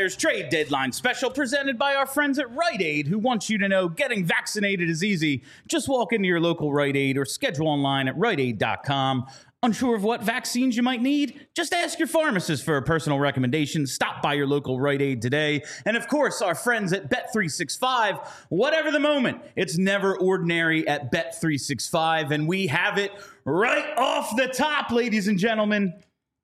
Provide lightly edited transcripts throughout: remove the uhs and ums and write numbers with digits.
Flyers trade deadline special presented by our friends at Rite Aid, who want you to know getting vaccinated is easy. Just walk into your local Rite Aid or schedule online at riteaid.com. Unsure of what vaccines you might need? Just ask your pharmacist for a personal recommendation. Stop by your local Rite Aid today. And of course, our friends at Bet365. Whatever the moment, it's never ordinary at Bet365. And we have it right off the top, ladies and gentlemen.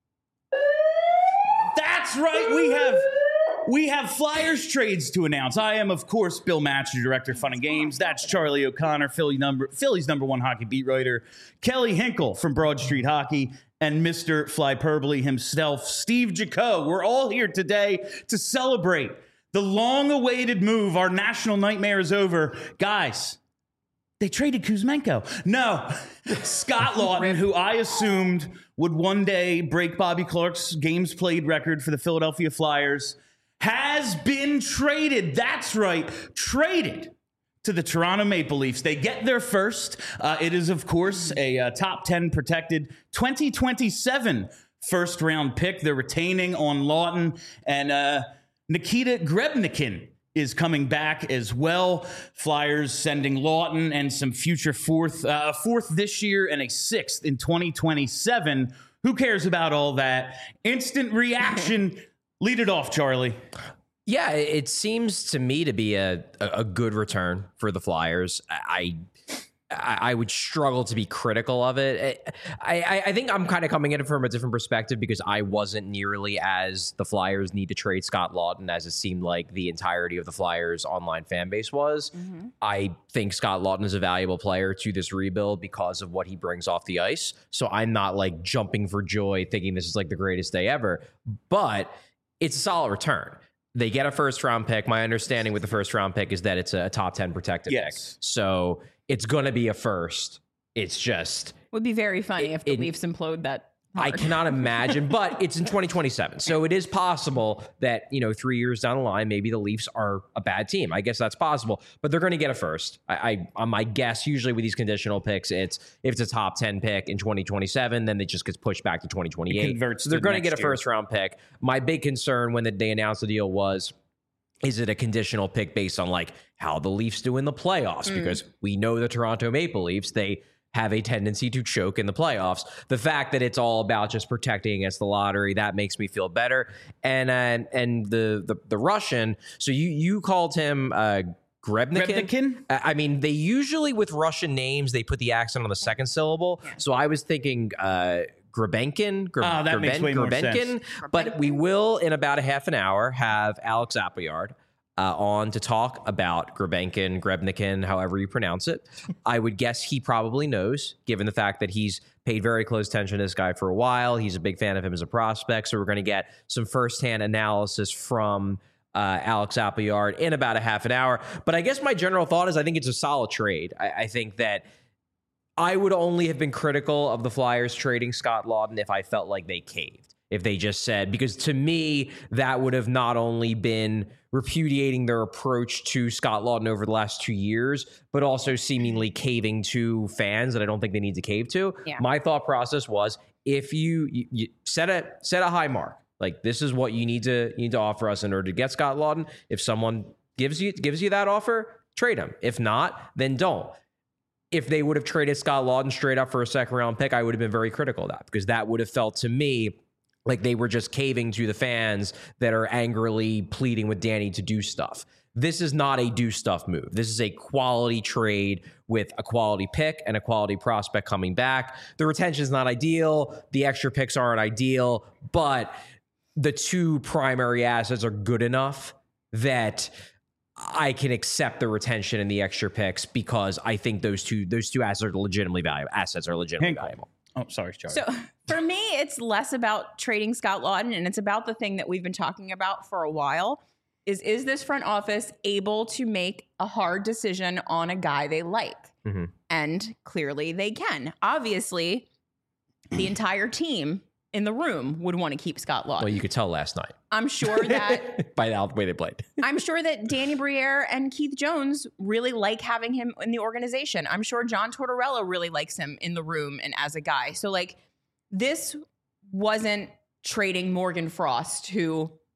That's right. We have Flyers trades to announce. I am, of course, Bill Match, the director of Fun and Games. That's Charlie O'Connor, Philly's number one hockey beat writer. Kelly Hinkle from Broad Street Hockey. And Mr. Flyperbole himself, Steve Jaco. We're all here today to celebrate the long-awaited move. Our national nightmare is over. Guys, they traded Kuzmenko. No, Scott Laughton, who I assumed would one day break Bobby Clark's games played record for the Philadelphia Flyers, has been traded. That's right, traded to the Toronto Maple Leafs. They get their first. It is, of course, a top 10 protected 2027 first round pick. They're retaining on Laughton, and Nikita Grebnikin is coming back as well. Flyers sending Laughton and some future fourth this year and a sixth in 2027. Who cares about all that? Instant reaction. Lead it off, Charlie. Yeah, it seems to me to be a good return for the Flyers. I would struggle to be critical of it. I think I'm kind of coming at it from a different perspective because I wasn't nearly as the Flyers need to trade Scott Laughton as it seemed like the entirety of the Flyers online fan base was. Mm-hmm. I think Scott Laughton is a valuable player to this rebuild because of what he brings off the ice. So I'm not like jumping for joy thinking this is like the greatest day ever, but it's a solid return. They get a first round pick. My understanding with the first round pick is that it's a top 10 protected pick. So it's going to be a first. It's just... Would be very funny if the Leafs implode that hard. I cannot imagine, but it's in 2027. So it is possible that, 3 years down the line, maybe the Leafs are a bad team. I guess that's possible, but they're going to get a first. My guess, usually with these conditional picks, if it's a top 10 pick in 2027, then it just gets pushed back to 2028. So they're going to get a first round pick. My big concern when they announced the deal was, is it a conditional pick based on like how the Leafs do in the playoffs? Because we know the Toronto Maple Leafs, they have a tendency to choke in the playoffs. The fact that it's all about just protecting against the lottery, that makes me feel better. And the Russian, so you called him Grebnikin? I mean, they usually with Russian names, they put the accent on the second syllable. Yeah. So I was thinking Grebenkin. That makes way more sense. But we will, in about a half an hour, have Alex Appleyard on to talk about Grebnikin, however you pronounce it. I would guess he probably knows, given the fact that he's paid very close attention to this guy for a while. He's a big fan of him as a prospect. So we're going to get some firsthand analysis from Alex Appleyard in about a half an hour. But I guess my general thought is I think it's a solid trade. I think that I would only have been critical of the Flyers trading Scott Laughton if I felt like they caved. If they just said, because to me, that would have not only been repudiating their approach to Scott Laughton over the last 2 years, but also seemingly caving to fans that I don't think they need to cave to. Yeah. My thought process was, if you set a high mark, like this is what you need to offer us in order to get Scott Laughton. If someone gives you that offer, trade him. If not, then don't. If they would have traded Scott Laughton straight up for a second round pick, I would have been very critical of that, because that would have felt to me like they were just caving to the fans that are angrily pleading with Danny to do stuff. This is not a do stuff move. This is a quality trade with a quality pick and a quality prospect coming back. The retention is not ideal. The extra picks aren't ideal, but the two primary assets are good enough that I can accept the retention and the extra picks, because I think those two assets are legitimately valuable. Oh, sorry, Charlie. So for me, it's less about trading Scott Laughton, and it's about the thing that we've been talking about for a while. Is this front office able to make a hard decision on a guy they like? Mm-hmm. And clearly they can. Obviously, the entire team in the room would want to keep Scott Laughton. Well, you could tell last night. I'm sure that by the way they played. I'm sure that Danny Briere and Keith Jones really like having him in the organization. I'm sure John Tortorella really likes him in the room and as a guy. So like, this wasn't trading Morgan Frost, who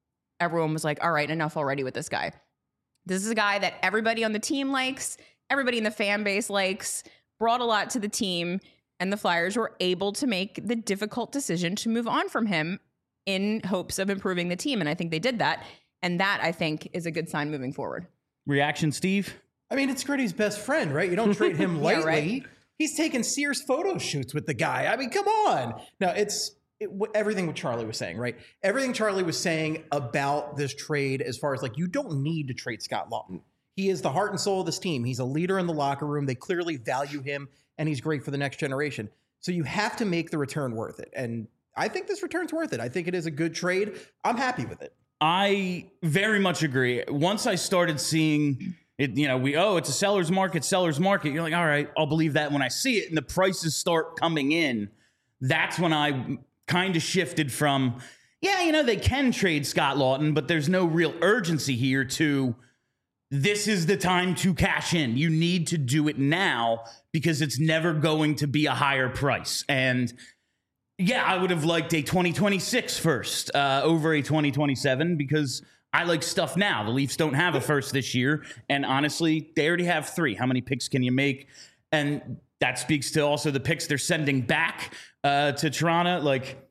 everyone was like, all right, enough already with this guy. This is a guy that everybody on the team likes, everybody in the fan base likes, brought a lot to the team, and the Flyers were able to make the difficult decision to move on from him in hopes of improving the team. And I think they did that. And that, I think, is a good sign moving forward. Reaction, Steve? I mean, it's Gritty's best friend, right? You don't treat him lightly. right. He's taking Sears photo shoots with the guy. I mean, come on. No, everything what Charlie was saying, right? Everything Charlie was saying about this trade, as far as like, you don't need to trade Scott Laughton. He is the heart and soul of this team. He's a leader in the locker room. They clearly value him, and he's great for the next generation. So you have to make the return worth it. And I think this return's worth it. I think it is a good trade. I'm happy with it. I very much agree. Once I started seeing it, it's a seller's market. You're like, all right, I'll believe that when I see it, and the prices start coming in. That's when I kind of shifted from, they can trade Scott Laughton, but there's no real urgency here to, this is the time to cash in. You need to do it now because it's never going to be a higher price. And I would have liked a 2026 first over a 2027 because I like stuff now. The Leafs don't have a first this year. And honestly, they already have 3. How many picks can you make? And that speaks to also the picks they're sending back to Toronto. Like,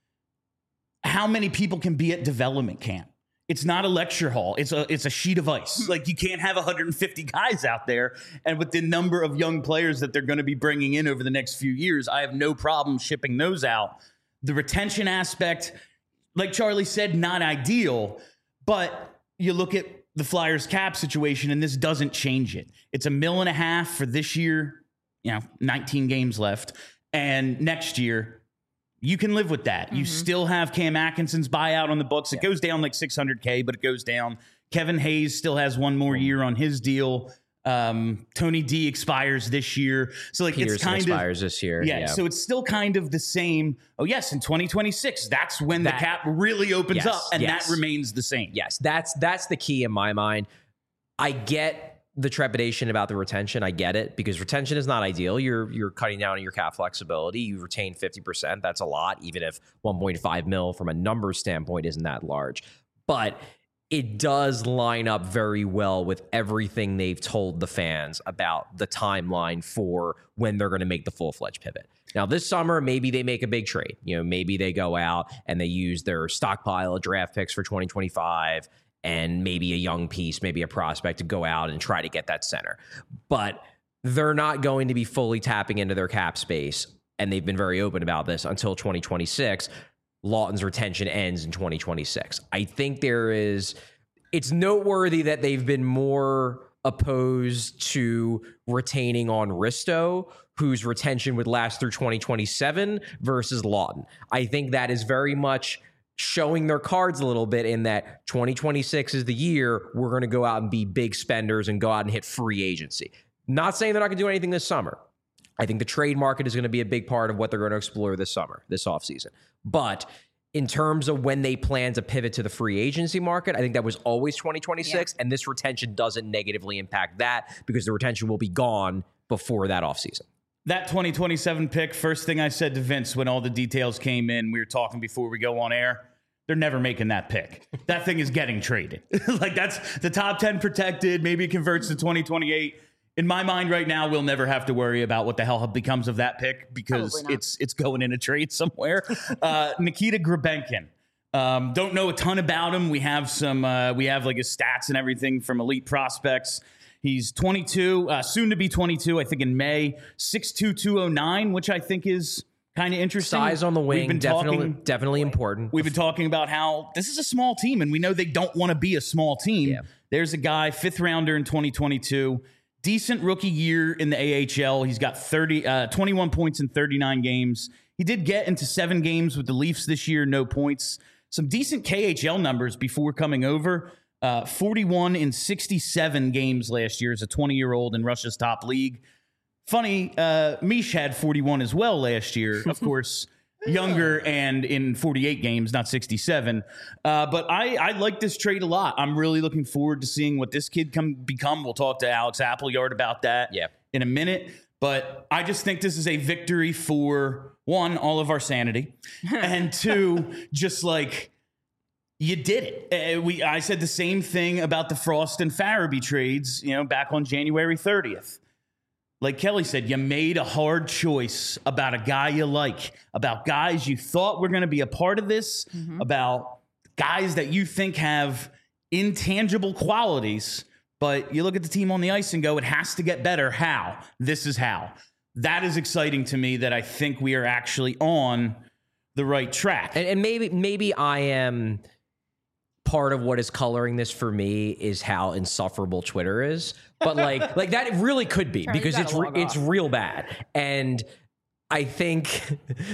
how many people can be at development camp? It's not a lecture hall. It's a sheet of ice. Like, you can't have 150 guys out there. And with the number of young players that they're going to be bringing in over the next few years, I have no problem shipping those out. The retention aspect, like Charlie said, not ideal. But you look at the Flyers cap situation, and this doesn't change it. It's $1.5 million for this year, 19 games left. And next year, you can live with that. You still have Cam Atkinson's buyout on the books. It goes down like $600K, but it goes down. Kevin Hayes still has one more year on his deal. Tony D expires this year. So like Peterson it's kind expires this year. Yeah. So it's still kind of the same. Oh yes. In 2026, that's when the cap really opens up, and that remains the same. Yes. That's the key in my mind. I get the trepidation about the retention. I get it, because retention is not ideal. You're cutting down on your cap flexibility. You retain 50%. That's a lot, even if 1.5 mil from a numbers standpoint isn't that large. But it does line up very well with everything they've told the fans about the timeline for when they're going to make the full-fledged pivot. Now, this summer, maybe they make a big trade. Maybe they go out and they use their stockpile of draft picks for 2025 and maybe a young piece, maybe a prospect to go out and try to get that center. But they're not going to be fully tapping into their cap space, and they've been very open about this, until 2026. Laughton's retention ends in 2026. I think it's noteworthy that they've been more opposed to retaining on Risto, whose retention would last through 2027, versus Laughton. I think that is very much showing their cards a little bit, in that 2026 is the year we're going to go out and be big spenders and go out and hit free agency. Not saying they're not going to do anything this summer. I think the trade market is going to be a big part of what they're going to explore this summer, this offseason. But in terms of when they plan to pivot to the free agency market, I think that was always 2026, and this retention doesn't negatively impact that, because the retention will be gone before that offseason. That 2027 pick, first thing I said to Vince when all the details came in, we were talking before we go on air, they're never making that pick. That thing is getting traded. Like, that's the top 10 protected. Maybe it converts to 2028. In my mind right now, we'll never have to worry about what the hell becomes of that pick, because it's going in a trade somewhere. Nikita Grebenkin. Don't know a ton about him. We have like his stats and everything from Elite Prospects. He's 22, soon to be 22, I think in May, 6'2", 209, which I think is kind of interesting. Size on the wing, definitely important. We've been talking about how this is a small team, and we know they don't want to be a small team. Yeah. There's a guy, 5th rounder in 2022, decent rookie year in the AHL. He's got 21 points in 39 games. He did get into 7 games with the Leafs this year, no points. Some decent KHL numbers before coming over. 41 in 67 games last year as a 20-year-old in Russia's top league. Funny, Mish had 41 as well last year. Of course, younger and in 48 games, not 67. But I like this trade a lot. I'm really looking forward to seeing what this kid can become. We'll talk to Alex Appleyard about that in a minute. But I just think this is a victory for, 1, all of our sanity, and 2, just like, You did it. I said the same thing about the Frost and Farabee trades, back on January 30th. Like Kelly said, you made a hard choice about a guy you like, about guys you thought were going to be a part of this, about guys that you think have intangible qualities, but you look at the team on the ice and go, it has to get better. How? This is how. That is exciting to me, that I think we are actually on the right track. And maybe I am... part of what is coloring this for me is how insufferable Twitter is, but like that it really could be, because it's real bad. And I think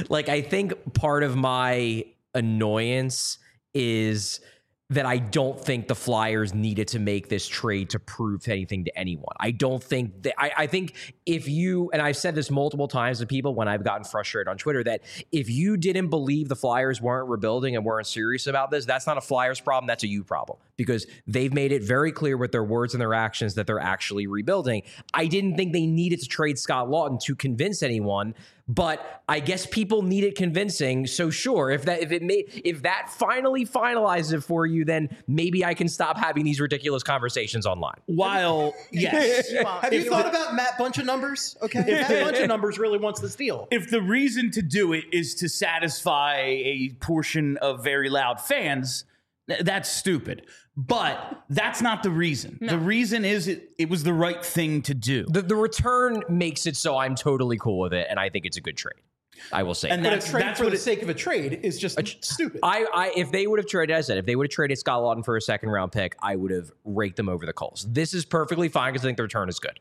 part of my annoyance is that I don't think the Flyers needed to make this trade to prove anything to anyone. I don't think that. I think if you, and I've said this multiple times to people when I've gotten frustrated on Twitter, that if you didn't believe the Flyers weren't rebuilding and weren't serious about this, that's not a Flyers problem, that's a you problem, because they've made it very clear with their words and their actions that they're actually rebuilding. I didn't think they needed to trade Scott Laughton to convince anyone, but I guess people need it convincing. So sure, if that finally finalizes it for you, then maybe I can stop having these ridiculous conversations online. While, yes. Have you thought about Matt Bunch of numbers? Okay. Matt Bunch of numbers really wants this deal. If the reason to do it is to satisfy a portion of very loud fans, that's stupid. But that's not the reason. No. The reason is it was the right thing to do. The return makes it so I'm totally cool with it, and I think it's a good trade. I will say. And that's for the sake of a trade is just stupid. If they would have traded, as I said, if they would have traded Scott Laughton for a second round pick, I would have raked them over the coals. This is perfectly fine because I think the return is good.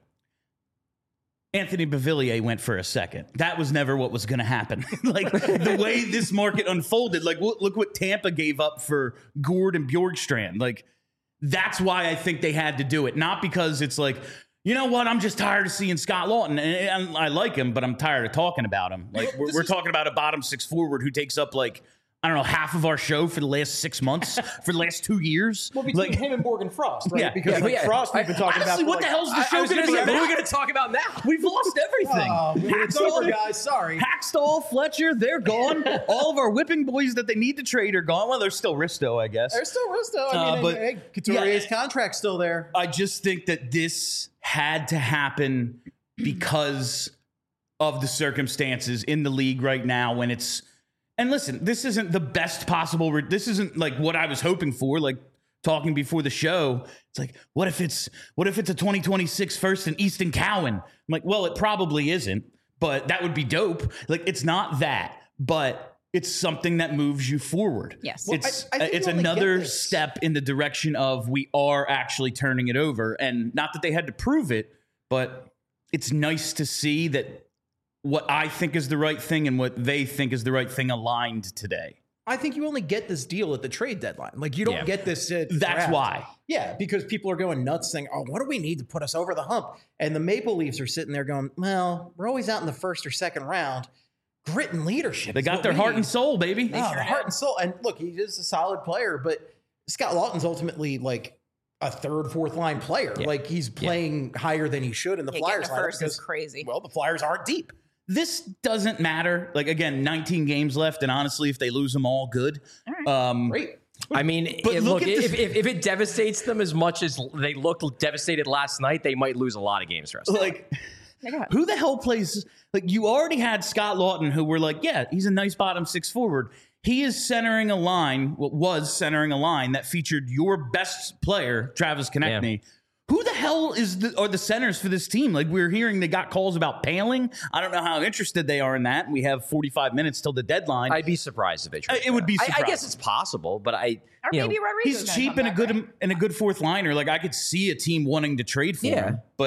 Anthony Beauvillier went for a second. That was never what was going to happen. Like the way this market unfolded, like look what Tampa gave up for Gourde and Bjorkstrand. Like that's why I think they had to do it. Not because it's like, you know what, I'm just tired of seeing Scott Laughton. And I like him, but I'm tired of talking about him. Like we're talking about a bottom six forward who takes up like, I don't know, half of our show for the last 6 months, for the last 2 years. Well, between him and Morgan Frost, right? Yeah, because Frost we've been talking honestly, about. What the hell's the show going to be about? What are we going to talk about now? We've lost everything. It's over, guys. Sorry. Hackstall, Fletcher, they're gone. All of our whipping boys that they need to trade are gone. Well, there's still Risto, I guess. There's still Risto. I mean, hey, Couturier's contract's still there. I just think that this had to happen because of the circumstances in the league right now when it's... And listen, this isn't the best possible. This isn't like what I was hoping for. Like talking before the show, it's like, what if it's a 2026 first in Easton Cowan? I'm like, well, it probably isn't, but that would be dope. Like it's not that, but it's something that moves you forward. Yes, well, it's another step in the direction of we are actually turning it over, and not that they had to prove it, but it's nice to see that what I think is the right thing and what they think is the right thing aligned today. I think you only get this deal at the trade deadline. Like you don't get this. That's why. Yeah, because people are going nuts saying, oh, what do we need to put us over the hump? And the Maple Leafs are sitting there going, well, we're always out in the first or second round. Grit and leadership. They got their heart and soul, baby. Heart and soul. And look, he is a solid player, but Scott Laughton's ultimately like a third, fourth line player. Yeah. Like he's playing higher than he should in the Flyers lineup. First is crazy. Well, the Flyers aren't deep. This doesn't matter. Like, again, 19 games left, and honestly, if they lose them all, good. All right. Great. I mean, if it devastates them as much as they looked devastated last night, they might lose a lot of games. Like, who the hell plays? Like, you already had Scott Laughton, who were like, yeah, he's a nice bottom six forward. He is centering a line, was centering a line that featured your best player, Travis Konechny. Yeah. Who the hell are the centers for this team? Like, we're hearing they got calls about Paling. I don't know how interested they are in that. We have 45 minutes till the deadline. I'd be surprised if they tried. It would be surprising. I guess it's possible, but maybe Rodriguez. He's cheap and a good fourth liner. Like, I could see a team wanting to trade for him. But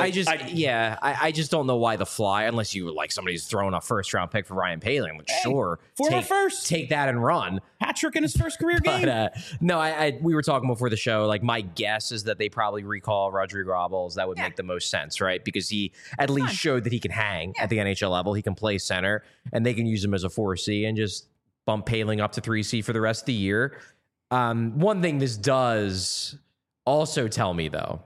I just don't know why the Fly, unless you like somebody's throwing a first round pick for Ryan Paling. Like, sure, take that and run. Hat trick in his first career game. But, we were talking before the show. Like, my guess is that they probably recall Rodrigo Robles. That would make the most sense, right? Because he at least showed that he can hang at the NHL level. He can play center, and they can use him as a 4C and just bump Paling up to 3C for the rest of the year. One thing this does also tell me, though,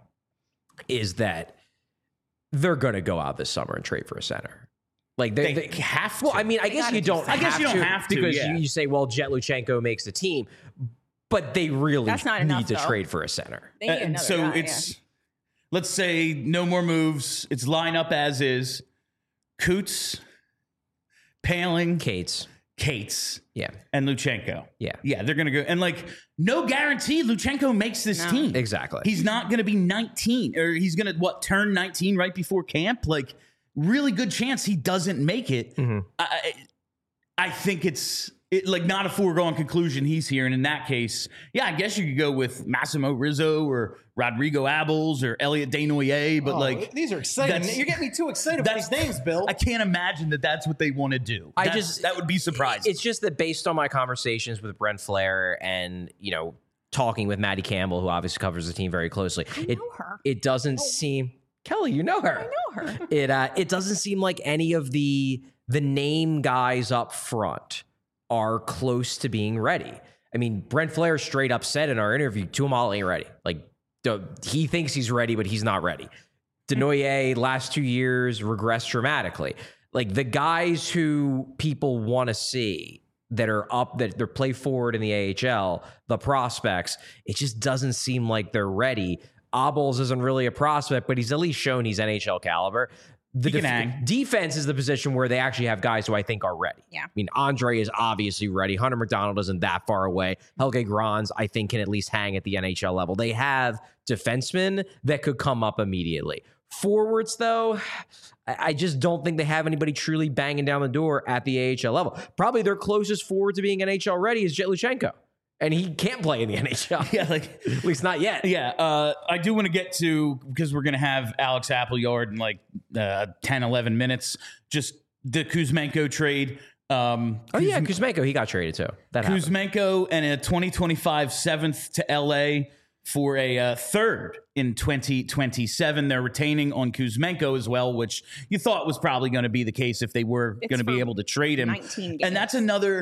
is that they're going to go out this summer and trade for a center. Like they have to. Well, I mean, I guess you don't have to because you say, well, Jet Luchenko makes the team. But they really That's not need enough, to though. trade for a center. They need And another so guy, it's, let's say no more moves. It's line up as is. Coots, Paling, Cates. and Luchenko. Yeah. Yeah, they're going to go. And like, no guarantee Luchenko makes this No. team. Exactly. He's not going to be 19 or he's going to, turn 19 right before camp? Like, really good chance he doesn't make it. Mm-hmm. I think it's like not a foregone conclusion he's here. And in that case, yeah, I guess you could go with Massimo Rizzo or Rodrigo Abels or Elliot Desnoyers, but like these are exciting. that's- You're getting me too excited with these names, Bill. I can't imagine that that's what they want to do. That would be surprising. It's just that based on my conversations with Brent Flair and, talking with Maddie Campbell, who obviously covers the team very closely, know her. it doesn't seem, Kelly, you know her. I know her. It doesn't seem like any of the name guys up front are close to being ready. I mean, Brent Flair straight up said in our interview, Tuamal ain't ready. Like, he thinks he's ready, but he's not ready. Desnoyers, last 2 years, regressed dramatically. Like, the guys who people want to see that are up, that they're play forward in the AHL, the prospects, it just doesn't seem like they're ready. Abels isn't really a prospect, but he's at least shown he's NHL caliber. The He can hang. defense is the position where they actually have guys who I think are ready. Yeah. I mean, Andre is obviously ready. Hunter McDonald isn't that far away. Helge Grans, I think, can at least hang at the NHL level. They have defensemen that could come up immediately. Forwards, though, I just don't think they have anybody truly banging down the door at the AHL level. Probably their closest forward to being NHL ready is Jet Luchenko. And he can't play in the NHL. yeah, like At least not yet. Yeah, I do want to get to, because we're going to have Alex Appleyard in like 10, 11 minutes, just the Kuzmenko trade. Oh, yeah, Kuzmenko, he got traded too. That happened. Kuzmenko and a 2025 seventh to LA for a third in 2027. They're retaining on Kuzmenko as well, which you thought was probably going to be the case if they were going to be for able to trade him. 19 games. And that's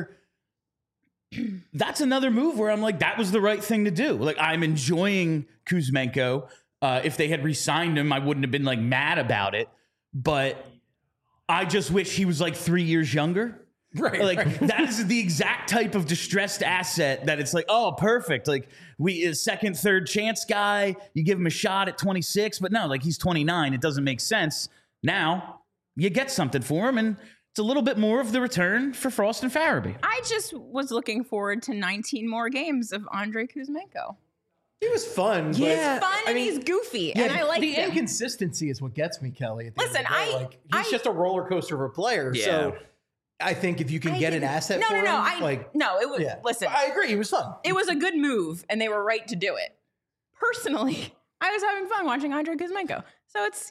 another move where I'm like, that was the right thing to do. Like, I'm enjoying Kuzmenko. If they had re-signed him, I wouldn't have been like mad about it. But I just wish he was like 3 years younger. Right. Like, that is the exact type of distressed asset that it's like, oh, perfect. Like, a second, third chance guy. You give him a shot at 26, but no, like, he's 29. It doesn't make sense. Now you get something for him, and it's a little bit more of the return for Frost and Farabee. I just was looking forward to 19 more games of Andrei Kuzmenko. He was fun. Yeah. Fun and he's goofy, and I like the him. inconsistency is what gets me, Kelly. At the Listen, end of the day. I- like he's just a roller coaster of a player. Yeah. So I think if you can get an asset for him, it was. yeah. Listen, I agree. He was fun. it was a good move, and they were right to do it. Personally, I was having fun watching Andrei Kuzmenko, so it's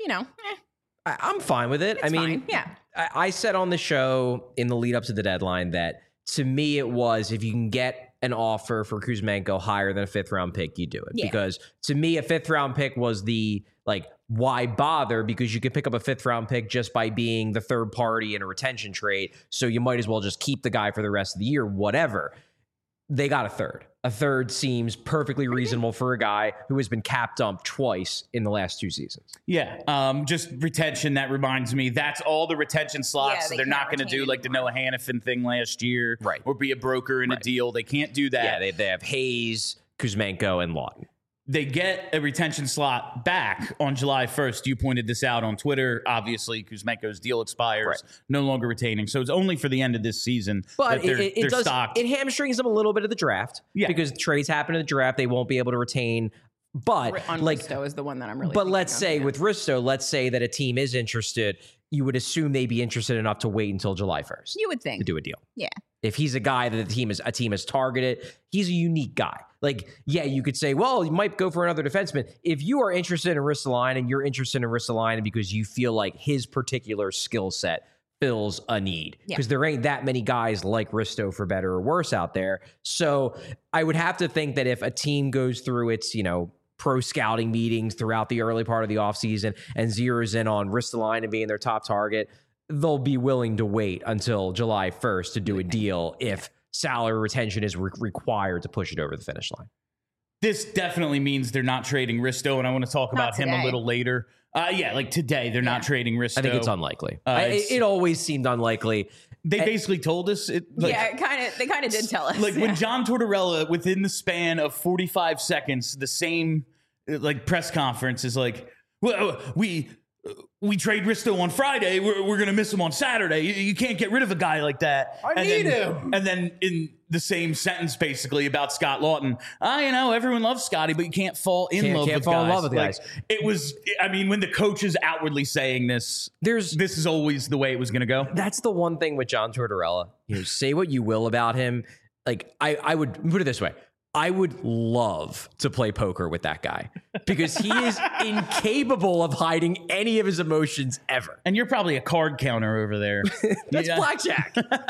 I'm fine with it. it's fine. Yeah. I said on the show in the lead up to the deadline that to me it was, if you can get an offer for Kuzmenko higher than a 5th round pick, you do it. Yeah. Because to me, a 5th round pick was the, like, why bother? Because you could pick up a 5th round pick just by being the third party in a retention trade. So you might as well just keep the guy for the rest of the year, whatever. They got a third. A third seems perfectly reasonable for a guy who has been capped up twice in the last 2 seasons. Yeah, just retention. That reminds me, that's all the retention slots. Yeah, So they they're not can't going to do retain like the Noah Hannafin thing last year, Right. or be a broker in a deal. They can't do that. Yeah, they have Hayes, Kuzmenko, and Lawton. They get a retention slot back on July 1st. You pointed this out on Twitter. Obviously, Kuzmenko's deal expires, no longer retaining. So it's only for the end of this season. But that it they're does stocked. it hamstrings them a little bit of the draft. Yeah. Because trades happen in the draft, they won't be able to retain. But On like, Risto is the one that I'm really. but thinking let's of, say yeah. with Risto, let's say that a team is interested. You would assume they'd be interested enough to wait until July 1st you would to think, do a deal. yeah. If he's a guy that a team has targeted, he's a unique guy. Like, yeah, you could say, well, you might go for another defenseman. If you are interested in Ristolainen, you're interested in Ristolainen because you feel like his particular skill set fills a need. Yeah. Because there ain't that many guys like Risto, for better or worse, out there. So I would have to think that if a team goes through its, pro scouting meetings throughout the early part of the offseason and zeroes in on Ristolainen being their top target, they'll be willing to wait until July 1st to do a deal if salary retention is required to push it over the finish line. This definitely means they're not trading Risto, and I want to talk about him a today. little later. Yeah, like today, they're not trading Risto. I think it's unlikely. It's- It always seemed unlikely. They basically told us it. Like, they kind of did tell us. Like when John Tortorella, within the span of 45 seconds, the same like press conference is like, well, we trade Risto on Friday. We're going to miss him on Saturday. You can't get rid of a guy like that. I need him. And then in the same sentence, basically about Scott Lawton, everyone loves Scotty, but you can't fall in love with guys. It was, I mean, when the coach is outwardly saying this, this is always the way it was going to go. That's the one thing with John Tortorella. Say what you will about him. Like I would put it this way. I would love to play poker with that guy because he is incapable of hiding any of his emotions ever. And you're probably a card counter over there. That's blackjack.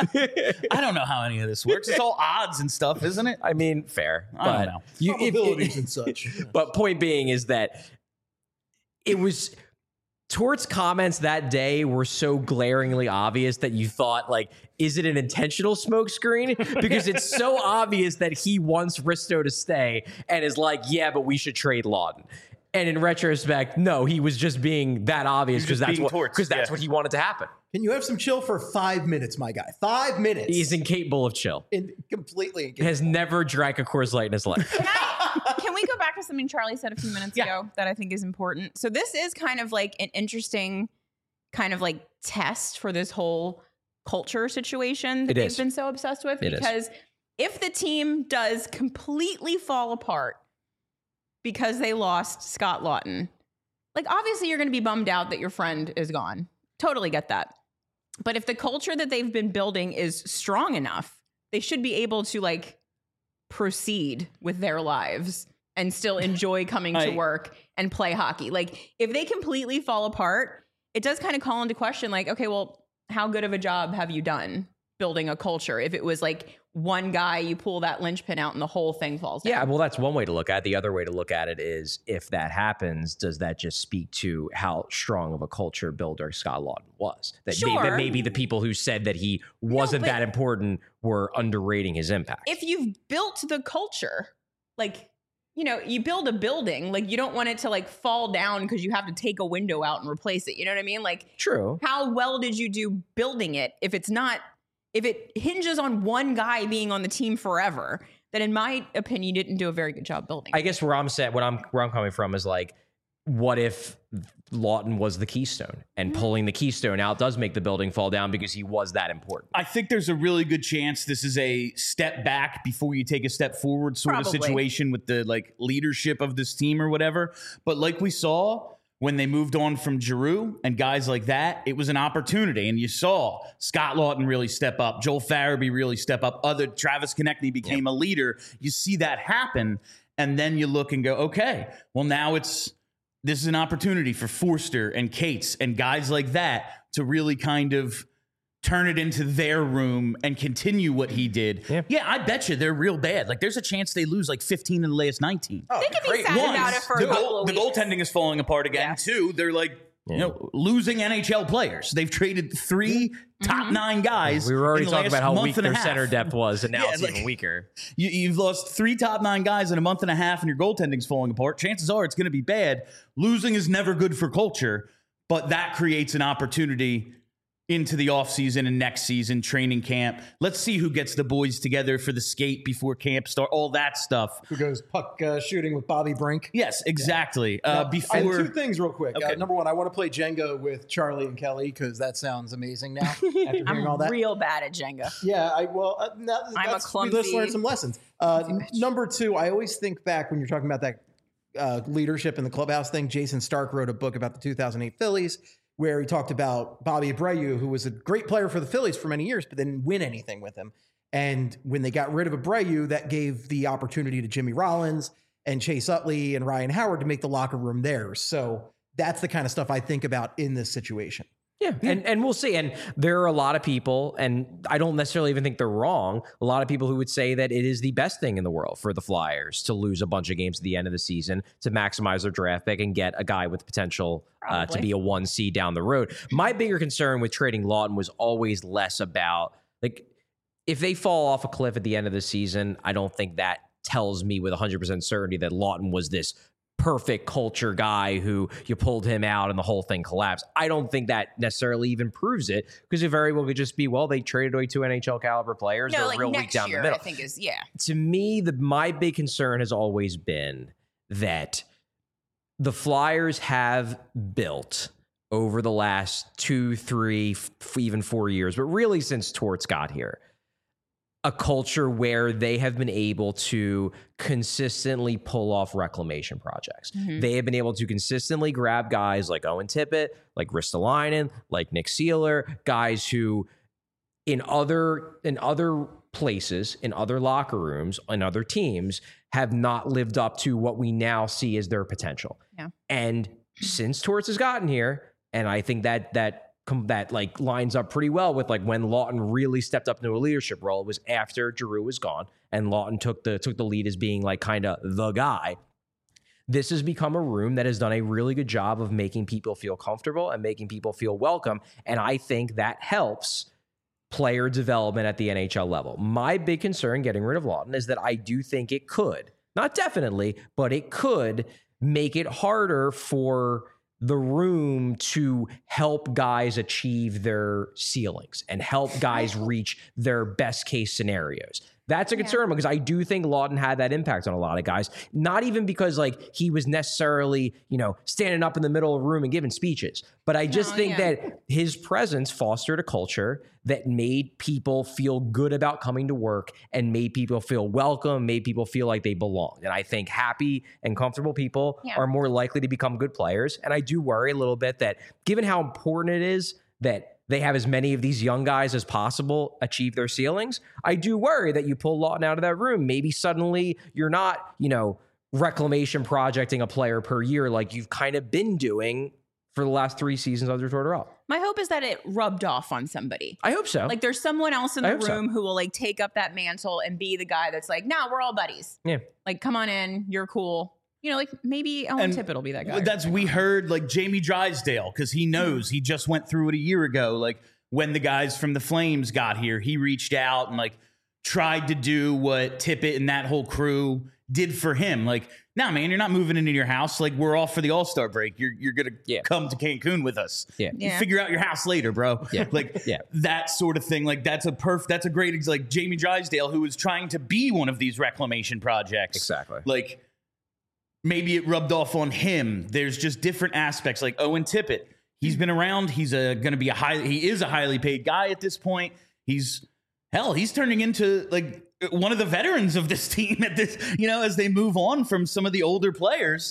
I don't know how any of this works. It's all odds and stuff, isn't it? I mean, fair. I don't know. Probabilities and such. But point being is that it was... Tort's comments that day were so glaringly obvious that you thought, like, is it an intentional smokescreen? Because it's so obvious that he wants Risto to stay and is like, yeah, but we should trade Lawton. And in retrospect, no, he was just being that obvious because that's what he wanted to happen. Can you have some chill for 5 minutes, my guy? 5 minutes. He's incapable of chill. Completely incapable. Has never drank a Coors Light in his life. Can we go back to something Charlie said a few minutes ago that I think is important? So this is kind of like an interesting kind of like test for this whole culture situation that they've been so obsessed with. Because if the team does completely fall apart because they lost Scott Lawton, like obviously you're going to be bummed out that your friend is gone. Totally get that. But if the culture that they've been building is strong enough, they should be able to like proceed with their lives and still enjoy coming to work and play hockey. Like if they completely fall apart, it does kind of call into question like, okay, well, how good of a job have you done building a culture? If it was like one guy, you pull that linchpin out and the whole thing falls down. Yeah, well, that's one way to look at it. The other way to look at it is if that happens, does that just speak to how strong of a culture builder Scott Lawton was? That maybe the people who said that he wasn't that important were underrating his impact. If you've built the culture, like, you build a building, like you don't want it to like fall down because you have to take a window out and replace it. You know what I mean? Like, true. How well did you do building it? If it hinges on one guy being on the team forever, then in my opinion, you didn't do a very good job building it. I guess where I'm coming from is like, what if Lawton was the keystone and pulling the keystone out does make the building fall down because he was that important? I think there's a really good chance this is a step back before you take a step forward sort of situation with the like leadership of this team or whatever. But like we saw when they moved on from Giroux and guys like that, it was an opportunity. And you saw Scott Lawton really step up, Joel Farabee really step up, Travis Konechny became a leader. You see that happen. And then you look and go, okay, well now this is an opportunity for Forster and Cates and guys like that to really kind of turn it into their room and continue what he did. Yeah, I bet you they're real bad. Like there's a chance they lose like 15 in the last 19. They could be sad about it for a couple of weeks. The goaltending is falling apart again. Two, they're like losing NHL players. They've traded 3 top 9 guys. We were already talking about how weak their center depth was, and now it's like, even weaker. You've lost 3 top 9 guys in a month and a half, and your goaltending's falling apart. Chances are it's going to be bad. Losing is never good for culture, but that creates an opportunity into the offseason and next season, training camp. Let's see who gets the boys together for the skate before camp start, all that stuff. Who goes puck shooting with Bobby Brink. Yes, exactly. I have 2 things real quick. Okay. Number one, I want to play Jenga with Charlie and Kelly because that sounds amazing now after hearing all that. I'm real bad at Jenga. Yeah, I'm a clumsy. Let's learn some lessons. Number 2, I always think back when you're talking about that leadership in the clubhouse thing. Jason Stark wrote a book about the 2008 Phillies where he talked about Bobby Abreu, who was a great player for the Phillies for many years, but didn't win anything with him. And when they got rid of Abreu, that gave the opportunity to Jimmy Rollins and Chase Utley and Ryan Howard to make the locker room theirs. So that's the kind of stuff I think about in this situation. Yeah, and we'll see. And there are a lot of people, and I don't necessarily even think they're wrong, a lot of people who would say that it is the best thing in the world for the Flyers to lose a bunch of games at the end of the season to maximize their draft pick and get a guy with potential to be a 1 seed down the road. My bigger concern with trading Lawton was always less about, like, if they fall off a cliff at the end of the season, I don't think that tells me with 100% certainty that Lawton was this perfect culture guy who you pulled him out and the whole thing collapsed. I don't think that necessarily even proves it, because it very well could just be, well, they traded away 2 NHL caliber players. No, They're like real weak next down year, the middle. I think is, yeah. To me, my big concern has always been that the Flyers have built over the last 2, 3, even 4 years, but really since Torts got here, a culture where they have been able to consistently pull off reclamation projects. They have been able to consistently grab guys like Owen Tippett, like Ristolainen, like Nick Seeler, guys who in other places, in other locker rooms, in other teams, have not lived up to what we now see as their potential. Yeah. And since Torts has gotten here, and I think that like lines up pretty well with like when Lawton really stepped up into a leadership role. It was after Giroux was gone, and Lawton took the lead as being like kind of the guy. This has become a room that has done a really good job of making people feel comfortable and making people feel welcome, and I think that helps player development at the NHL level. My big concern getting rid of Lawton is that I do think it could, not definitely, but it could make it harder for the room to help guys achieve their ceilings and help guys reach their best case scenarios. That's a concern because I do think Lawton had that impact on a lot of guys, not even because like he was necessarily, standing up in the middle of a room and giving speeches, but I just think that his presence fostered a culture that made people feel good about coming to work and made people feel welcome, made people feel like they belonged. And I think happy and comfortable people are more likely to become good players. And I do worry a little bit that given how important it is that they have as many of these young guys as possible achieve their ceilings, I do worry that you pull Lawton out of that room. Maybe suddenly you're not, reclamation projecting a player per year like you've kind of been doing for the last 3 seasons under Tortorella. My hope is that it rubbed off on somebody. I hope so. Like there's someone else in the room who will like take up that mantle and be the guy that's like, nah, we're all buddies. Yeah. Like, come on in. You're cool. Like maybe Owen Tippett will be that guy. We heard like Jamie Drysdale, because he knows he just went through it a year ago. Like when the guys from the Flames got here, he reached out and like tried to do what Tippett and that whole crew did for him. Like, nah, man, you're not moving into your house. Like we're off for the All-Star break. You're gonna come to Cancun with us. Yeah. You figure out your house later, bro. Yeah. That sort of thing. Like that's a great like Jamie Drysdale, who was trying to be one of these reclamation projects. Exactly. Like maybe it rubbed off on him. There's just different aspects. Like Owen Tippett, he's been around. He's going to be he is a highly paid guy at this point. He's turning into like one of the veterans of this team at this, as they move on from some of the older players.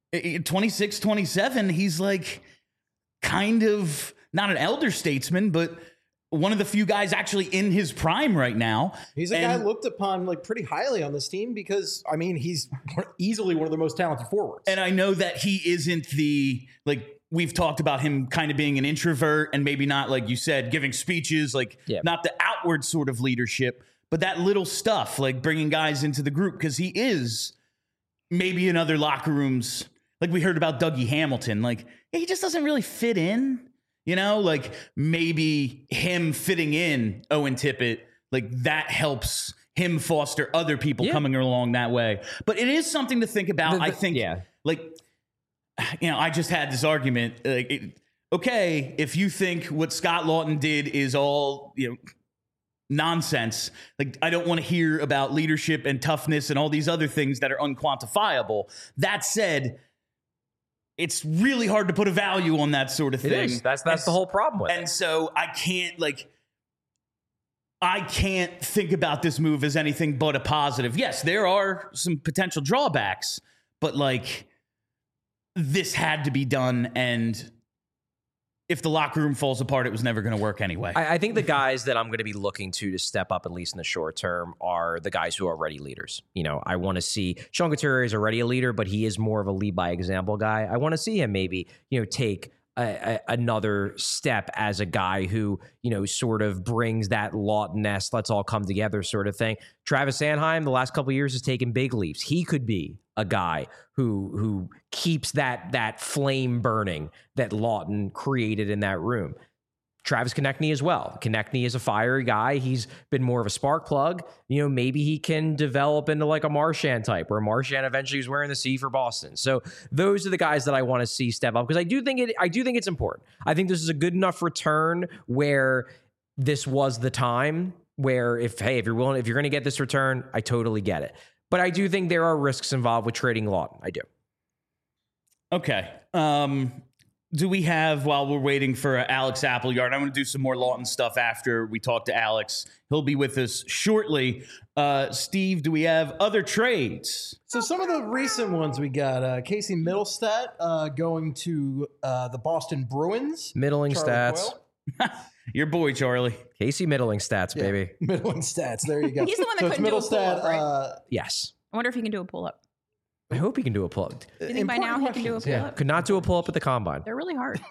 26, 27, he's like kind of not an elder statesman, but one of the few guys actually in his prime right now. He's a guy looked upon like pretty highly on this team because, I mean, he's easily one of the most talented forwards. And I know that he isn't we've talked about him kind of being an introvert and maybe not, like you said, giving speeches, not the outward sort of leadership, but that little stuff, like bringing guys into the group, because he is maybe in other locker rooms. Like we heard about Dougie Hamilton, like he just doesn't really fit in. Like maybe him fitting in Owen Tippett, like that helps him foster other people coming along that way. But it is something to think about. I think, I just had this argument. Okay, if you think what Scott Lawton did is all, nonsense, like I don't want to hear about leadership and toughness and all these other things that are unquantifiable. That said, it's really hard to put a value on that sort of thing. It is. That's the whole problem with it. And so I can't think about this move as anything but a positive. Yes, there are some potential drawbacks, but like this had to be done. And if the locker room falls apart, it was never going to work anyway. I think the guys that I'm going to be looking to step up, at least in the short term, are the guys who are already leaders. I want to see Sean Couturier is already a leader, but he is more of a lead by example guy. I want to see him maybe, take another step as a guy who, sort of brings that Lawton-esque, let's all come together sort of thing. Travis Sanheim, the last couple of years, has taken big leaps. He could be a guy who keeps that flame burning that Lawton created in that room. Travis Konechny as well. Konechny is a fiery guy. He's been more of a spark plug. Maybe he can develop into like a Marchand type, where Marchand eventually is wearing the C for Boston. So those are the guys that I want to see step up, because I do think it's important. I think this is a good enough return where this was the time where if you're going to get this return, I totally get it. But I do think there are risks involved with trading Laughton. I do. Okay. Do we have, while we're waiting for Alex Appleyard, I'm going to do some more Laughton stuff after we talk to Alex. He'll be with us shortly. Steve, do we have other trades? So some of the recent ones we got, Casey Middlestat going to the Boston Bruins. Middling Charlie stats. Coyle. Your boy, Charlie. Casey Middling stats, Yeah, baby. Middling stats. There you go. He's the one that So it's couldn't do a pull-up, Middlestat. Yes. I wonder if he can do a pull-up. I hope he can do a pull-up. Do you think by now he can do a pull-up? Yeah. Could not do a pull-up at the combine. They're really hard.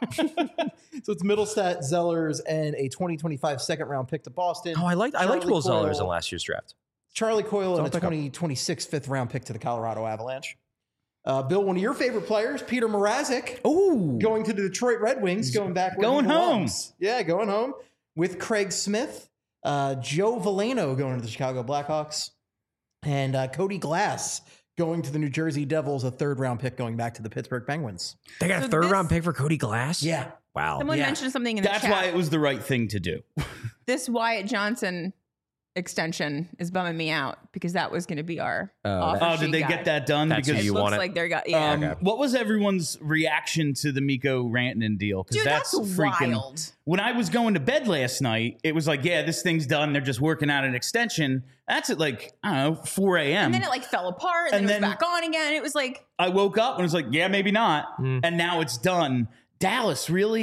So it's Middlestat, Zellers, and a 2025 second-round pick to Boston. Oh, I liked Charlie Will Zellers Coyle. in last year's draft. Charlie Coyle and a pick up. 2026 fifth-round pick to the Colorado Avalanche. Bill, one of your favorite players, Peter Mrazek, Ooh. going to the Detroit Red Wings, going back where Going he home. belongs. Yeah, going home with Craig Smith, Joe Veleno going to the Chicago Blackhawks, and Cody Glass going to the New Jersey Devils, a third-round pick going back to the Pittsburgh Penguins. They got So a third-round this- pick for Cody Glass? Yeah. Wow. Someone Yeah. mentioned something in the That's chat. why it was the right thing to do. This Wyatt Johnson extension is bumming me out because that was going to be our offer Oh, sheet did they guy. get that done? That's who Because you Looks want it. like they're got yeah. What was everyone's reaction to the Miko Rantanen deal? Because Dude, that's freaking wild. When I was going to bed last night, it was like, yeah, this thing's done. They're just working out an extension. That's at like, I don't know, 4 a.m. And then it like fell apart and, And then it then- was back on again. It was like, I woke up and was like, yeah, maybe not. And now it's done. Dallas really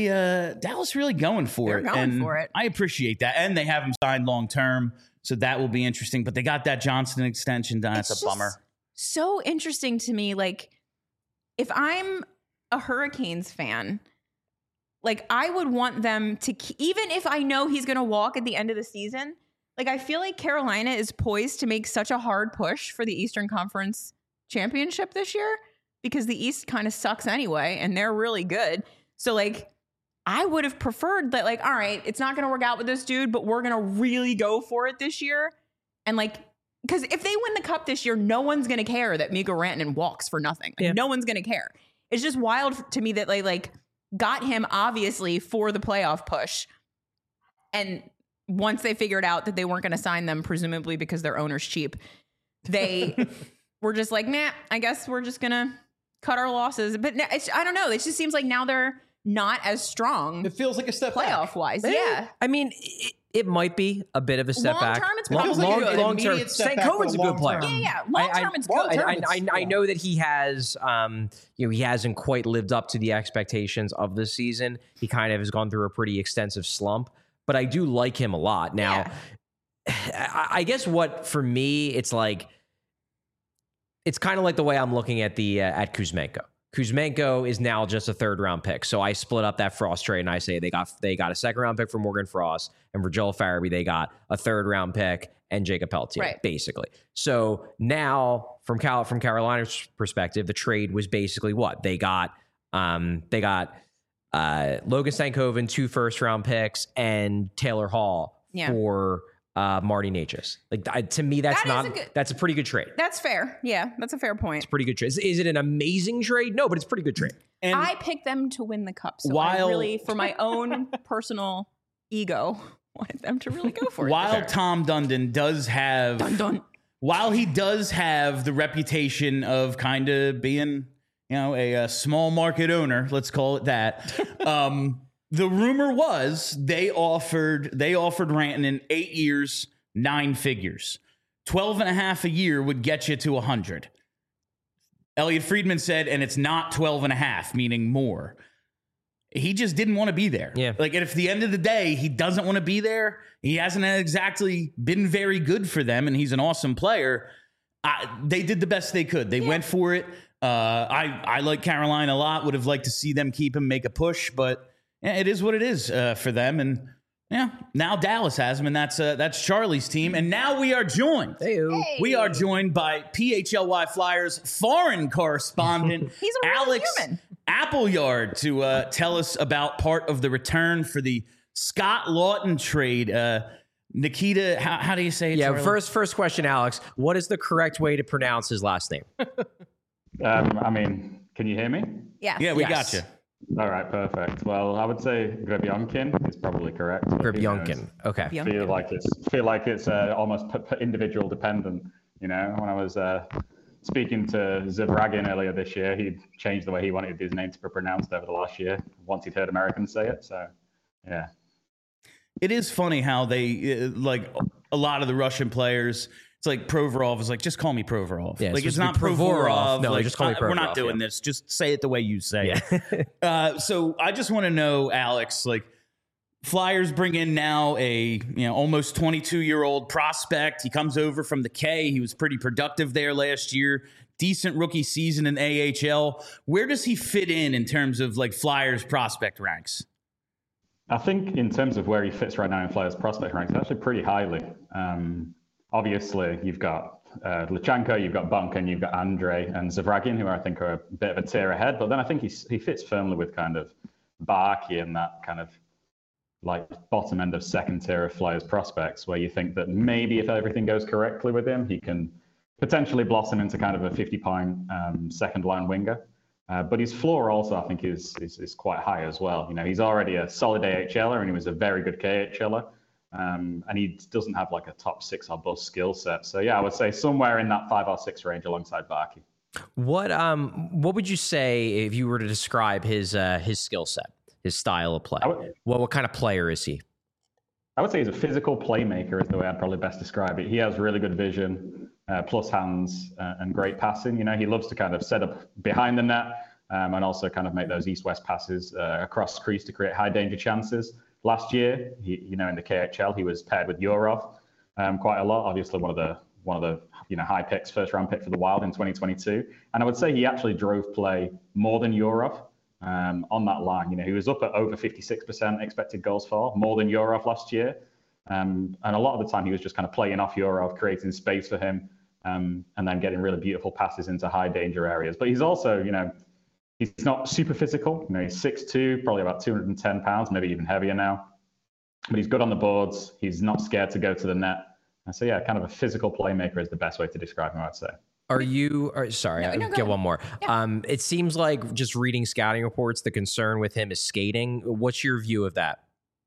going for They're it. going And for it. I appreciate that. And they have him signed long term. So that will be interesting. But they got that Johnson extension done. That's it's a bummer. just so interesting to me. Like, if I'm a Hurricanes fan, like I would want them to, even if I know he's going to walk at the end of the season, like I feel like Carolina is poised to make such a hard push for the Eastern Conference Championship this year because the East kind of sucks anyway, and they're really good. So like, I would have preferred that, like, all right, it's not going to work out with this dude, but we're going to really go for it this year. And like, because if they win the cup this year, no one's going to care that Mikko Rantanen walks for nothing. Like, Yeah. no one's going to care. It's just wild to me that they like got him obviously for the playoff push. And once they figured out that they weren't going to sign them, presumably because their owner's cheap, they were just like, nah, I guess we're just going to cut our losses. But I don't know. It just seems like now they're not as strong It feels like a step back. playoff wise. Yeah. I mean, it might be a bit of a step Long back. term, it's It feels like an long term. immediate step St. back, Cohen's a but good long player. term. Yeah. Long term, it's good. long term, I know that he has, he hasn't quite lived up to the expectations of this season. He kind of has gone through a pretty extensive slump, but I do like him a lot. Now, I guess what for me, it's like, it's kind of like the way I'm looking at at Kuzmenko. Kuzmenko is now just a third round pick. So I split up that Frost trade and I say they got a second round pick for Morgan Frost, and for Joel Farabee, they got a third round pick and Jacob Pelletier, Right. basically. So now from Carolina's perspective, the trade was basically what? They got Logan Stankoven, 2 first round picks, and Taylor Hall Yeah. for Marty Necas. Like to me, that's that's a pretty good trade. That's fair. Yeah. That's a fair point. Pretty good trade. Is it an amazing trade? No, but it's a pretty good trade. And I picked them to win the cup. So I While- really, for my own personal ego, wanted them to really go for it. while Tom Dundon does have, Dun. while he does have the reputation of kind of being, a small market owner, let's call it that. The rumor was they offered Rantanen 8 years, 9 figures. 12 and a half a year would get you to 100. Elliot Friedman said, and it's not 12 and a half, meaning more. He just didn't want to be there. Yeah. Like, at the end of the day, he doesn't want to be there. He hasn't exactly been very good for them, and he's an awesome player. They did the best they could. They went for it. I like Carolina a lot. Would have liked to see them keep him, make a push, but yeah, it is what it is for them. And yeah, now Dallas has him, and that's Charlie's team. And now we are joined. We are joined by PHLY Flyers foreign correspondent He's a real Alex human. Appleyard to tell us about part of the return for the Scott Lawton trade. Nikita, how do you say it? Yeah, Charlie? first question, Alex. What is the correct way to pronounce his last name? I mean, can you hear me? Yes. Yeah, we Yes. got you. All right, perfect. Well, I would say Grebionkin is probably correct. but who knows? Grebionkin. Okay. Bianca. Feel like it's almost individual dependent. You know, when I was speaking to Zavragin earlier this year, he changed the way he wanted his name to be pronounced over the last year once he'd heard Americans say it. So, yeah. It is funny how they like a lot of the Russian players. It's like Provorov is like, just call me Provorov. Yeah, it's like it's supposed not to be Provorov. Provorov. No, like, just call me we're Provorov, not doing yeah. this. Just say it the way you say it. Yeah. So I just want to know, Alex, like Flyers bring in now a almost 22-year-old prospect. He comes over from the K. He was pretty productive there last year. Decent rookie season in AHL. Where does he fit in terms of like Flyers prospect ranks? I think in terms of where he fits right now in Flyers prospect ranks, actually pretty highly. Obviously, you've got Lachenko, you've got Bunkin, you've got Andre and Zavragin, who I think are a bit of a tier ahead. But then I think he fits firmly with kind of Barkey and that kind of like bottom end of second tier of Flyers prospects, where you think that maybe if everything goes correctly with him, he can potentially blossom into kind of a 50-point second line winger. But his floor also, I think, is quite high as well. You know, he's already a solid AHLer and he was a very good KHLer. And he doesn't have like a top 6 or bust skill set. So yeah, I would say somewhere in that 5 or 6 range alongside Barkey. What would you say if you were to describe his skill set, his style of play? What kind of player is he? I would say he's a physical playmaker is the way I'd probably best describe it. He has really good vision, plus hands, and great passing. You know, he loves to kind of set up behind the net and also kind of make those east-west passes across crease to create high danger chances. Last year, in the KHL, he was paired with Yurov quite a lot. Obviously, one of the high picks, first round pick for the Wild in 2022. And I would say he actually drove play more than Yurov on that line. You know, he was up at over 56% expected goals for, more than Yurov last year. And a lot of the time, he was just kind of playing off Yurov, creating space for him, and then getting really beautiful passes into high danger areas. But he's also, he's not super physical. You know, he's 6'2", probably about 210 pounds, maybe even heavier now. But he's good on the boards. He's not scared to go to the net. And so, yeah, kind of a physical playmaker is the best way to describe him, I'd say. Sorry, I'll get one more. Yeah. It seems like just reading scouting reports, the concern with him is skating. What's your view of that?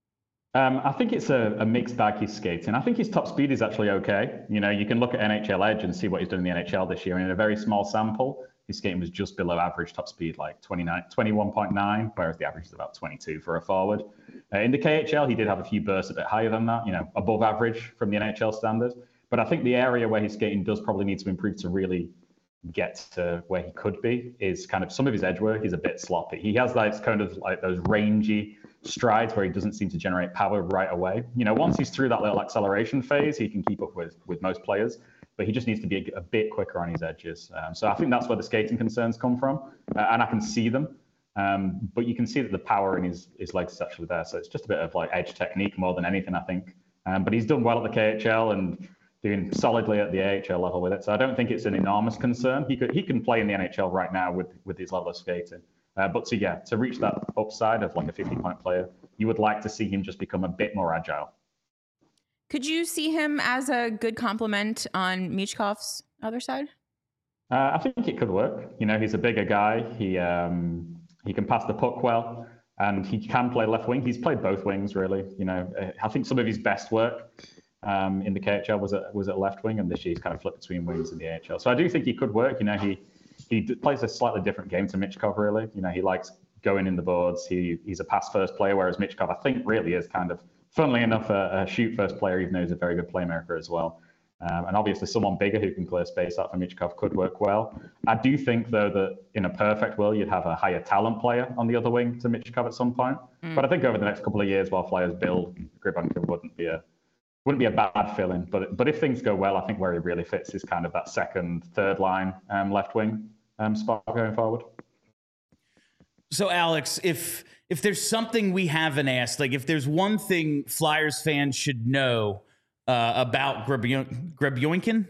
I think it's a mixed bag, his skating. I think his top speed is actually okay. You know, you can look at NHL Edge and see what he's done in the NHL this year. And in a very small sample, his skating was just below average top speed, like 21.9, whereas the average is about 22 for a forward. In the KHL, he did have a few bursts a bit higher than that, above average from the NHL standard. But I think the area where his skating does probably need to improve to really get to where he could be is kind of some of his edge work is a bit sloppy. He has kind of like those rangy strides where he doesn't seem to generate power right away. Once he's through that little acceleration phase, he can keep up with most players, but he just needs to be a bit quicker on his edges. So I think that's where the skating concerns come from, and I can see them. But you can see that the power in his legs is actually there. So it's just a bit of like edge technique more than anything, I think. But he's done well at the KHL and doing solidly at the AHL level with it. So I don't think it's an enormous concern. He can play in the NHL right now with his level of skating. But to reach that upside of like a 50-point player, you would like to see him just become a bit more agile. Could you see him as a good complement on Michkov's other side? I think it could work. He's a bigger guy. He can pass the puck well, and he can play left wing. He's played both wings, really. I think some of his best work in the KHL was at left wing, and this year he's kind of flipped between wings in the AHL. So I do think he could work. He plays a slightly different game to Michkov, really. He likes going in the boards. He's a pass-first player, whereas Michkov, I think, really is kind of, funnily enough, a shoot-first player, even though he's a very good playmaker as well. And obviously someone bigger who can clear space out for Michkov could work well. I do think, though, that in a perfect world, you'd have a higher talent player on the other wing to Michkov at some point. But I think over the next couple of years, while Flyers build, Grebionkin wouldn't be a bad fill-in. But if things go well, I think where he really fits is kind of that second, third line left wing spot going forward. So, Alex, if there's something we haven't asked, like if there's one thing Flyers fans should know about Grebionkin,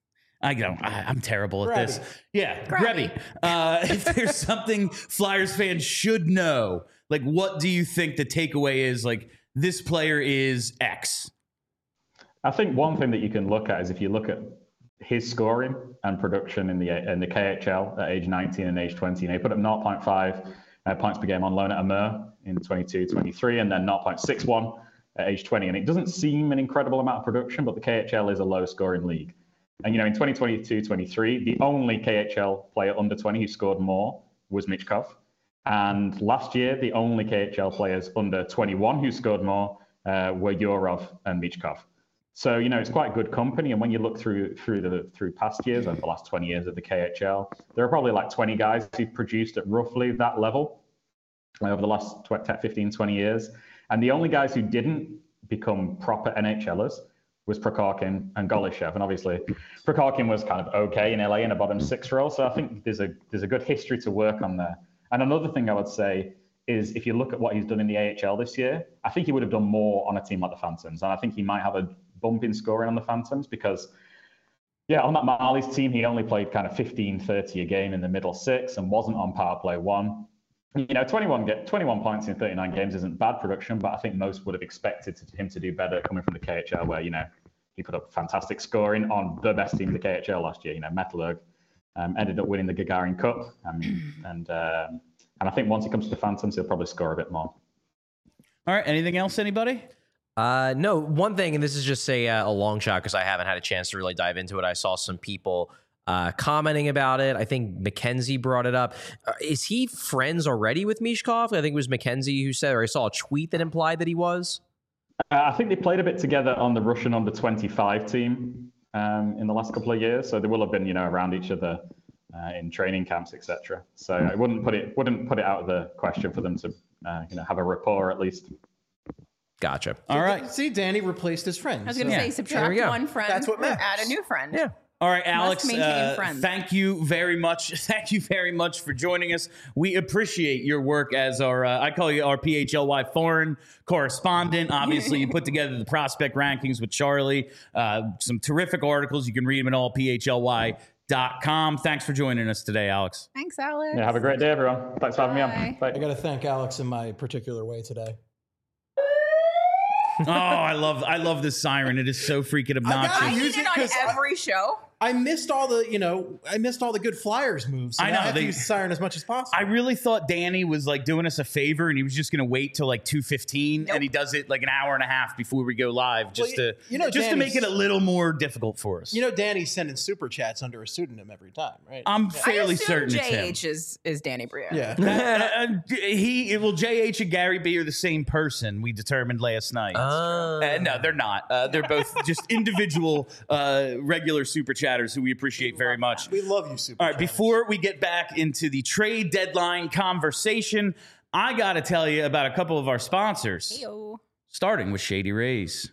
I'm terrible at this. Yeah, Grebby. If there's something Flyers fans should know, like what do you think the takeaway is? Like this player is X? I think one thing that you can look at is if you look at his scoring and production in the KHL at age 19 and age 20. He put up 0.5 points per game on loan at Amur in 22-23, and then 0.61 at age 20. And it doesn't seem an incredible amount of production, but the KHL is a low-scoring league. And, in 2022-23, the only KHL player under 20 who scored more was Michkov. And last year, the only KHL players under 21 who scored more were Yurov and Michkov. So, it's quite good company. And when you look through past years, over the last 20 years of the KHL, there are probably like 20 guys who've produced at roughly that level over the last 15, 20 years. And the only guys who didn't become proper NHLers was Prokhorkin and Golishev. And obviously, Prokhorkin was kind of okay in LA in a bottom six role. So I think there's a good history to work on there. And another thing I would say is if you look at what he's done in the AHL this year, I think he would have done more on a team like the Phantoms. And I think he might have a bump in scoring on the Phantoms because, on that Marlies team, he only played kind of 15-30 a game in the middle six and wasn't on power play one. 21 points in 39 games isn't bad production, but I think most would have expected him to do better coming from the KHL where, he put up fantastic scoring on the best team in the KHL last year, Metalurg. Ended up winning the Gagarin Cup. And I think once he comes to the Phantoms, he'll probably score a bit more. All right. Anything else, anybody? No, one thing, and this is just a long shot because I haven't had a chance to really dive into it. I saw some people commenting about it. I think Mackenzie brought it up. Is he friends already with Michkov? I think it was Mackenzie who said, or I saw a tweet that implied that he was. I think they played a bit together on the Russian under-25 team in the last couple of years. So they will have been, around each other in training camps, etc. So I wouldn't put it out of the question for them to, have a rapport at least. Gotcha. All right. See, Danny replaced his friend. I was going to say, subtract one friend. That's what matters. Add a new friend. Yeah. All right, Alex, maintain friends. thank you very much. Thank you very much for joining us. We appreciate your work as our, I call you our PHLY foreign correspondent. Obviously, you put together the prospect rankings with Charlie, some terrific articles. You can read them at all, PHLY.com. Thanks for joining us today, Alex. Thanks, Alex. Yeah, have a great day, everyone. Thanks for having me on. Bye. I got to thank Alex in my particular way today. Oh, I love this siren. It is so freaking obnoxious. I need it on every show. I missed all the good Flyers moves. So I know, I have to use the siren as much as possible. I really thought Danny was like doing us a favor and he was just going to wait till like 2:15 and he does it like an hour and a half before we go live just to make it a little more difficult for us. Danny's sending super chats under a pseudonym every time, right? I'm fairly certain JH it's him. is Danny Briere. Yeah. JH and Gary B are the same person, we determined last night. No, they're not. They're both just individual regular super chatters who we appreciate very much. We love you, super. All right, before we get back into the trade deadline conversation, I got to tell you about a couple of our sponsors. Heyo. Starting with Shady Rays.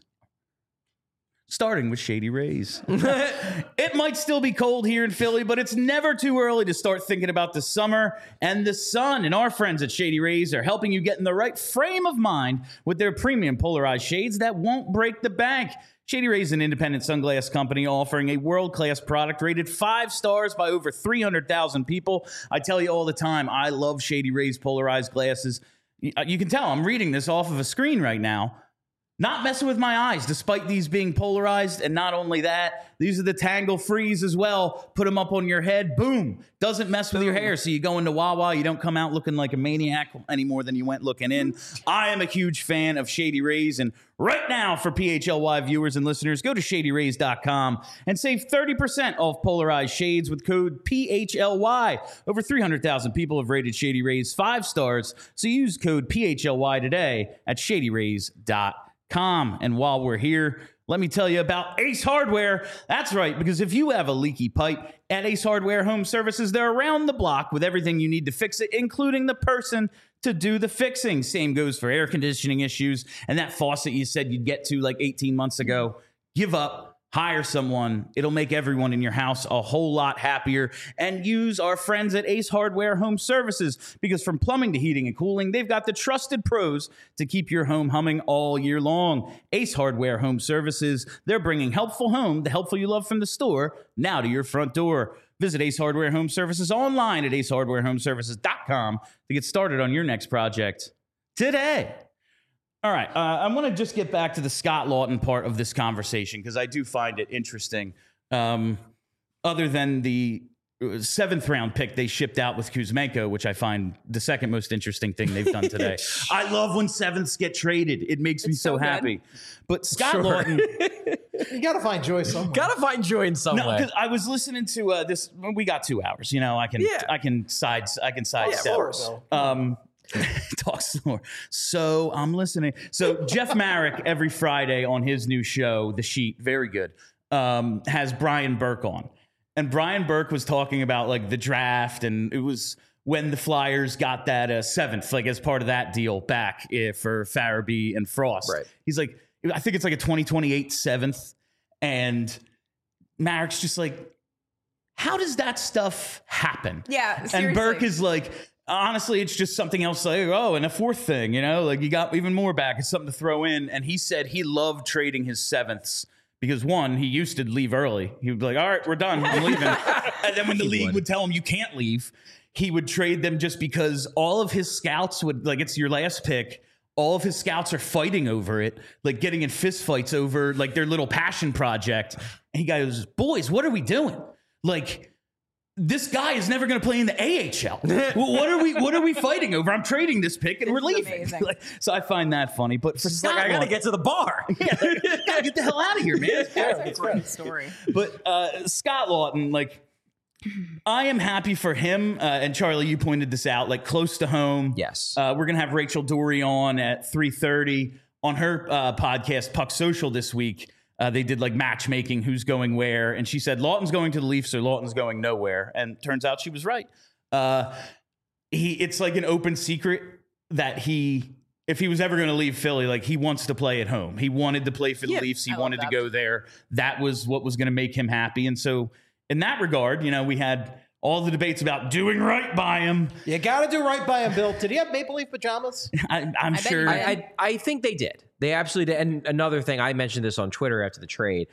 It might still be cold here in Philly, but it's never too early to start thinking about the summer and the sun. And our friends at Shady Rays are helping you get in the right frame of mind with their premium polarized shades that won't break the bank. Shady Rays is an independent sunglass company offering a world-class product rated 5 stars by over 300,000 people. I tell you all the time, I love Shady Rays polarized glasses. You can tell I'm reading this off of a screen right now. Not messing with my eyes, despite these being polarized. And not only that, these are the tangle frees as well. Put them up on your head. Boom. Doesn't mess with your hair. So you go into Wawa, you don't come out looking like a maniac any more than you went looking in. I am a huge fan of Shady Rays. And right now, for PHLY viewers and listeners, go to shadyrays.com and save 30% off polarized shades with code PHLY. Over 300,000 people have rated Shady Rays 5 stars. So use code PHLY today at shadyrays.com. And while we're here, let me tell you about Ace Hardware. That's right, because if you have a leaky pipe at Ace Hardware Home Services, they're around the block with everything you need to fix it, including the person to do the fixing. Same goes for air conditioning issues and that faucet you said you'd get to like 18 months ago. Give up. Hire someone. It'll make everyone in your house a whole lot happier. And use our friends at Ace Hardware Home Services, because from plumbing to heating and cooling, they've got the trusted pros to keep your home humming all year long. Ace Hardware Home Services, they're bringing helpful home, the helpful you love from the store, now to your front door. Visit Ace Hardware Home Services online at acehardwarehomeservices.com to get started on your next project today. All right. I want to just get back to the Scott Lawton part of this conversation because I do find it interesting. Other than the 7th round pick they shipped out with Kuzmenko, which I find the second most interesting thing they've done today. I love when 7ths get traded. It makes me so happy. But Scott Lawton, You got to find joy somewhere. Got to find joy in some way. because I was listening to this. We got 2 hours. You know, I can sidestep. Talk some more. So I'm listening. So Jeff Marek every Friday on his new show, The Sheet, very good, has Brian Burke on. And Brian Burke was talking about like the draft, and it was when the Flyers got that 7th, like as part of that deal back for Farabee and Frost. Right. He's like, I think it's like a 2028 7th. And Marek's just like, how does that stuff happen? Yeah, seriously. And Burke is like, honestly, it's just something else. Like, oh, and a 4th thing, you know, like you got even more back. It's something to throw in. And he said he loved trading his 7ths because, one, he used to leave early. He would be like, all right, we're done. I'm leaving. And then when the league would tell him you can't leave, he would trade them just because all of his scouts would, like, it's your last pick. All of his scouts are fighting over it, like getting in fist fights over like their little passion project. And he goes, boys, what are we doing? Like, this guy is never going to play in the AHL. What are we fighting over? I'm trading this pick and we're leaving. Like, so I find that funny. But for Scott, I got to get to the bar. Gotta get the hell out of here, man. That's a great story. But Scott Lawton, like, I am happy for him. And Charlie, you pointed this out, like close to home. Yes. We're going to have Rachel Dory on at 3:30 on her podcast, Puck Social, this week. They did like matchmaking, who's going where. And she said, Lawton's going to the Leafs or Lawton's going nowhere. And turns out she was right. It's like an open secret that if he was ever going to leave Philly, like he wants to play at home. He wanted to play for the Leafs. He wanted to go there. That was what was going to make him happy. And so in that regard, you know, we had all the debates about doing right by him. You got to do right by him, Bill. Did he have Maple Leaf pajamas? I'm sure. I think they did. They absolutely did. And another thing, I mentioned this on Twitter after the trade.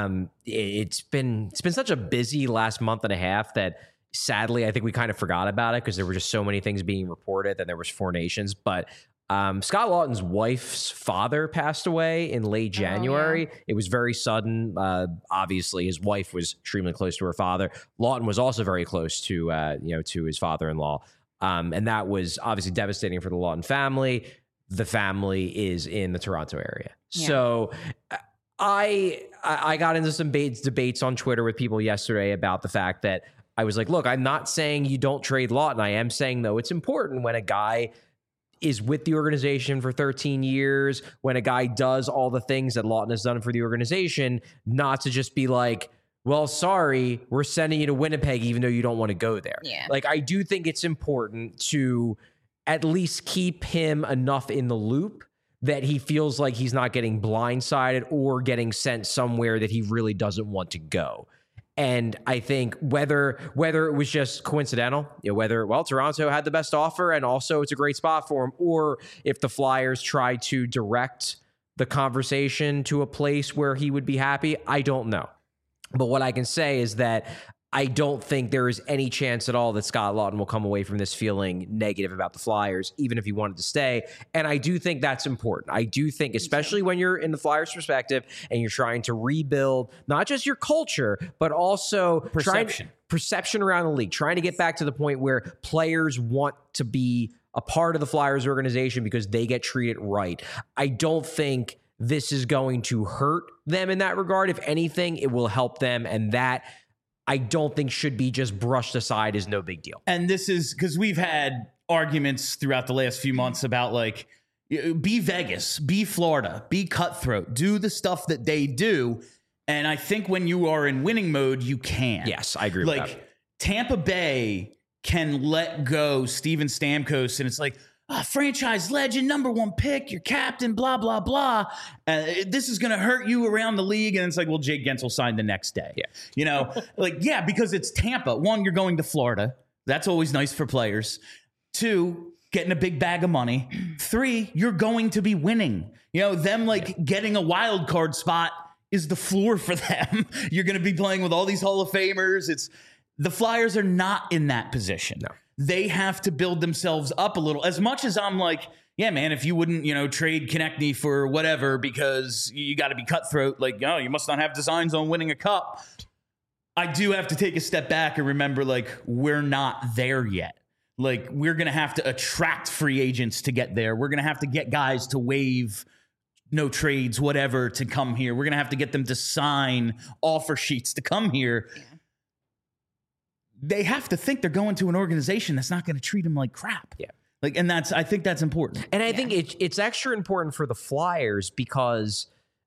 It's been such a busy last month and a half that sadly I think we kind of forgot about it because there were just so many things being reported and there was 4 nations. But Scott Lawton's wife's father passed away in late January. It was very sudden. Obviously, his wife was extremely close to her father. Lawton was also very close to to his father-in-law, and that was obviously devastating for the Lawton family. The family is in the Toronto area, so I got into some debates on Twitter with people yesterday about the fact that I was like, look, I'm not saying you don't trade Lawton. I am saying though it's important when a guy is with the organization for 13 years, when a guy does all the things that Lawton has done for the organization, not to just be like, well, sorry, we're sending you to Winnipeg even though you don't want to go there. Yeah. Like, I do think it's important to at least keep him enough in the loop that he feels like he's not getting blindsided or getting sent somewhere that he really doesn't want to go. And I think whether it was just coincidental, Toronto had the best offer and also it's a great spot for him, or if the Flyers try to direct the conversation to a place where he would be happy, I don't know. But what I can say is that I don't think there is any chance at all that Scott Lawton will come away from this feeling negative about the Flyers, even if he wanted to stay. And I do think that's important. I do think, especially when you're in the Flyers' perspective and you're trying to rebuild not just your culture, but also perception around the league, trying to get back to the point where players want to be a part of the Flyers organization because they get treated right. I don't think this is going to hurt them in that regard. If anything, it will help them, and that I don't think should be just brushed aside as no big deal. And this is because we've had arguments throughout the last few months about like, be Vegas, be Florida, be cutthroat, do the stuff that they do. And I think when you are in winning mode, you can. Yes, I agree with that. Like Tampa Bay can let go Steven Stamkos, and it's like, franchise legend, #1 pick, your captain, blah, blah, blah. This is going to hurt you around the league. And it's like, well, Jake Gensel signed the next day. Yeah. You know, because it's Tampa. 1, you're going to Florida. That's always nice for players. 2, getting a big bag of money. 3, you're going to be winning. You know, them getting a wild card spot is the floor for them. You're going to be playing with all these Hall of Famers. The Flyers are not in that position. No. They have to build themselves up a little. As much as I'm like, yeah, man, if you wouldn't, trade Konechny for whatever because you got to be cutthroat, like, you must not have designs on winning a cup. I do have to take a step back and remember, like, we're not there yet. Like, we're going to have to attract free agents to get there. We're going to have to get guys to waive no trades, whatever, to come here. We're going to have to get them to sign offer sheets to come here. Yeah. They have to think they're going to an organization that's not going to treat them like crap. Yeah. Like, and I think that's important. And I think it's extra important for the Flyers because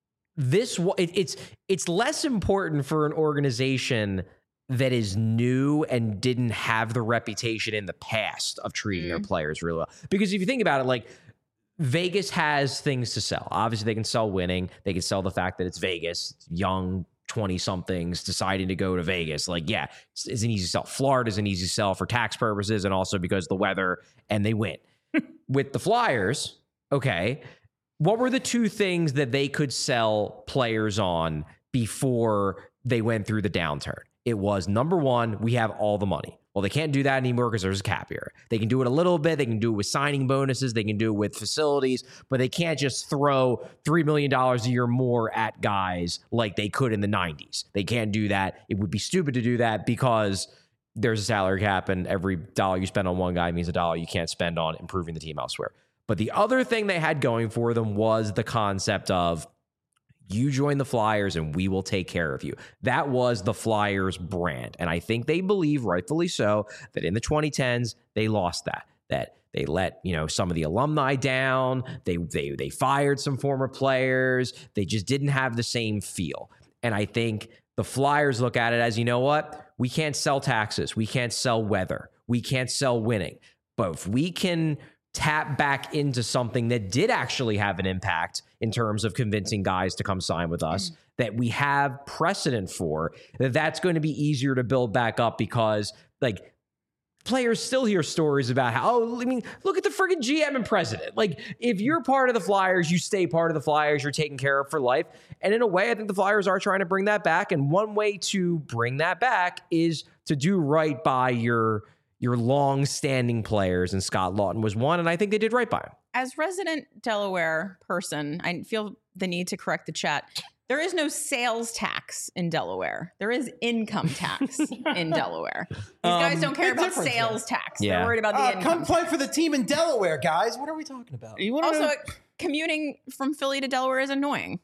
it's less important for an organization that is new and didn't have the reputation in the past of treating their players really well. Because if you think about it, like, Vegas has things to sell. Obviously, they can sell winning. They can sell the fact that it's Vegas, young 20-somethings deciding to go to Vegas. Like, yeah, it's an easy sell. Florida's an easy sell for tax purposes and also because of the weather, and they win. With the Flyers, okay, what were the two things that they could sell players on before they went through the downturn? It was, number one, we have all the money. Well, they can't do that anymore because there's a cap here. They can do it a little bit. They can do it with signing bonuses. They can do it with facilities, but they can't just throw $3 million a year more at guys like they could in the 90s. They can't do that. It would be stupid to do that because there's a salary cap and every dollar you spend on one guy means a dollar you can't spend on improving the team elsewhere. But the other thing they had going for them was the concept of, you join the Flyers and we will take care of you. That was the Flyers brand. And I think they believe, rightfully so, that in the 2010s, they lost that they let, some of the alumni down. They fired some former players. They just didn't have the same feel. And I think the Flyers look at it as, you know what? We can't sell taxes. We can't sell weather. We can't sell winning. But if we can tap back into something that did actually have an impact in terms of convincing guys to come sign with us, that we have precedent for, that's going to be easier to build back up because, like, players still hear stories about how, look at the friggin' GM and president. Like, if you're part of the Flyers, you stay part of the Flyers, you're taken care of for life. And in a way, I think the Flyers are trying to bring that back. And one way to bring that back is to do right by your long-standing players, and Scott Laughton was one, and I think they did right by him. As resident Delaware person, I feel the need to correct the chat. There is no sales tax in Delaware. There is income tax in Delaware. These guys don't care about sales tax. Yeah. They're worried about the income Come play tax. for the team in Delaware, guys. What are we talking about? Also, commuting from Philly to Delaware is annoying.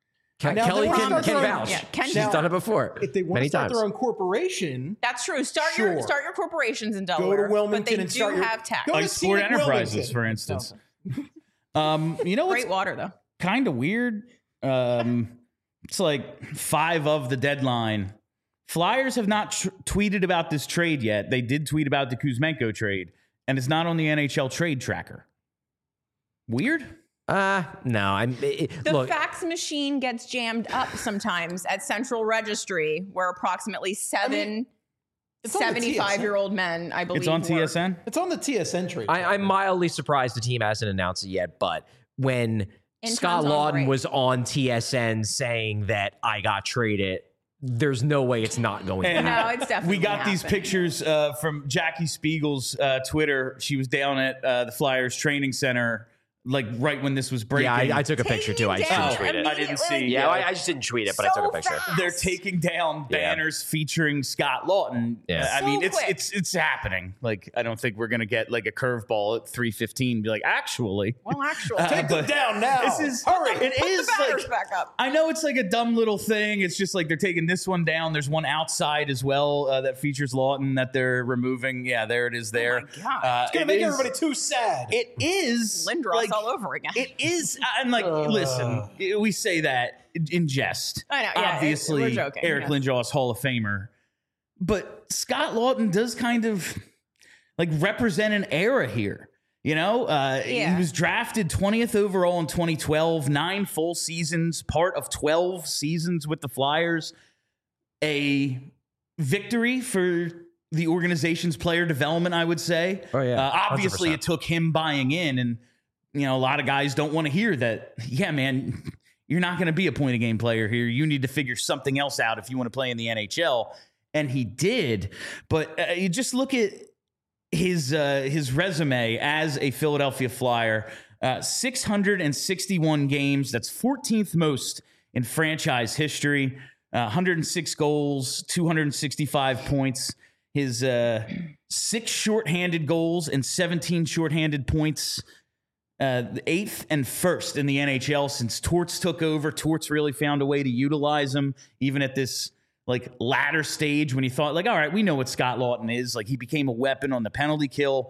Kelly can vouch. Yeah, She's done it before. If they want to start their own corporation, that's true. Start your corporations in Delaware. Go to Wilmington but they and do start have tax. Like Sport Enterprises, for instance. What's Great water though. kind of weird? It's like 5 of the deadline. Flyers have not tweeted about this trade yet. They did tweet about the Kuzmenko trade, and it's not on the NHL trade tracker. Weird? No. The fax machine gets jammed up sometimes at Central Registry, where approximately 75-year-old men, I believe, it's on TSN. It's on the TSN trade. I'm mildly surprised the team hasn't announced it yet, but when Scott Interns on Laughton break. was on TSN saying that I got traded, there's no way it's not going to And happen. No, it's definitely we got these happening. pictures from Jackie Spiegel's Twitter. She was down at the Flyers training center, like right when this was breaking. Yeah, I took a picture too. I just Taking didn't it tweet it. down I didn't see. Yeah, I just didn't tweet it, but I took a picture. fast. They're taking down banners featuring Scott Laughton. Yeah. I mean, So quick. it's happening. Like, I don't think we're gonna get like a curveball at 3:15. Be like, actually, Well, actually, Take them but down now. this is Hurry. It put is the banners like, back up. I know it's like a dumb little thing. It's just like they're taking this one down. There's one outside as well that features Laughton that they're removing. Yeah, there it is. There. Oh my God. It's gonna make everybody too sad. It is Lindros like, all over again. It is. I'm like, listen, we say that in jest. I know, yeah, Obviously, we're joking, Eric yeah. Lindros, Hall of Famer. But Scott Laughton does kind of like represent an era here. He was drafted 20th overall in 2012, 9 full seasons, part of 12 seasons with the Flyers. A victory for the organization's player development, I would say. Oh, yeah. Obviously, 100%. it took him buying in, and a lot of guys don't want to hear that. Yeah, man, you're not going to be a point of game player here. You need to figure something else out if you want to play in the NHL. And he did. But you just look at his resume as a Philadelphia Flyer. 661 games. That's 14th most in franchise history. 106 goals, 265 points. His 6 shorthanded goals and 17 shorthanded points. 8th and 1st in the NHL since Torts took over. Torts really found a way to utilize him, even at this like latter stage when he thought like, all right, we know what Scott Laughton is. Like he became a weapon on the penalty kill.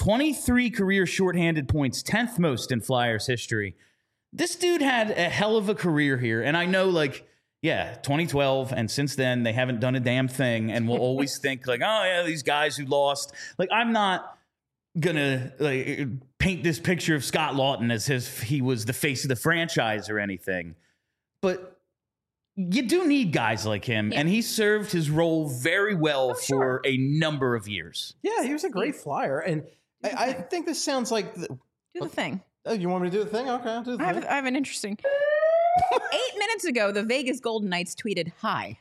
23 career shorthanded points, 10th most in Flyers history. This dude had a hell of a career here. And I know like, yeah, 2012. And since then they haven't done a damn thing. And we'll always think like, oh yeah, these guys who lost. Like I'm not gonna like paint this picture of Scott Laughton as if he was the face of the franchise or anything. But you do need guys like him, and he served his role very well for a number of years. Yeah, he was a great Flyer. And I think this sounds like... Do the thing. Oh, you want me to do the thing? Okay, I'll do the thing. I have an interesting... 8 minutes ago, the Vegas Golden Knights tweeted, hi.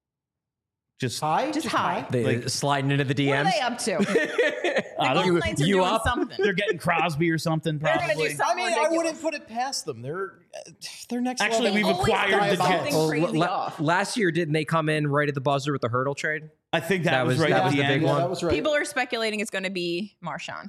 Just Hi? Just hi. They sliding into the DMs. What are they up to? The Golden Knights are doing something. they're getting Crosby or something. They're gonna Probably. do something I ridiculous. wouldn't put it past them. They're next Actually, level. we've Always acquired the got Jets. something crazy off. Last year, didn't they come in right at the buzzer with the hurdle trade? I think that was right that at was the the big end. one. That was right. People are speculating it's going to be Marchand.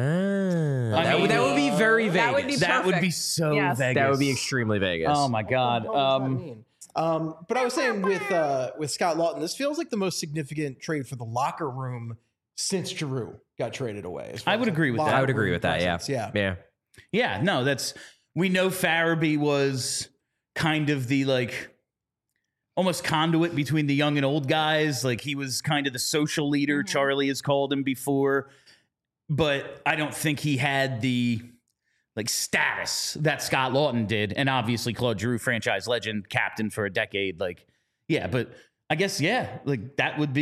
That mean, would be very Vegas. that would be That would be perfect. so Yes. Vegas. That would be extremely Vegas. Oh my God. What does that mean? But I was saying with Scott Laughton, this feels like the most significant trade for the locker room since Giroux got traded away. as far I would as, agree with that. I would locker agree room with that. Yeah. presence. Yeah. Yeah, no, we know Farabee was kind of the like almost conduit between the young and old guys. Like he was kind of the social leader. Charlie has called him before, but I don't think he had the like status that Scott Laughton did. And obviously Claude Giroux, franchise legend, captain for a decade. Like, yeah, but I guess, yeah, like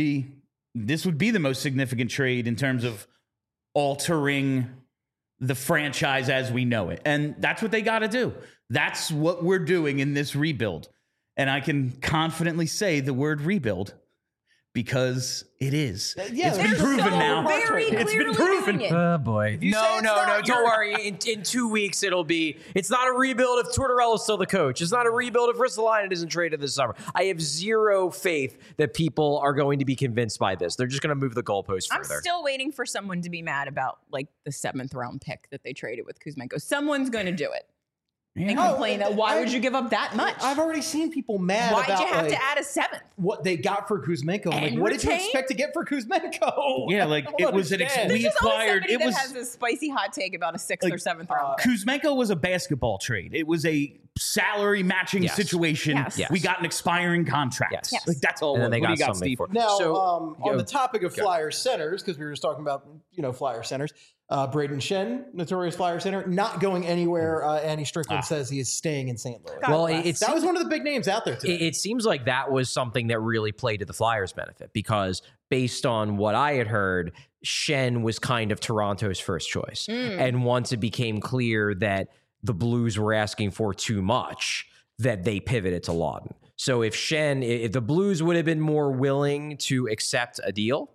this would be the most significant trade in terms of altering the franchise as we know it. And that's what they got to do. That's what we're doing in this rebuild. And I can confidently say the word rebuild because it is. Yeah, it's been they're proven so now. Very It's been clearly proven. doing it. Oh boy. you say No, it's no, not, no. you're- Don't worry. In 2 weeks, it's not a rebuild if Tortorella's still the coach. It's not a rebuild if Ristolainen isn't traded this summer. I have zero faith that people are going to be convinced by this. They're just going to move the goalpost I'm further. still waiting for someone to be mad about like the 7th round pick that they traded with Kuzmenko. Someone's going to do it and complain that why would you give up that much? I've already seen people mad Why'd about you have like, to add a 7th? what they got for Kuzmenko. I'm like, And what did you retain? expect to get for Kuzmenko? Yeah, like, I don't it was an understand. we There's always acquired- somebody it that was- has a spicy hot take about a 6th Like, or 7th round pick. Kuzmenko was a basketball trade. It was a salary matching Yes. situation. Yes. Yes. We got an expiring contract. Yes. Yes. Like that's all. And then they what do got you something Steve? for it. Now, So, on the topic of Flyer centers, because we were just talking about, Flyer centers, Braden Shen, notorious Flyer center, not going anywhere. Andy Strickland says he is staying in St. Louis. Well, That was one of the big names out there today. It seems like that was something that really played to the Flyers' benefit because based on what I had heard, Shen was kind of Toronto's first choice. And once it became clear that the Blues were asking for too much, that they pivoted to Laughton. So if the Blues would have been more willing to accept a deal,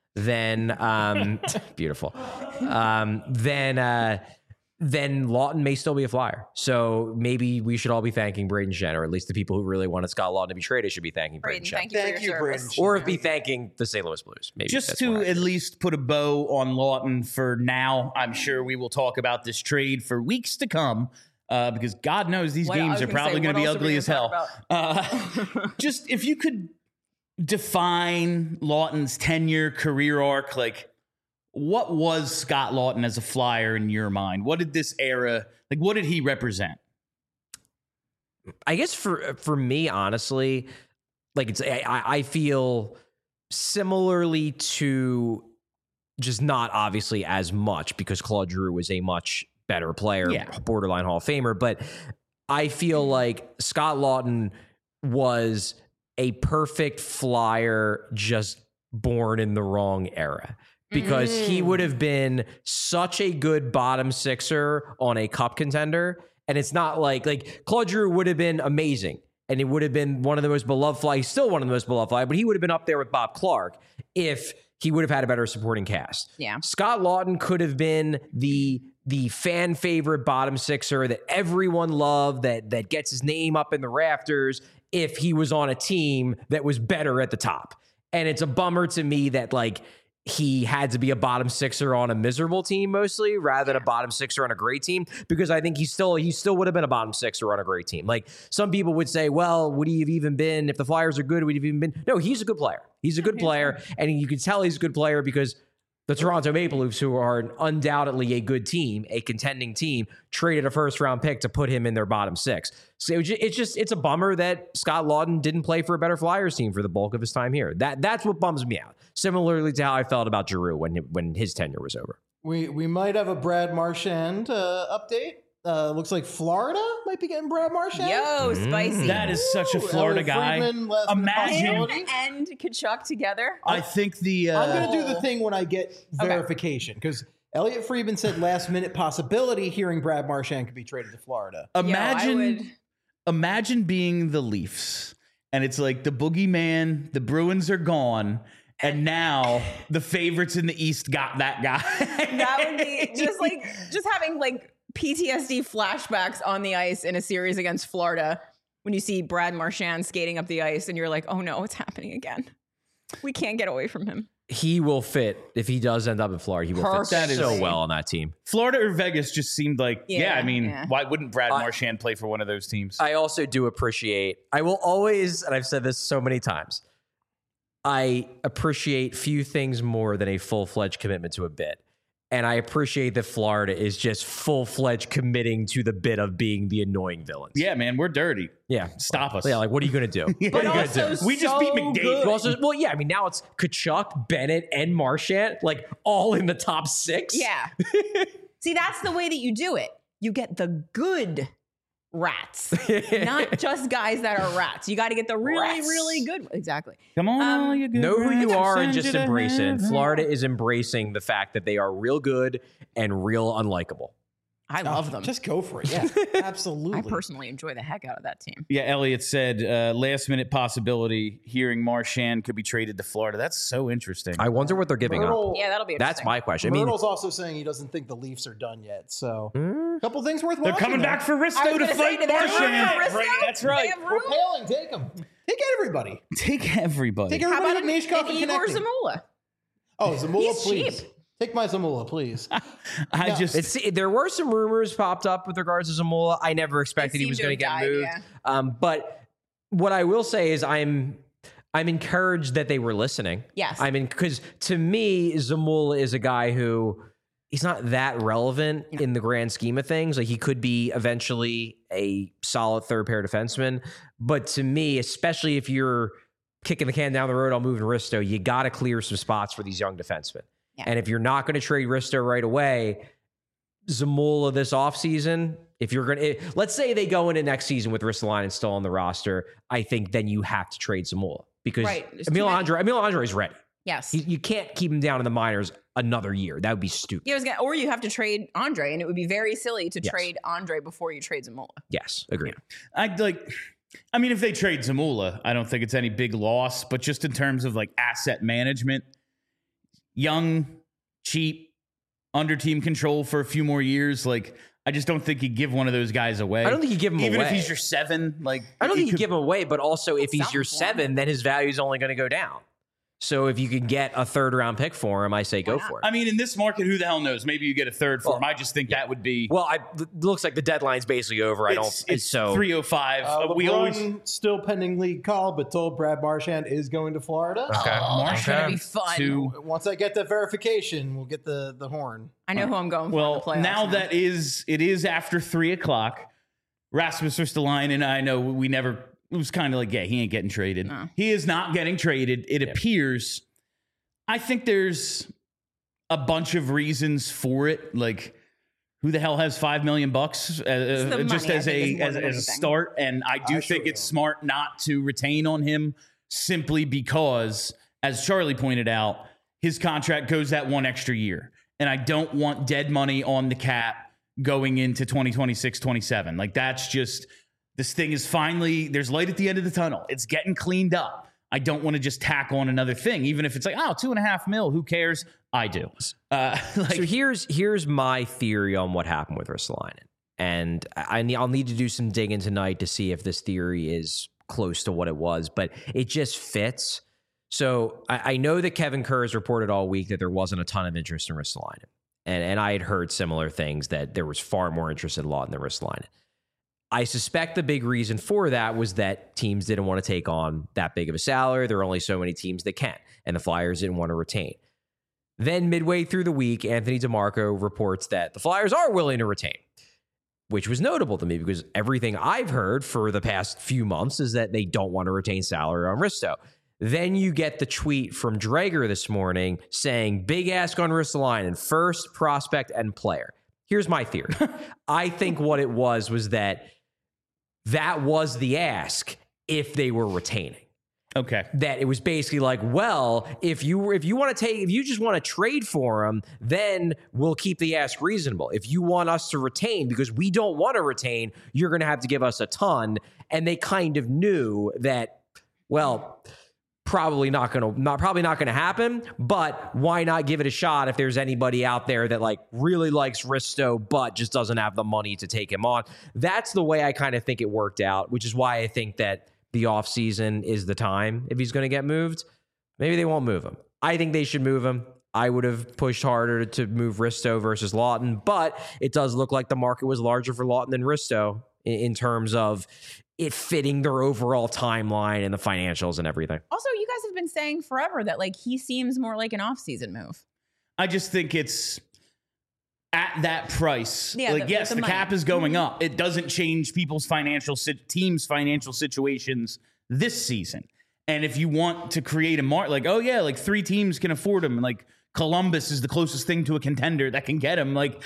then beautiful. Then Laughton may still be a Flyer. So maybe we should all be thanking Braden Shen, or at least the people who really wanted Scott Laughton to be traded should be thanking Braden Braden, Shen. thank you for Thank your you, service. Braden Shen. Or be thanking the St. Louis Blues. Maybe Just that's to more at accurate. least put a bow on Laughton for now, I'm sure we will talk about this trade for weeks to come because God knows these What- I games was are gonna probably say, going to what be else are we ugly as gonna hell. talk Just if you could define Laughton's 10-year career arc, like what was Scott Laughton as a Flyer in your mind? What did this era, like what did he represent? I guess for me, honestly, like I feel similarly to just not obviously as much because Claude Giroux was a much better player, Yeah. borderline Hall of Famer, but I feel like Scott Laughton was a perfect Flyer just born in the wrong era. Because he would have been such a good bottom sixer on a cup contender. And it's not like Claude Giroux would have been amazing. And it would have been one of the most beloved Flyers, still one of the most beloved Flyers, but he would have been up there with Bob Clark if he would have had a better supporting cast. Yeah. Scott Laughton could have been the the fan favorite bottom sixer that everyone loved, that gets his name up in the rafters if he was on a team that was better at the top. And it's a bummer to me that like he had to be a bottom sixer on a miserable team mostly rather than a bottom sixer on a great team, because I think he still would have been a bottom sixer on a great team. Like some people would say, well, would he have even been, if the Flyers are good, would he have even been? No, he's a good player. He's a good player. And you can tell he's a good player because the Toronto Maple Leafs, who are undoubtedly a good team, a contending team, traded a first-round pick to put him in their bottom six. So it's a bummer that Scott Laughton didn't play for a better Flyers team for the bulk of his time here. That's what bums me out. Similarly to how I felt about Giroux when his tenure was over. We might have a Brad Marchand update. Looks like Florida might be getting Brad Marchand. Yo, spicy. That is such a Florida guy. Imagine. Him and Kachuk together. I think the. I'm going to do the thing when I get verification, because Elliot Friedman said last minute possibility hearing Brad Marchand could be traded to Florida. Imagine being the Leafs, and it's like the boogeyman, the Bruins are gone, and now the favorites in the East got that guy. That would be just having like PTSD flashbacks on the ice in a series against Florida when you see Brad Marchand skating up the ice and you're like, oh no, it's happening again. We can't get away from him. He will fit, if he does end up in Florida, he will fit so well on that team. Florida or Vegas just seemed like, why wouldn't Brad Marchand play for one of those teams? I also do appreciate, I will always, and I've said this so many times, I appreciate few things more than a full-fledged commitment to a bit. And I appreciate that Florida is just full-fledged committing to the bit of being the annoying villains. Yeah, man, we're dirty. Yeah. Stop us. Yeah, like, what are you going to do? But also we just beat McDavid. Well, yeah, I mean, now it's Kachuk, Bennett, and Marchand, like, all in the top six. Yeah. See, that's the way that you do it. You get the good rats, not just guys that are rats. You got to get the really, really good. Exactly. Come on, you good know who you rats, are and send just you to embrace it. heaven. Florida is embracing the fact that they are real good and real unlikable. I love them. Just go for it. Yeah, absolutely. I personally enjoy the heck out of that team. Yeah, Elliot said last minute possibility hearing Marchand could be traded to Florida. That's so interesting. I wonder what they're giving up. Yeah, that'll be interesting. That's my question. Myrtle's also saying he doesn't think the Leafs are done yet. So a couple things worth They're watching. coming back for I was Risto to gonna say, fight do they have room for Marchand. Risto? Right, that's Do right. they have We're room? pailing. Take them. Take everybody. Take everybody. Take How everybody about at Nishkov and Igor connecting. Zamula? Oh, Zamula, He's please. cheap. Take my Zamula, please. There were some rumors popped up with regards to Zamula. I never expected he was going to get moved. But what I will say is I'm encouraged that they were listening. Yes. I mean, because to me, Zamula is a guy who he's not that relevant in the grand scheme of things. Like he could be eventually a solid third pair defenseman. But to me, especially if you're kicking the can down the road on moving Risto, you got to clear some spots for these young defensemen. Yeah. And if you're not going to trade Risto right away, Zamula this offseason, if you're going to, let's say they go into next season with Ristolainen still on the roster, I think then you have to trade Zamula because Emil Andre is ready. Yes. You can't keep him down in the minors another year. That would be stupid. Yeah, or you have to trade Andre, and it would be very silly to trade Andre before you trade Zamula. Yes, agreed. I mean, if they trade Zamula, I don't think it's any big loss, but just in terms of like asset management, young, cheap, under team control for a few more years, like I just don't think you give one of those guys away. I don't think you give him away. Even if he's your 7, like I don't think you give him away, but also if he's your Something. 7, then his value is only going to go down. So if you can get a third round pick for him, I say go for it. I mean, in this market, who the hell knows? Maybe you get a third for him. I just think that would be. Well, it looks like the deadline's basically over. It's so 3:05. We LeBron always still pending league call, but told Brad Marchand is going to Florida. Okay. That's going to be fun. Once I get that verification, we'll get the horn. I know who I'm going for in the playoffs now that it is after 3:00. Rasmus Ristolainen, and I know we never. It was kind of like, he ain't getting traded. No. He is not getting traded. It appears. I think there's a bunch of reasons for it. Like, who the hell has $5 million just as a start? And I do think it's smart not to retain on him simply because, as Charlie pointed out, his contract goes that one extra year, and I don't want dead money on the cap going into 2026-27. Like, that's just. This thing is finally, there's light at the end of the tunnel. It's getting cleaned up. I don't want to just tack on another thing, even if it's like, oh, $2.5 million, who cares? I do. So here's my theory on what happened with Ristolainen. And I'll need to do some digging tonight to see if this theory is close to what it was, but it just fits. So I know that Kevin Kerr has reported all week that there wasn't a ton of interest in Ristolainen. And I had heard similar things, that there was far more interest in Laughton than Ristolainen. I suspect the big reason for that was that teams didn't want to take on that big of a salary. There are only so many teams that can, and the Flyers didn't want to retain. Then midway through the week, Anthony DeMarco reports that the Flyers are willing to retain, which was notable to me because everything I've heard for the past few months is that they don't want to retain salary on Risto. Then you get the tweet from Drager this morning saying, big ask on Ristolainen, first prospect and player. Here's my theory. I think what it was that was the ask if they were retaining. Okay. That it was basically like, well, if you just want to trade for him, then we'll keep the ask reasonable. If you want us to retain because we don't want to retain, you're going to have to give us a ton. And they kind of knew that, well, probably not going to happen, but why not give it a shot if there's anybody out there that like really likes Risto but just doesn't have the money to take him on. That's the way I kind of think it worked out, which is why I think that the offseason is the time if he's going to get moved. Maybe they won't move him. I think they should move him. I would have pushed harder to move Risto versus Laughton, but it does look like the market was larger for Laughton than Risto in terms of it fitting their overall timeline and the financials and everything. Also, you guys have been saying forever that like he seems more like an off-season move. I just think it's at that price. Yeah, yes, the money. cap is going up. It doesn't change people's teams' financial situations this season. And if you want to create a like, oh yeah, like 3 teams can afford him. Like Columbus is the closest thing to a contender that can get him. Like,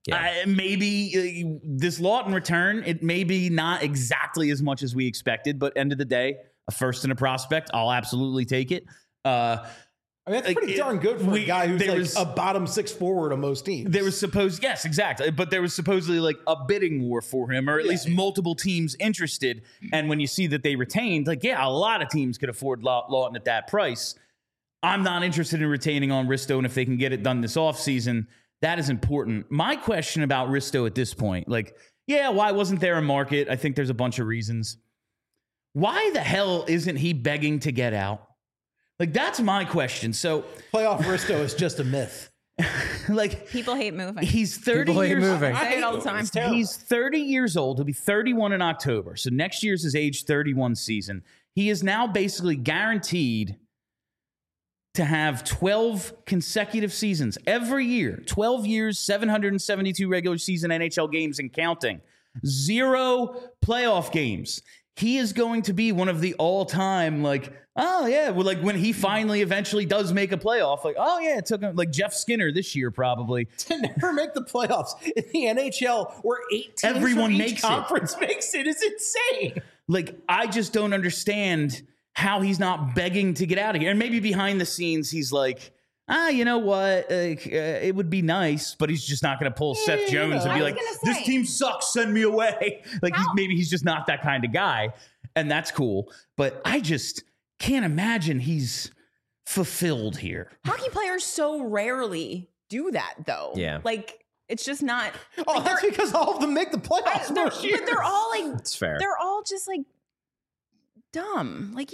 maybe this Laughton return, it may be not exactly as much as we expected, but end of the day, a first and a prospect, I'll absolutely take it. I mean, that's pretty darn good for a guy who's a bottom 6 forward on most teams. There was yes, exactly. But there was supposedly like a bidding war for him, or at least multiple teams interested. And when you see that they retained, like, a lot of teams could afford Laughton at that price. I'm not interested in retaining on Risto, and if they can get it done this offseason, that is important. My question about Risto at this point, like, why wasn't there a market? I think there's a bunch of reasons. Why the hell isn't he begging to get out? Like, that's my question. So playoff Risto is just a myth. Like, people hate moving. He's 30 people years hate moving. I say it all the time. He's 30 years old. He'll be 31 in October. So next year's his age 31 season. He is now basically guaranteed to have 12 consecutive seasons every year, 12 years, 772 regular season NHL games and counting, 0 playoff games. He is going to be one of the all-time, like, when he finally eventually does make a playoff, like, it took him, like Jeff Skinner this year probably. To never make the playoffs in the NHL where 8 teams Everyone from makes each conference makes it is insane. Like, I just don't understand how he's not begging to get out of here. And maybe behind the scenes, he's like, you know what? It would be nice, but he's just not going to pull Seth Jones and be like, this team sucks, send me away. Like, maybe he's just not that kind of guy. And that's cool. But I just can't imagine he's fulfilled here. Hockey players so rarely do that, though. Yeah. Like, it's just not. Oh, like, that's because all of them make the playoffs most years. But they're all like, It's fair. They're all just like dumb. Like,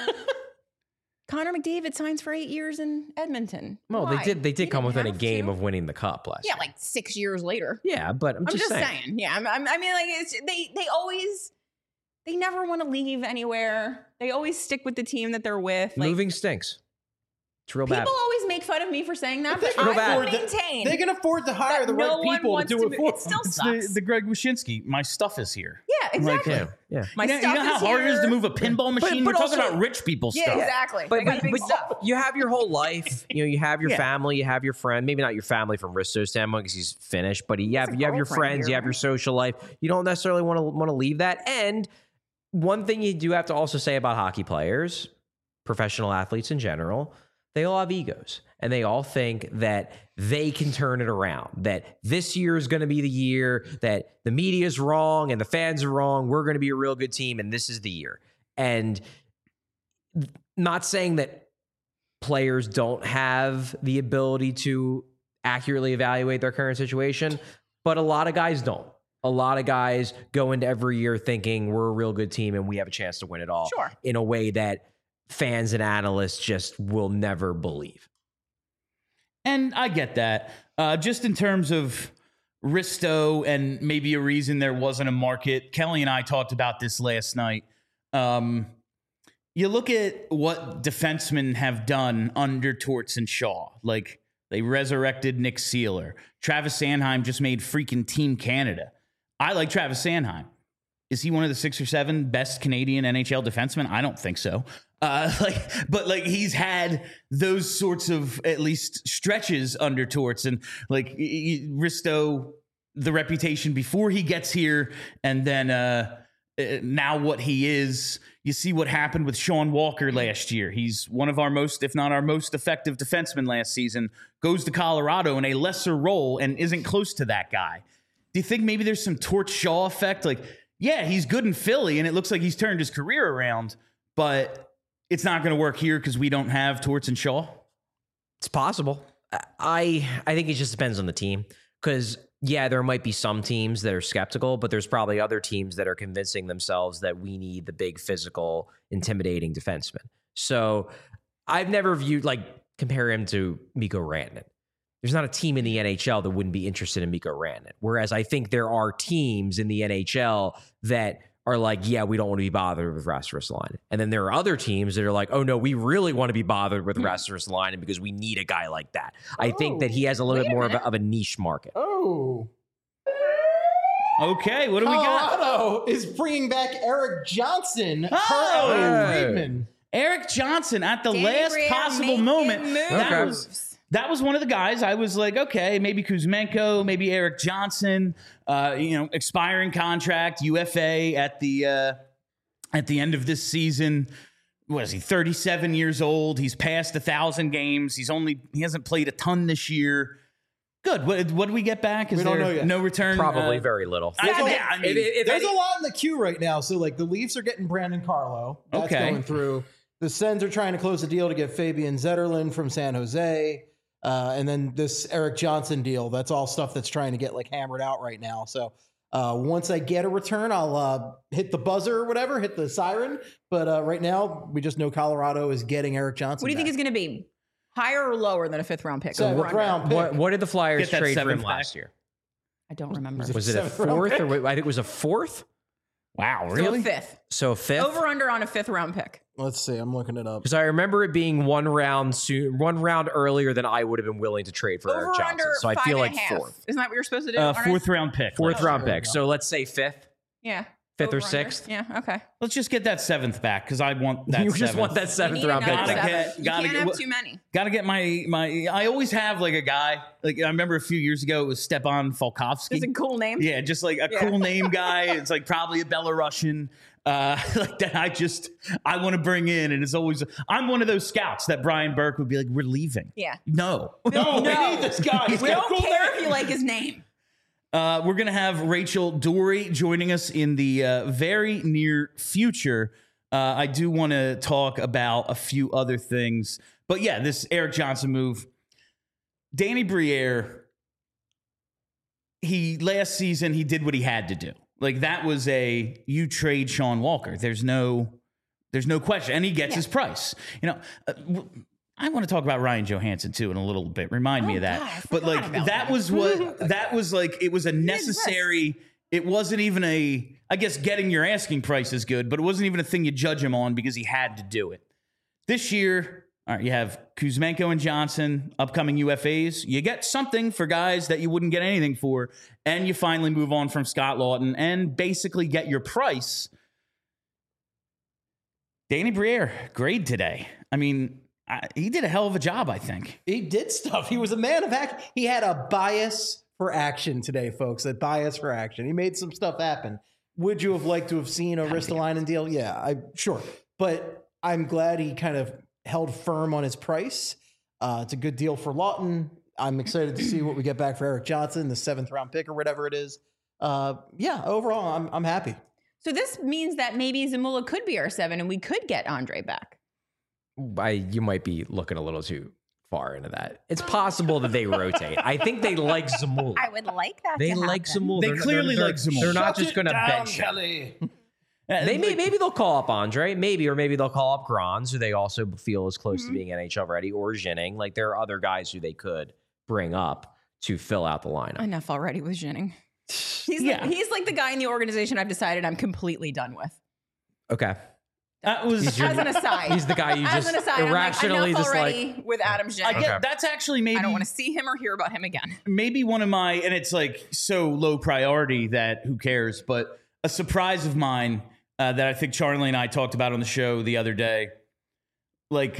Connor McDavid signs for 8 years in Edmonton. Well, Why? they did come within a have game to. of winning the cup last year. Yeah, like 6 years later. Yeah, but I'm just saying. Yeah, I mean, like, they never want to leave anywhere. They always stick with the team that they're with. Like, Moving stinks. It's real bad. people always make fun of me for saying that, but real I bad. will maintain. They can afford to hire the no right one people to wants do it for It still It's sucks. the Greg Wyshynski. My stuff is here. Yeah, exactly. Yeah. My You know stuff how is hard it is to here. move a pinball machine? but We're talking also- about rich people Yeah, stuff. exactly. But, I got big stuff. you have your whole life. You have your family, you have your friend. Maybe not your family from Risto's standpoint because he's Finnish, but you have your girlfriend friends, here, you have your right? social life. You don't necessarily want to leave that. And one thing you do have to also say about hockey players, professional athletes in general, they all have egos. And they all think that they can turn it around, that this year is going to be the year that the media is wrong and the fans are wrong. We're going to be a real good team, and this is the year. And not saying that players don't have the ability to accurately evaluate their current situation, but a lot of guys don't. A lot of guys go into every year thinking we're a real good team and we have a chance to win it all in a way that fans and analysts just will never believe. And I get that. Just in terms of Risto and maybe a reason there wasn't a market, Kelly and I talked about this last night. You look at what defensemen have done under Torts and Shaw. Like, they resurrected Nick Seeler. Travis Sanheim just made freaking Team Canada. I like Travis Sanheim. Is he one of the 6 or 7 best Canadian NHL defensemen? I don't think so. But he's had those sorts of at least stretches under Torts, and like Risto, the reputation before he gets here, and then now what he is. You see what happened with Sean Walker last year. He's one of our most, if not our most effective defensemen last season. Goes to Colorado in a lesser role and isn't close to that guy. Do you think maybe there's some Torts Shaw effect? Like, yeah, he's good in Philly, and it looks like he's turned his career around, but it's not going to work here because we don't have Torts and Shaw? It's possible. I think it just depends on the team, because, yeah, there might be some teams that are skeptical, but there's probably other teams that are convincing themselves that we need the big, physical, intimidating defenseman. So I've never viewed, compare him to Mikko Rantanen. There's not a team in the NHL that wouldn't be interested in Mikko Rantanen. Whereas I think there are teams in the NHL that are like, yeah, we don't want to be bothered with Rasmus Ristolainen. And then there are other teams that are like, oh, no, we really want to be bothered with Rasmus Ristolainen because we need a guy like that. I think that he has a little bit more of a niche market. Oh. Okay, what do we got? Colorado is bringing back Eric Johnson. Oh! Friedman. Eric Johnson at the Danny last Briere possible making moment. moves. That was one of the guys I was like, okay, maybe Kuzmenko, maybe Eric Johnson, expiring contract, UFA at the end of this season. What is he, 37 years old? He's passed 1,000 games. He hasn't played a ton this year. Good. What do we get back? Is We don't know yet. No return? Probably very little. There's a lot in the queue right now. So, the Leafs are getting Brandon Carlo. That's going through. The Sens are trying to close a deal to get Fabian Zetterlund from San Jose. And then this Eric Johnson deal, that's all stuff that's trying to get hammered out right now. So once I get a return, I'll hit the buzzer or whatever, hit the siren. But right now, we just know Colorado is getting Eric Johnson. What do you think is going to be? Higher or lower than a 5th round pick? 7th round pick. What did the Flyers Get that trade for him 7th last back. year? I don't remember. Was it a 7th round 4th? pick? I think it was a 4th? Wow, So really? 5th. So 5th? Over under on a 5th round pick. Let's see. I'm looking it up. Because I remember it being one round earlier than I would have been willing to trade for Eric Over Johnson. under So I feel like 5.5. 4th. Isn't that what you're supposed to do? 4th round pick. 4th round there you pick. go. So let's say 5th. Yeah. 5th or Over, under. 6th? Yeah. Okay. Let's just get that 7th back because I want that. You just 7th. want that You 7th need round pick. another Gotta back. seven. gotta you get- can't have too many. Got to get my. I always have a guy. I remember a few years ago it was Stepan Falkovsky. It's a cool name. Yeah, just a cool name guy. It's probably a Belarusian. That I want to bring in, and it's always I'm one of those scouts that Brian Burke would be like, we're leaving. Yeah. No. No, we need this guy. He's We got a don't cool care name. if you like his name. We're going to have Rachel Dory joining us in the very near future. I do want to talk about a few other things. But yeah, this Eric Johnson move. Danny Briere, last season, he did what he had to do. That was you trade Sean Walker. There's no question. And he gets his price. I want to talk about Ryan Johansson too in a little bit. Remind me of that. God, I But forgot about that that. was what that was it was a necessary. It wasn't even I guess getting your asking price is good, but it wasn't even a thing you judge him on because he had to do it. This year, all right, you have Kuzmenko and Johnson, upcoming UFAs. You get something for guys that you wouldn't get anything for, and you finally move on from Scott Lawton and basically get your price. Danny Briere, grade today. I mean, he did a hell of a job, I think. He did stuff. He was a man of action. He had a bias for action today, folks. A bias for action. He made some stuff happen. Would you have liked to have seen a Ristolainen deal? Yeah, sure. But I'm glad he kind of held firm on his price. It's a good deal for Lawton. I'm excited to see what we get back for Eric Johnson, the 7th round pick or whatever it is. Overall, I'm happy. So this means that maybe Zamula could be our 7 and we could get Andre back. You might be looking a little too far into that. It's possible that they rotate. I think they like Zamula. I would like that. They to like happen. Zamula. They clearly like Zamula. They're not Shut just it going to down, bench him. Kelly. Maybe they'll call up Andre, or maybe they'll call up Grans, who they also feel is close to being NHL ready, or Jennings. Like there are other guys who they could bring up to fill out the lineup. Enough already with Jennings. He's like the guy in the organization I've decided I'm completely done with. Okay. That was As an aside. He's the guy you As just an aside, irrationally I'm like, enough just already with Adam I Jennings. get that's actually maybe I don't want to see him or hear about him again. maybe one of my, and it's like so low priority that who cares, but a surprise of mine that I think Charlie and I talked about on the show the other day, like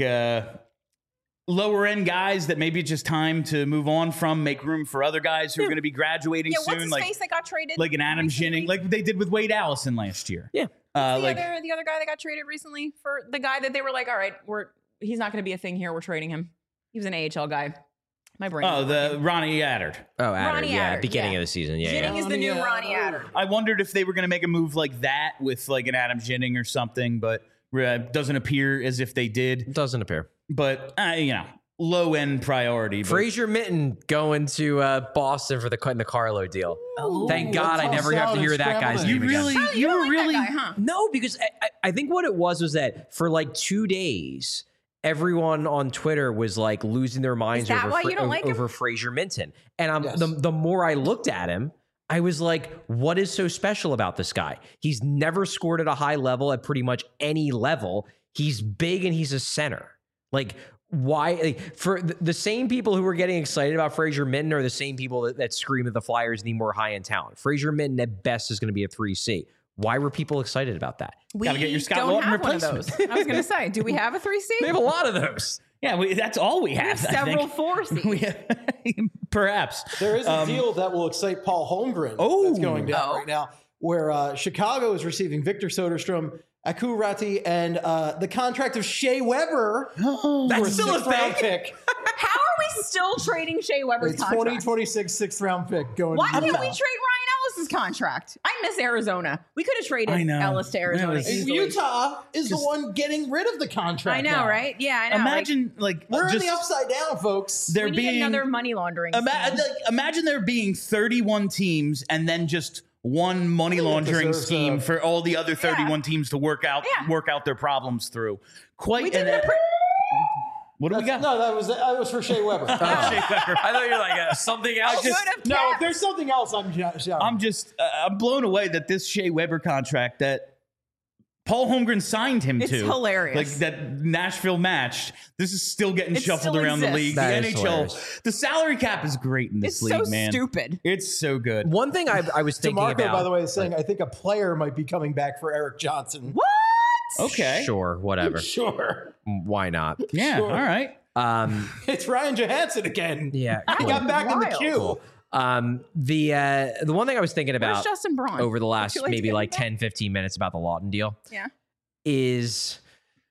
lower end guys that maybe it's just time to move on from, make room for other guys who are going to be graduating Yeah, soon, what's his like face that got traded? like an Adam recently? Jennings, like they did with Wade Allison last year. Yeah. The Like other guy that got traded recently, for the guy that they were like, all right, he's not going to be a thing here. We're trading him. He was an AHL guy. My brain. the Ronnie Addard. Oh, Adder, Ronnie yeah, Adder, beginning yeah. of the season. Yeah, Jennings yeah. is the new Ronnie Adder. I wondered if they were going to make a move like that with like an Adam Jennings or something, but doesn't appear as if they did. Doesn't appear. But low end priority. But Fraser Minton going to Boston for the Carlo deal. Thank God I never have to hear that guy's name again. Charlie, you don't were like really that guy, huh? No, because I think what it was that for like 2 days, everyone on Twitter was like losing their minds Is that why you don't like him? over Fraser Minton. And Yes. the more I looked at him, I was like, what is so special about this guy? He's never scored at a high level at pretty much any level. He's big and he's a center. Like, why? Like, for the same people who were getting excited about Fraser Minton are the same people that scream that the Flyers need more high-end talent. Fraser Minton at best is going to be a 3C. Why were people excited about that? Gotta get your Scott don't Laughton have one of replacement. those. I was going to say, do we have a 3C? They have a lot of those. Yeah, that's all we have. I Several think. 4Cs. We have, perhaps. There is a deal that will excite Paul Holmgren that's going down right now, where Chicago is receiving Victor Soderstrom, Aku Ratti, and the contract of Shea Weber for That's a still a sixth-round thing? pick. How are we still trading Shea Weber's It's contract? 2026 sixth-round pick going Why to can't we Utah. trade Ryan Ellis's contract? I miss Arizona. We could have I traded know. Ellis to Arizona. That was- easily. Utah is the one getting rid of the contract. I know, now. right? Yeah, I know. Imagine like We're just in the upside down, folks. there we need being another money laundering. scheme. imagine there being 31 teams and then just one money laundering deserves scheme a- for all the other 31 teams to work out their problems through. Quite We did an it. what do we got? No, that was for Shea Weber. I thought you were like something else. No, if there's something else, I'm shouting. I'm just I'm blown away that this Shea Weber contract that Paul Holmgren signed him It's to. hilarious. Like that Nashville matched. This is still getting It shuffled still around the exists. league. That The is NHL, hilarious. the salary cap is great in this It's league, so man. stupid. It's so good. One thing I was thinking DeMarco, about. by the way, is saying I think a player might be coming back for Eric Johnson. What? Okay. Sure, whatever. Sure. Why not? Yeah. Sure. All right. It's Ryan Johansson again. Yeah. He got back in the Wild. queue. The one thing I was thinking Where's about Justin Braun? over the Would last you like to maybe get like him back? 10, 15 minutes about the Lawton deal Yeah. is,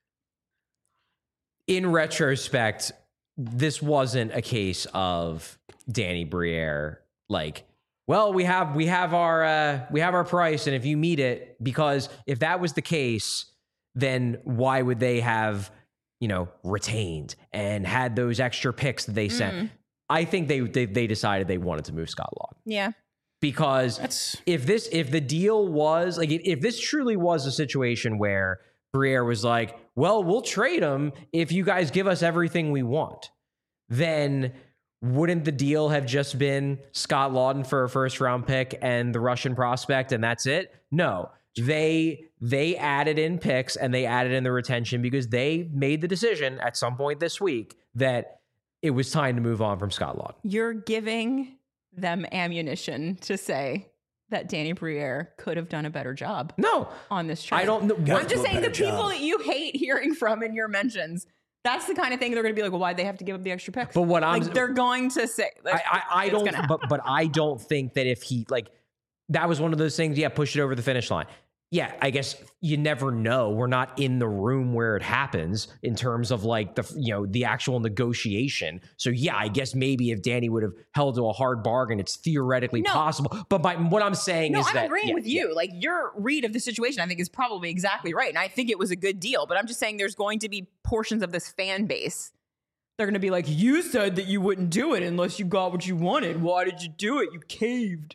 in retrospect, this wasn't a case of Danny Briere like, well, we have our price, and if you meet it, because if that was the case, then why would they have retained and had those extra picks that they sent? I think they decided they wanted to move Scott Laughton. Yeah. Because if the deal was like, if this truly was a situation where Briere was like, well, we'll trade him if you guys give us everything we want, then wouldn't the deal have just been Scott Laughton for a first round pick and the Russian prospect and that's it? No, they added in picks and they added in the retention because they made the decision at some point this week that it was time to move on from Scott Laughton. You're giving them ammunition to say that Danny Briere could have done a better job No, on this trade. I don't know. I'm just saying the people that you hate hearing from in your mentions, that's the kind of thing they're going to be like, well, why'd they have to give up the extra picks? But what I'm like, they're going to say, like, I it's don't, gonna happen. but I don't think that if he like, that was one of those things. Yeah, push it over the finish line. yeah, I guess you never know. We're not in the room where it happens in terms of like the actual negotiation. So yeah, I guess maybe if Danny would have held to a hard bargain, it's theoretically possible. But what I'm saying is I'm that agreeing with you. Like your read of the situation, I think is probably exactly right. And I think it was a good deal, but I'm just saying there's going to be portions of this fan base. They're going to be like, you said that you wouldn't do it unless you got what you wanted. Why did you do it? You caved.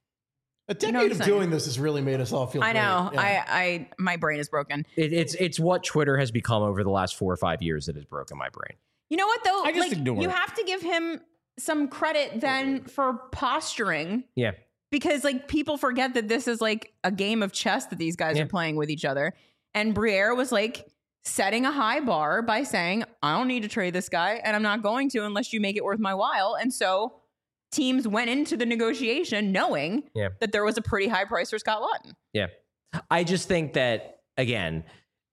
A decade of doing this has really made us all feel I know. great. Yeah. I my brain is broken. it's what Twitter has become over the last 4 or 5 years that has broken my brain. You know what though? I just like, ignore you it. have to give him some credit then for posturing. Yeah. Because like people forget that this is like a game of chess that these guys are playing with each other. And Briere was like setting a high bar by saying, I don't need to trade this guy and I'm not going to unless you make it worth my while. And so teams went into the negotiation knowing that there was a pretty high price for Scott Laughton. Yeah. I just think that, again,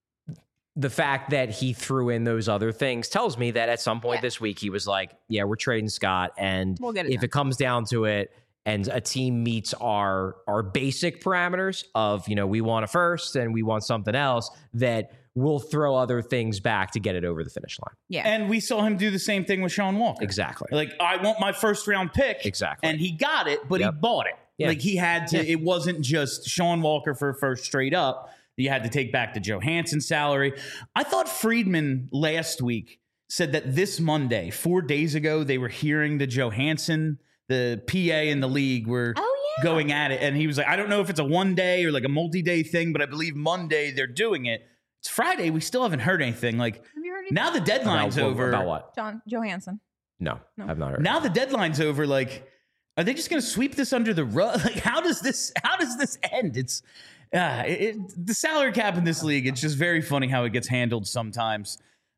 the fact that he threw in those other things tells me that at some point this week he was like, yeah, we're trading Scott. And We'll get it if done. it comes down to it and a team meets our basic parameters of, we want a first and we want something else, that we'll throw other things back to get it over the finish line. Yeah. And we saw him do the same thing with Sean Walker. Exactly. Like, I want my first round pick. Exactly. And he got it, but he bought it. Yeah. Like, he had to, it wasn't just Sean Walker for first straight up. You had to take back the Johansson salary. I thought Friedman last week said that this Monday, 4 days ago, they were hearing the Johansson, the PA in the league were going at it. And he was like, I don't know if it's a 1 day or like a multi-day thing, but I believe Monday they're doing it. It's Friday. We still haven't heard anything. Like, Have you heard anything? now the deadline's over. About what? John Johansson. No, I've not heard. Now the deadline's over. Like, are they just going to sweep this under the rug? Like, how does this end? It's the salary cap in this league. It's just very funny how it gets handled sometimes.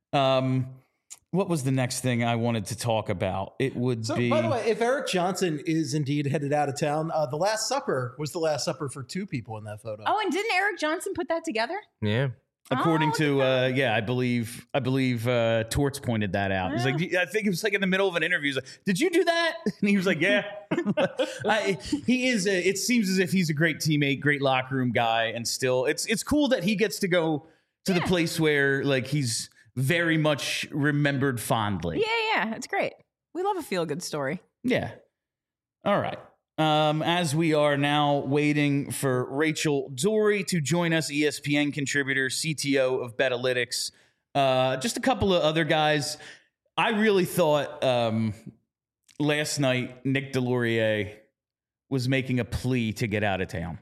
What was the next thing I wanted to talk about? It would be. By the way, if Eric Johnson is indeed headed out of town, the Last Supper was the Last Supper for two people in that photo. Oh, and didn't Eric Johnson put that together? Yeah. According to, I believe Torts pointed that out. He's like, I think it was like in the middle of an interview. He's like, did you do that? And he was like, yeah. He is. It seems as if he's a great teammate, great locker room guy, and still, it's cool that he gets to go to the place where like he's very much remembered fondly. Yeah, it's great. We love a feel good story. Yeah. All right. As we are now waiting for Rachel Dory to join us, ESPN contributor, CTO of Betalytics, just a couple of other guys. I really thought last night Nick DeLaurier was making a plea to get out of town.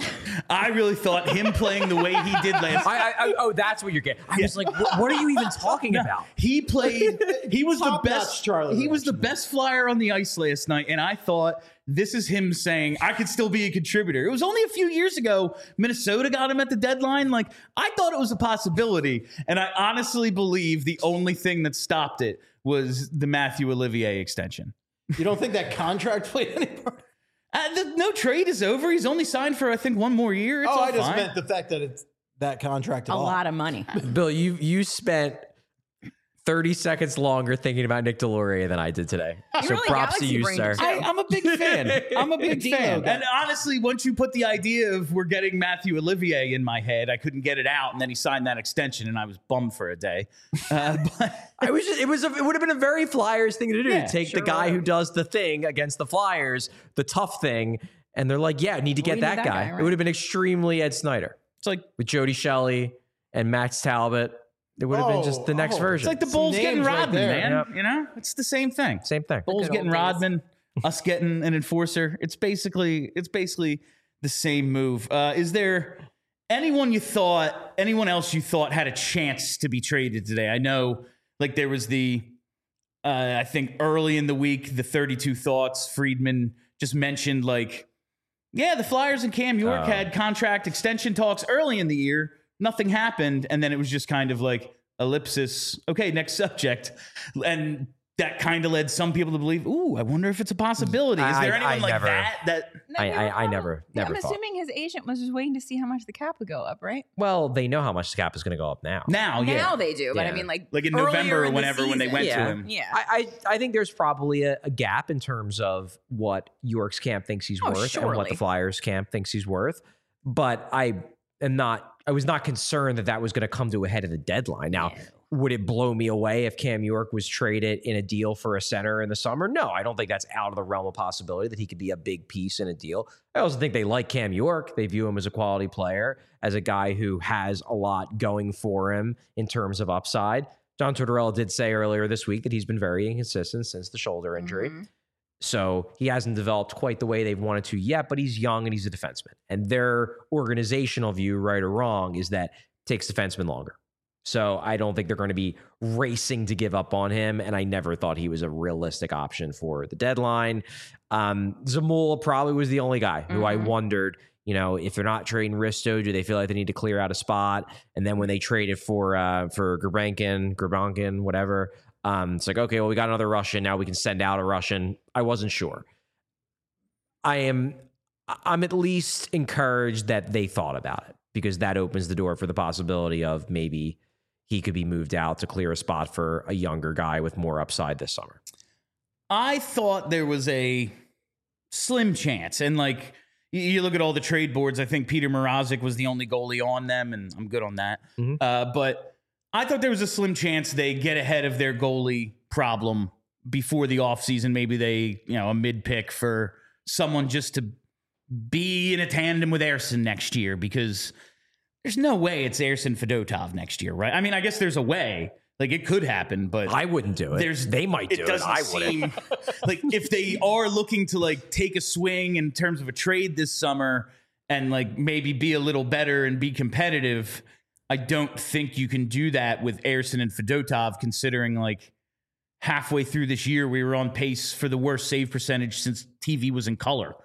I really thought him playing the way he did last night. Oh, that's what you're getting. I was like, what are you even talking about? He played. He was the Top-notch best. Charlie He was the Rich. best flyer on the ice last night, and I thought this is him saying I could still be a contributor. It was only a few years ago Minnesota got him at the deadline. Like I thought it was a possibility, and I honestly believe the only thing that stopped it was the Matthew Olivier extension. You don't think that contract played any part? No trade is over. He's only signed for I think one more year. It's all I just fine. meant the fact that it's that contract at A all. lot of money. Bill, you spent 30 seconds longer thinking about Nick DeLaurier than I did today. You So really props to galaxy you, brained sir. it too. I'm a big fan. I'm a big Dino fan. guy. And honestly, once you put the idea of we're getting Matthew Olivier in my head, I couldn't get it out. And then he signed that extension, and I was bummed for a day. But It would have been a very Flyers thing to do. Yeah, Take the guy who does the thing against the Flyers, the tough thing, and they're like, yeah, need to get need that that guy. guy, right. It would have been extremely Ed Snyder it's like with Jody Shelley and Max Talbot. It would have been just the next version. it's like the Some Bulls getting names right Rodman, there. man. Yep. You know, it's the same thing. Same thing. Bulls good getting old days. Rodman, us getting an enforcer. It's basically the same move. Is there anyone else you thought had a chance to be traded today? I know, like there was the, I think early in the week, the 32 Thoughts, Friedman just mentioned like, yeah, the Flyers and Cam York had contract extension talks early in the year. Nothing happened. And then it was just kind of like ellipsis. Okay, next subject. And that kind of led some people to believe, ooh, I wonder if it's a possibility. Is there anyone like never- that? I never I'm thought. assuming his agent was just waiting to see how much the cap would go up, right? Well, they know how much the cap is going to go up now. Now, yeah. Now they do, but I Yeah. mean, like Like in earlier November or in the whenever when they season. went Yeah. to him. Yeah. I think there's probably a gap in terms of what York's camp thinks he's worth and what surely. the Flyers camp thinks he's worth. But was not concerned that was going to come to a head at the deadline. Now, would it blow me away if Cam York was traded in a deal for a center in the summer? No, I don't think that's out of the realm of possibility that he could be a big piece in a deal. I also think they like Cam York. They view him as a quality player, as a guy who has a lot going for him in terms of upside. John Tortorella did say earlier this week that he's been very inconsistent since the shoulder injury. So he hasn't developed quite the way they've wanted to yet, but he's young and he's a defenseman. And their organizational view, right or wrong, is that it takes defensemen longer. So I don't think they're going to be racing to give up on him. And I never thought he was a realistic option for the deadline. Zamula probably was the only guy who I wondered, if they're not trading Risto, do they feel like they need to clear out a spot? And then when they traded for Gurbankin, whatever, it's like, okay, well, we got another Russian. Now we can send out a Russian. I wasn't sure. I'm at least encouraged that they thought about it, because that opens the door for the possibility of maybe he could be moved out to clear a spot for a younger guy with more upside this summer. I thought there was a slim chance. And you look at all the trade boards, I think Peter Mrazek was the only goalie on them, and I'm good on that. But I thought there was a slim chance they get ahead of their goalie problem before the offseason. Maybe they, a mid-pick for someone just to be in a tandem with Ersin next year, because there's no way it's Ersin Fedotov next year, right? I mean, I guess there's a way. It could happen, but I wouldn't do it. They might do it. I wouldn't. If they are looking to take a swing in terms of a trade this summer and maybe be a little better and be competitive, I don't think you can do that with Ersin and Fedotov, considering halfway through this year we were on pace for the worst save percentage since TV was in color.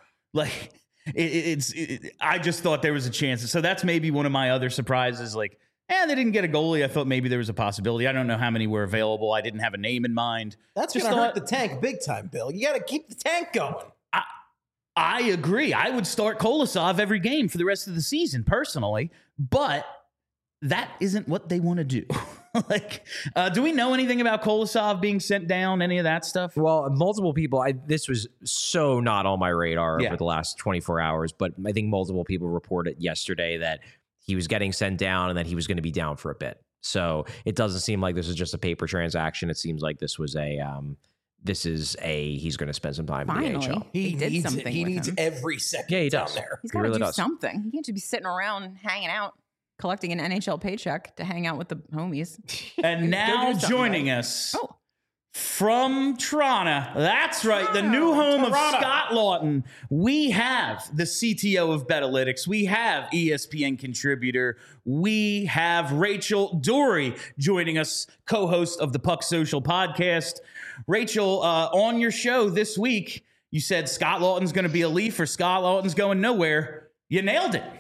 I just thought there was a chance. So that's maybe one of my other surprises. They didn't get a goalie. I thought maybe there was a possibility. I don't know how many were available. I didn't have a name in mind. That's going to hurt the tank big time, Bill. You got to keep the tank going. I agree. I would start Kolosov every game for the rest of the season, personally. But that isn't what they want to do. Do we know anything about Kolosov being sent down, any of that stuff? Well, multiple people, this was so not on my radar over the last 24 hours, but I think multiple people reported yesterday that he was getting sent down and that he was going to be down for a bit. So it doesn't seem like this is just a paper transaction. It seems like this was he's going to spend some time in the AHL. He did something. He needs every second he does. down there. He's got to do something. He can't just be sitting around hanging out, collecting an NHL paycheck to hang out with the homies. And now joining us from Toronto, that's right, the new home of Scott Laughton, we have the CTO of Betalytics, we have ESPN contributor, we have Rachel Doerrie joining us, co-host of the Puck Social podcast. Rachel, on your show this week, you said Scott Laughton's going to be a Leaf or Scott Laughton's going nowhere. You nailed it.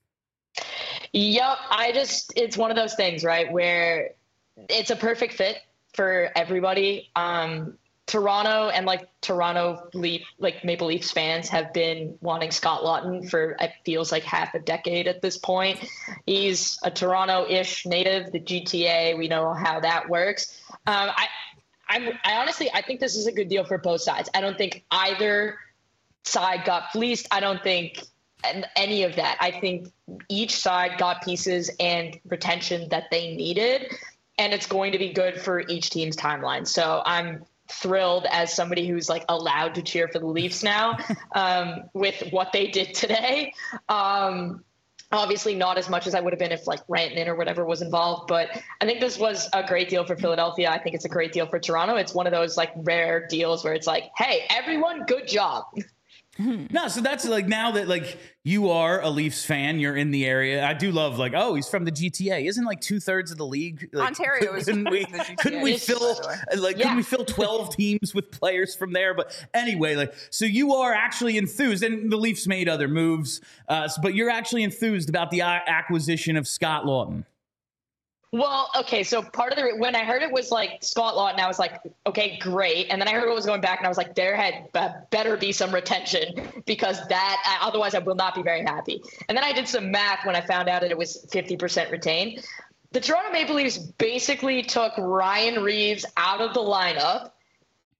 Yep. It's one of those things, right, where it's a perfect fit for everybody. Toronto and Toronto Maple Leafs fans have been wanting Scott Laughton for, it feels like, half a decade at this point. He's a Toronto-ish native, the GTA. We know how that works. I honestly think this is a good deal for both sides. I don't think either side got fleeced. I don't think any of that. I think each side got pieces and retention that they needed, and it's going to be good for each team's timeline. So I'm thrilled as somebody who's allowed to cheer for the Leafs now with what they did today. Obviously not as much as I would have been if Rantanen or whatever was involved, but I think this was a great deal for Philadelphia. I think it's a great deal for Toronto. It's one of those rare deals where it's hey, everyone, good job. No, so that's now that you are a Leafs fan, you're in the area. I do love he's from the GTA. Isn't 2/3 of the league Ontario is couldn't we fill 12 teams with players from there? But anyway, so you are actually enthused, and the Leafs made other moves, but you're actually enthused about the acquisition of Scott Laughton. Well, okay, so part of when I heard it was Scott Laughton, I was okay, great. And then I heard what was going back, and I was there had better be some retention, because otherwise I will not be very happy. And then I did some math when I found out that it was 50% retained. The Toronto Maple Leafs basically took Ryan Reeves out of the lineup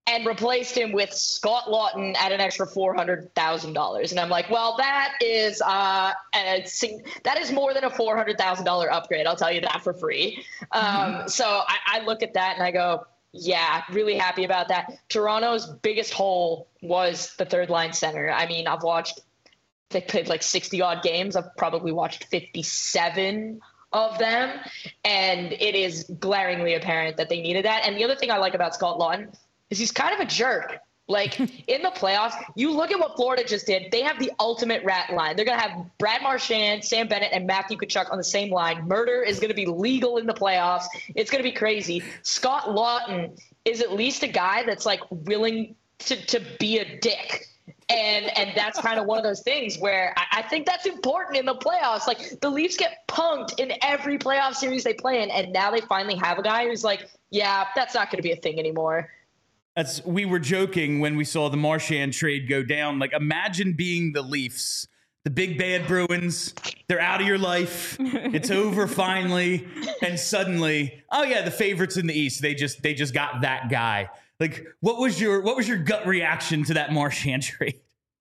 and replaced him with Scott Lawton at an extra $400,000. And I'm like, well, that is that is more than a $400,000 upgrade. I'll tell you that for free. So I look at that and I go, yeah, really happy about that. Toronto's biggest hole was the third line center. I mean, they played like 60 odd games. I've probably watched 57 of them. And it is glaringly apparent that they needed that. And the other thing I like about Scott Lawton is he's kind of a jerk. Like in the playoffs, you look at what Florida just did. They have the ultimate rat line. They're going to have Brad Marchand, Sam Bennett, and Matthew Tkachuk on the same line. Murder is going to be legal in the playoffs. It's going to be crazy. Scott Lawton is at least a guy that's like willing to be a dick. And that's kind of one of those things where I think that's important in the playoffs. Like the Leafs get punked in every playoff series they play in. And now they finally have a guy who's like, yeah, that's not going to be a thing anymore. We were joking when we saw the Marchand trade go down. Like, imagine being the Leafs, the big bad Bruins. They're out of your life. It's over finally, and suddenly, oh yeah, the favorites in the East. They just got that guy. Like, what was your gut reaction to that Marchand trade?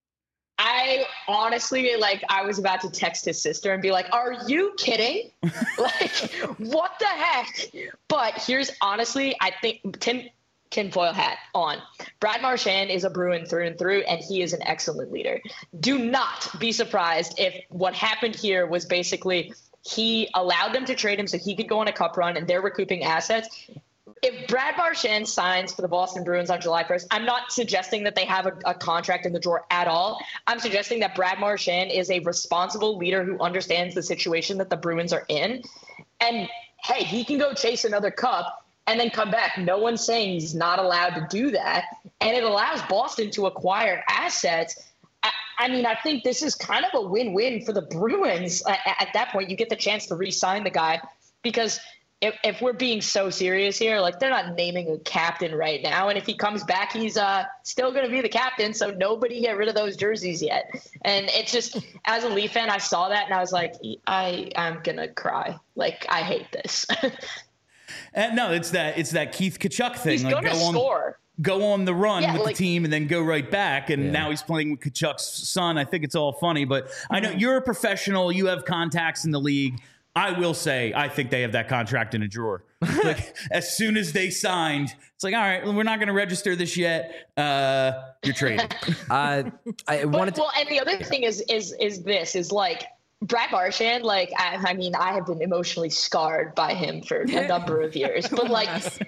I honestly, I was about to text his sister and be like, are you kidding? Like, what the heck? But here's honestly, I think tinfoil hat on. Brad Marchand is a Bruin through and through, and he is an excellent leader. Do not be surprised if what happened here was basically he allowed them to trade him so he could go on a cup run and they're recouping assets. If Brad Marchand signs for the Boston Bruins on July 1st, I'm not suggesting that they have a contract in the drawer at all. I'm suggesting that Brad Marchand is a responsible leader who understands the situation that the Bruins are in. And, hey, he can go chase another cup and then come back. No one's saying he's not allowed to do that. And it allows Boston to acquire assets. I mean, I think this is kind of a win-win for the Bruins. At that point, you get the chance to re-sign the guy because – if we're being so serious here, like they're not naming a captain right now. And if he comes back, he's still going to be the captain. So nobody get rid of those jerseys yet. And it's just, as a Leaf fan, I saw that and I was like, I'm going to cry. Like, I hate this. And no, it's that Keith Tkachuk thing. He's going to score. Go on the run with the team and then go right back. And now he's playing with Tkachuk's son. I think it's all funny, but I know you're a professional. You have contacts in the league. I will say, I think they have that contract in a drawer. Like, as soon as they signed, it's like, all right, we're not going to register this yet. You're traded. And the other thing is like Brad Marchand. Like, I mean, I have been emotionally scarred by him for a number of years, but like.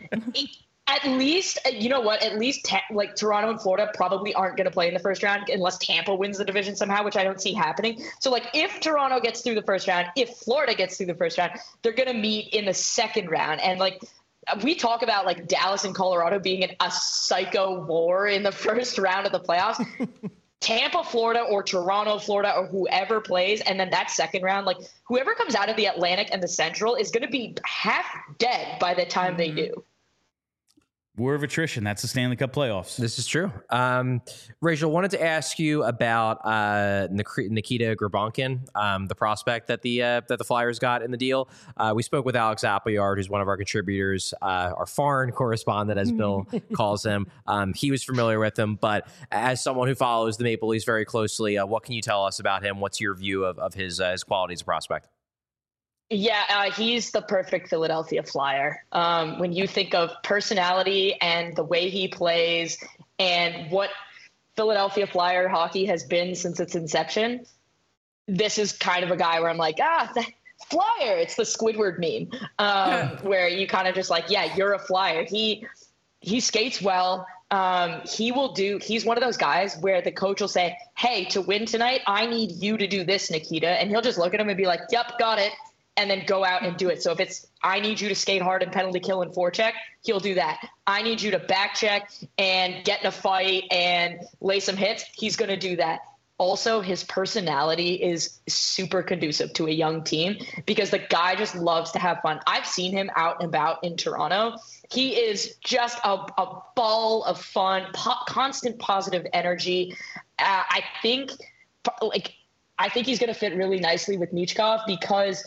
At least, you know what? At least, Toronto and Florida probably aren't going to play in the first round unless Tampa wins the division somehow, which I don't see happening. So, like, if Toronto gets through the first round, if Florida gets through the first round, they're going to meet in the second round. And, like, we talk about, like, Dallas and Colorado being in a psycho war in the first round of the playoffs. Tampa, Florida, or Toronto, Florida, or whoever plays, and then that second round, like, whoever comes out of the Atlantic and the Central is going to be half dead by the time they do. War of attrition. That's the Stanley Cup playoffs. This is true. Rachel, wanted to ask you about Nikita Grabankin, the prospect that the Flyers got in the deal. We spoke with Alex Appleyard, who's one of our contributors, our foreign correspondent, as Bill calls him. He was familiar with him, but as someone who follows the Maple Leafs very closely, what can you tell us about him? What's your view of his quality as a prospect? Yeah, he's the perfect Philadelphia Flyer. When you think of personality and the way he plays and what Philadelphia Flyer hockey has been since its inception, this is kind of a guy where I'm like, the Flyer. It's the Squidward meme, where you kind of just like, yeah, you're a Flyer. He skates well. He's one of those guys where the coach will say, hey, to win tonight, I need you to do this, Nikita. And he'll just look at him and be like, yep, got it. And then go out and do it. So if it's, I need you to skate hard and penalty kill and forecheck, he'll do that. I need you to back check and get in a fight and lay some hits. He's going to do that. Also, his personality is super conducive to a young team because the guy just loves to have fun. I've seen him out and about in Toronto. He is just a ball of fun, constant positive energy. I think he's going to fit really nicely with Michkov because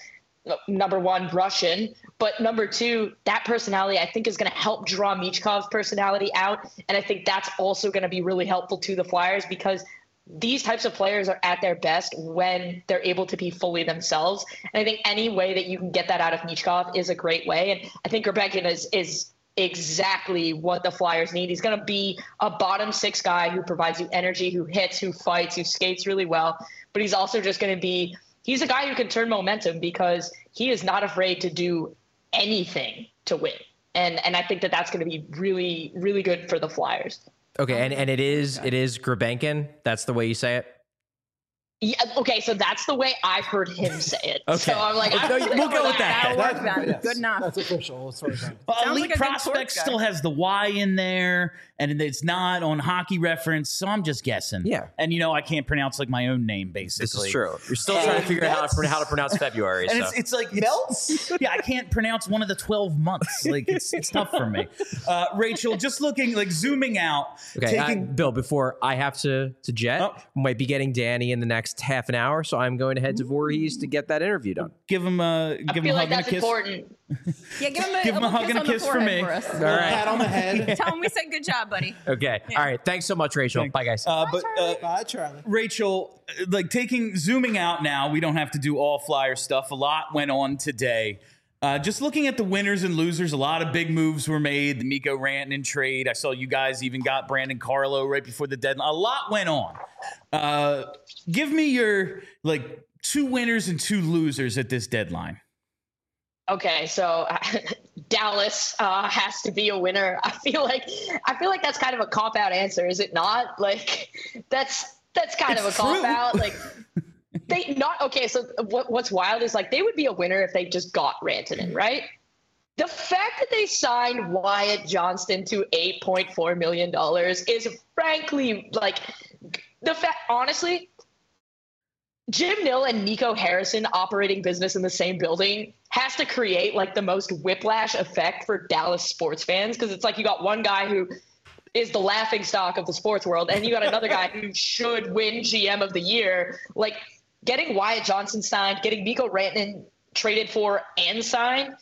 number one, Russian, but number two, that personality I think is going to help draw Michkov's personality out. And I think that's also going to be really helpful to the Flyers, because these types of players are at their best when they're able to be fully themselves. And I think any way that you can get that out of Michkov is a great way. And I think Grebekhin is exactly what the Flyers need. He's going to be a bottom six guy who provides you energy, who hits, who fights, who skates really well. But he's also just going to be, he's a guy who can turn momentum because he is not afraid to do anything to win. And I think that that's going to be really, really good for the Flyers. Okay, and it is Grebekhin. That's the way you say it. Yeah. Okay. So that's the way I've heard him say it. Okay. So I'm like, we'll go with that. That'll work then. Yes, Good enough. That's official. As far as I'm- Sounds Elite like a good Prospect sports guy. still has the Y in there, and it's not on Hockey Reference, so I'm just guessing. Yeah. And I can't pronounce like my own name, basically. This is true. You're still trying to figure out how to pronounce February. And So. it's like melts. Yeah, I can't pronounce one of the 12 months. Like it's tough for me. Rachel, just looking like zooming out. Okay, Bill, before I have to jet, might be getting Danny in the next half an hour, so I'm going to head to Voorhees to get that interview done. Give him a I feel like hug and a that's kiss. important. Yeah, give him a, Give him a little hug and a on the kiss for forehead me. us. All right. Pat on the head. Tell him we said good job, buddy. Okay. All right. Thanks so much, Rachel. Bye, guys. Bye, Charlie. Rachel, like zooming out now, we don't have to do all Flyer stuff. A lot went on today. Just looking at the winners and losers, a lot of big moves were made. The Mikko Rantanen trade. I saw you guys even got Brandon Carlo right before the deadline. A lot went on. Give me your two winners and two losers at this deadline. Okay, so Dallas has to be a winner. I feel like that's kind of a cop-out answer, is it not? Like that's kind of a cop-out. Like they not okay. So what's wild is like they would be a winner if they just got Rantanen, right? The fact that they signed Wyatt Johnston to $8.4 million is frankly like the fact. Honestly, Jim Nill and Nico Harrison operating business in the same building has to create like the most whiplash effect for Dallas sports fans, because it's like you got one guy who is the laughing stock of the sports world, and you got another guy who should win GM of the year. Like getting Wyatt Johnson signed, getting Mikko Rantanen traded for and signed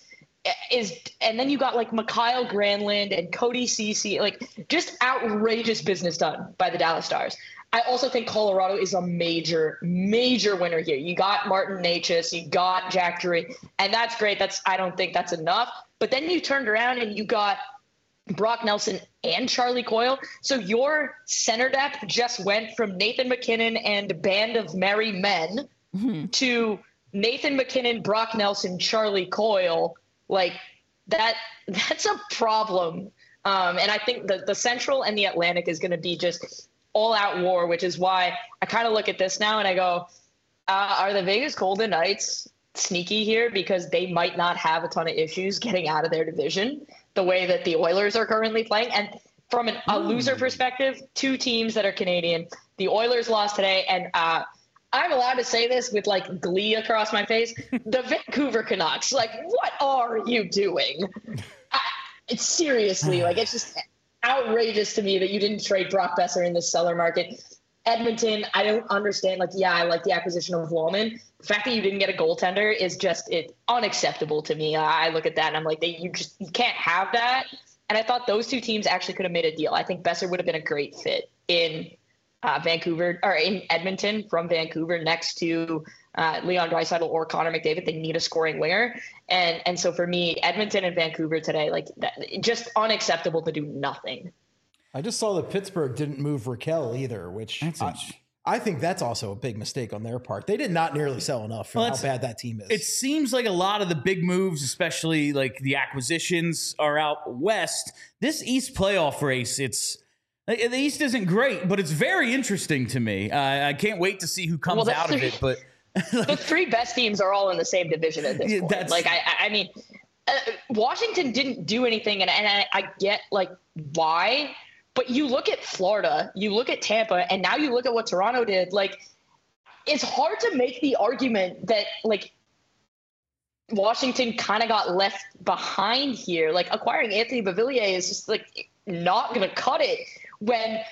and then you got like Mikhail Granlund and Cody Ceci, like just outrageous business done by the Dallas Stars. I also think Colorado is a major, major winner here. You got Martin Necas, you got Jack Drury, and that's great. I don't think that's enough. But then you turned around and you got Brock Nelson and Charlie Coyle. So your center depth just went from Nathan MacKinnon and a band of merry men to Nathan MacKinnon, Brock Nelson, Charlie Coyle. Like that's a problem. And I think the Central and the Atlantic is going to be just all-out war, which is why I kind of look at this now and I go, are the Vegas Golden Knights sneaky here? Because they might not have a ton of issues getting out of their division the way that the Oilers are currently playing. And from a loser perspective, two teams that are Canadian, the Oilers lost today, and I'm allowed to say this with like glee across my face, the Vancouver Canucks, like, what are you doing? It's seriously, like, it's just outrageous to me that you didn't trade Brock Besser in the seller market. Edmonton, I don't understand. Like, yeah, I like the acquisition of Wallman. The fact that you didn't get a goaltender is just unacceptable to me. I look at that and I'm like, you can't have that. And I thought those two teams actually could have made a deal. I think Besser would have been a great fit in Vancouver or in Edmonton from Vancouver next to Leon Draisaitl or Connor McDavid. They need a scoring winger. And so for me, Edmonton and Vancouver today, like that, just unacceptable to do nothing. I just saw that Pittsburgh didn't move Raquel either, which I think that's also a big mistake on their part. They did not nearly sell enough for how bad that team is. It seems like a lot of the big moves, especially like the acquisitions, are out west. This East playoff race, the East isn't great, but it's very interesting to me. I can't wait to see who comes out of it. But the three best teams are all in the same division at this point. Like, I mean, Washington didn't do anything, and I get like why. But you look at Florida, you look at Tampa, and now you look at what Toronto did. Like, it's hard to make the argument that like Washington kind of got left behind here. Like, acquiring Anthony Beauvillier is just like not going to cut it when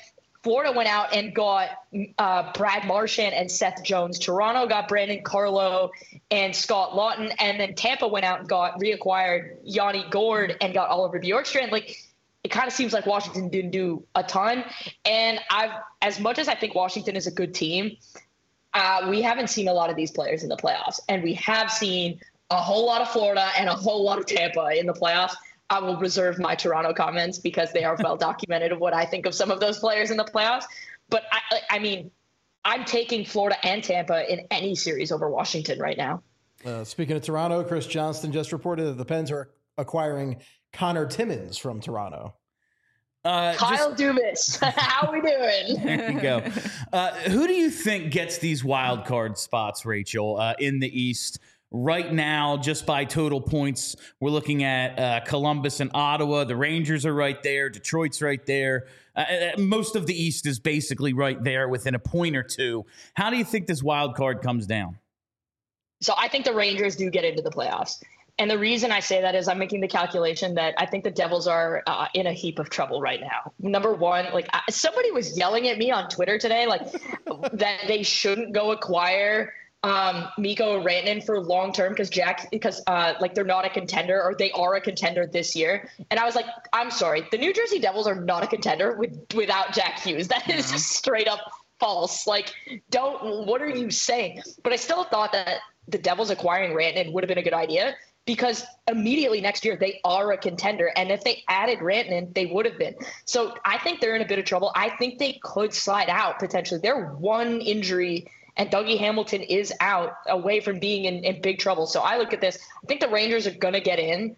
Florida went out and got Brad Marchand and Seth Jones. Toronto got Brandon Carlo and Scott Lawton. And then Tampa went out and reacquired Yanni Gourde and got Oliver Bjorkstrand. Like, it kind of seems like Washington didn't do a ton. And as much as I think Washington is a good team, we haven't seen a lot of these players in the playoffs. And we have seen a whole lot of Florida and a whole lot of Tampa in the playoffs. I will reserve my Toronto comments because they are well documented of what I think of some of those players in the playoffs. But I mean, I'm taking Florida and Tampa in any series over Washington right now. Speaking of Toronto, Chris Johnston just reported that the Pens are acquiring Connor Timmins from Toronto. Kyle Dubas, how we doing? There you go. Who do you think gets these wild card spots, Rachel, in the East? Right now, just by total points, we're looking at Columbus and Ottawa. The Rangers are right there. Detroit's right there. Most of the East is basically right there within a point or two. How do you think this wild card comes down? So I think the Rangers do get into the playoffs. And the reason I say that is I'm making the calculation that I think the Devils are in a heap of trouble right now. Number one, like somebody was yelling at me on Twitter today, like that they shouldn't go acquire Mikko Rantanen for long term because they're not a contender, or they are a contender this year. And I was like, I'm sorry, the New Jersey Devils are not a contender without Jack Hughes. That is just straight up false. Like, what are you saying? But I still thought that the Devils acquiring Rantanen would have been a good idea because immediately next year they are a contender. And if they added Rantanen, they would have been. So I think they're in a bit of trouble. I think they could slide out potentially. They're one injury and Dougie Hamilton is out away from being in big trouble. So I look at this. I think the Rangers are going to get in.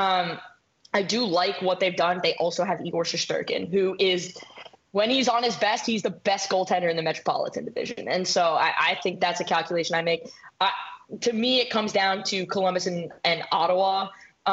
I do like what they've done. They also have Igor Shesterkin, who is, when he's on his best, he's the best goaltender in the Metropolitan Division. And so I think that's a calculation I make. To me, it comes down to Columbus and Ottawa.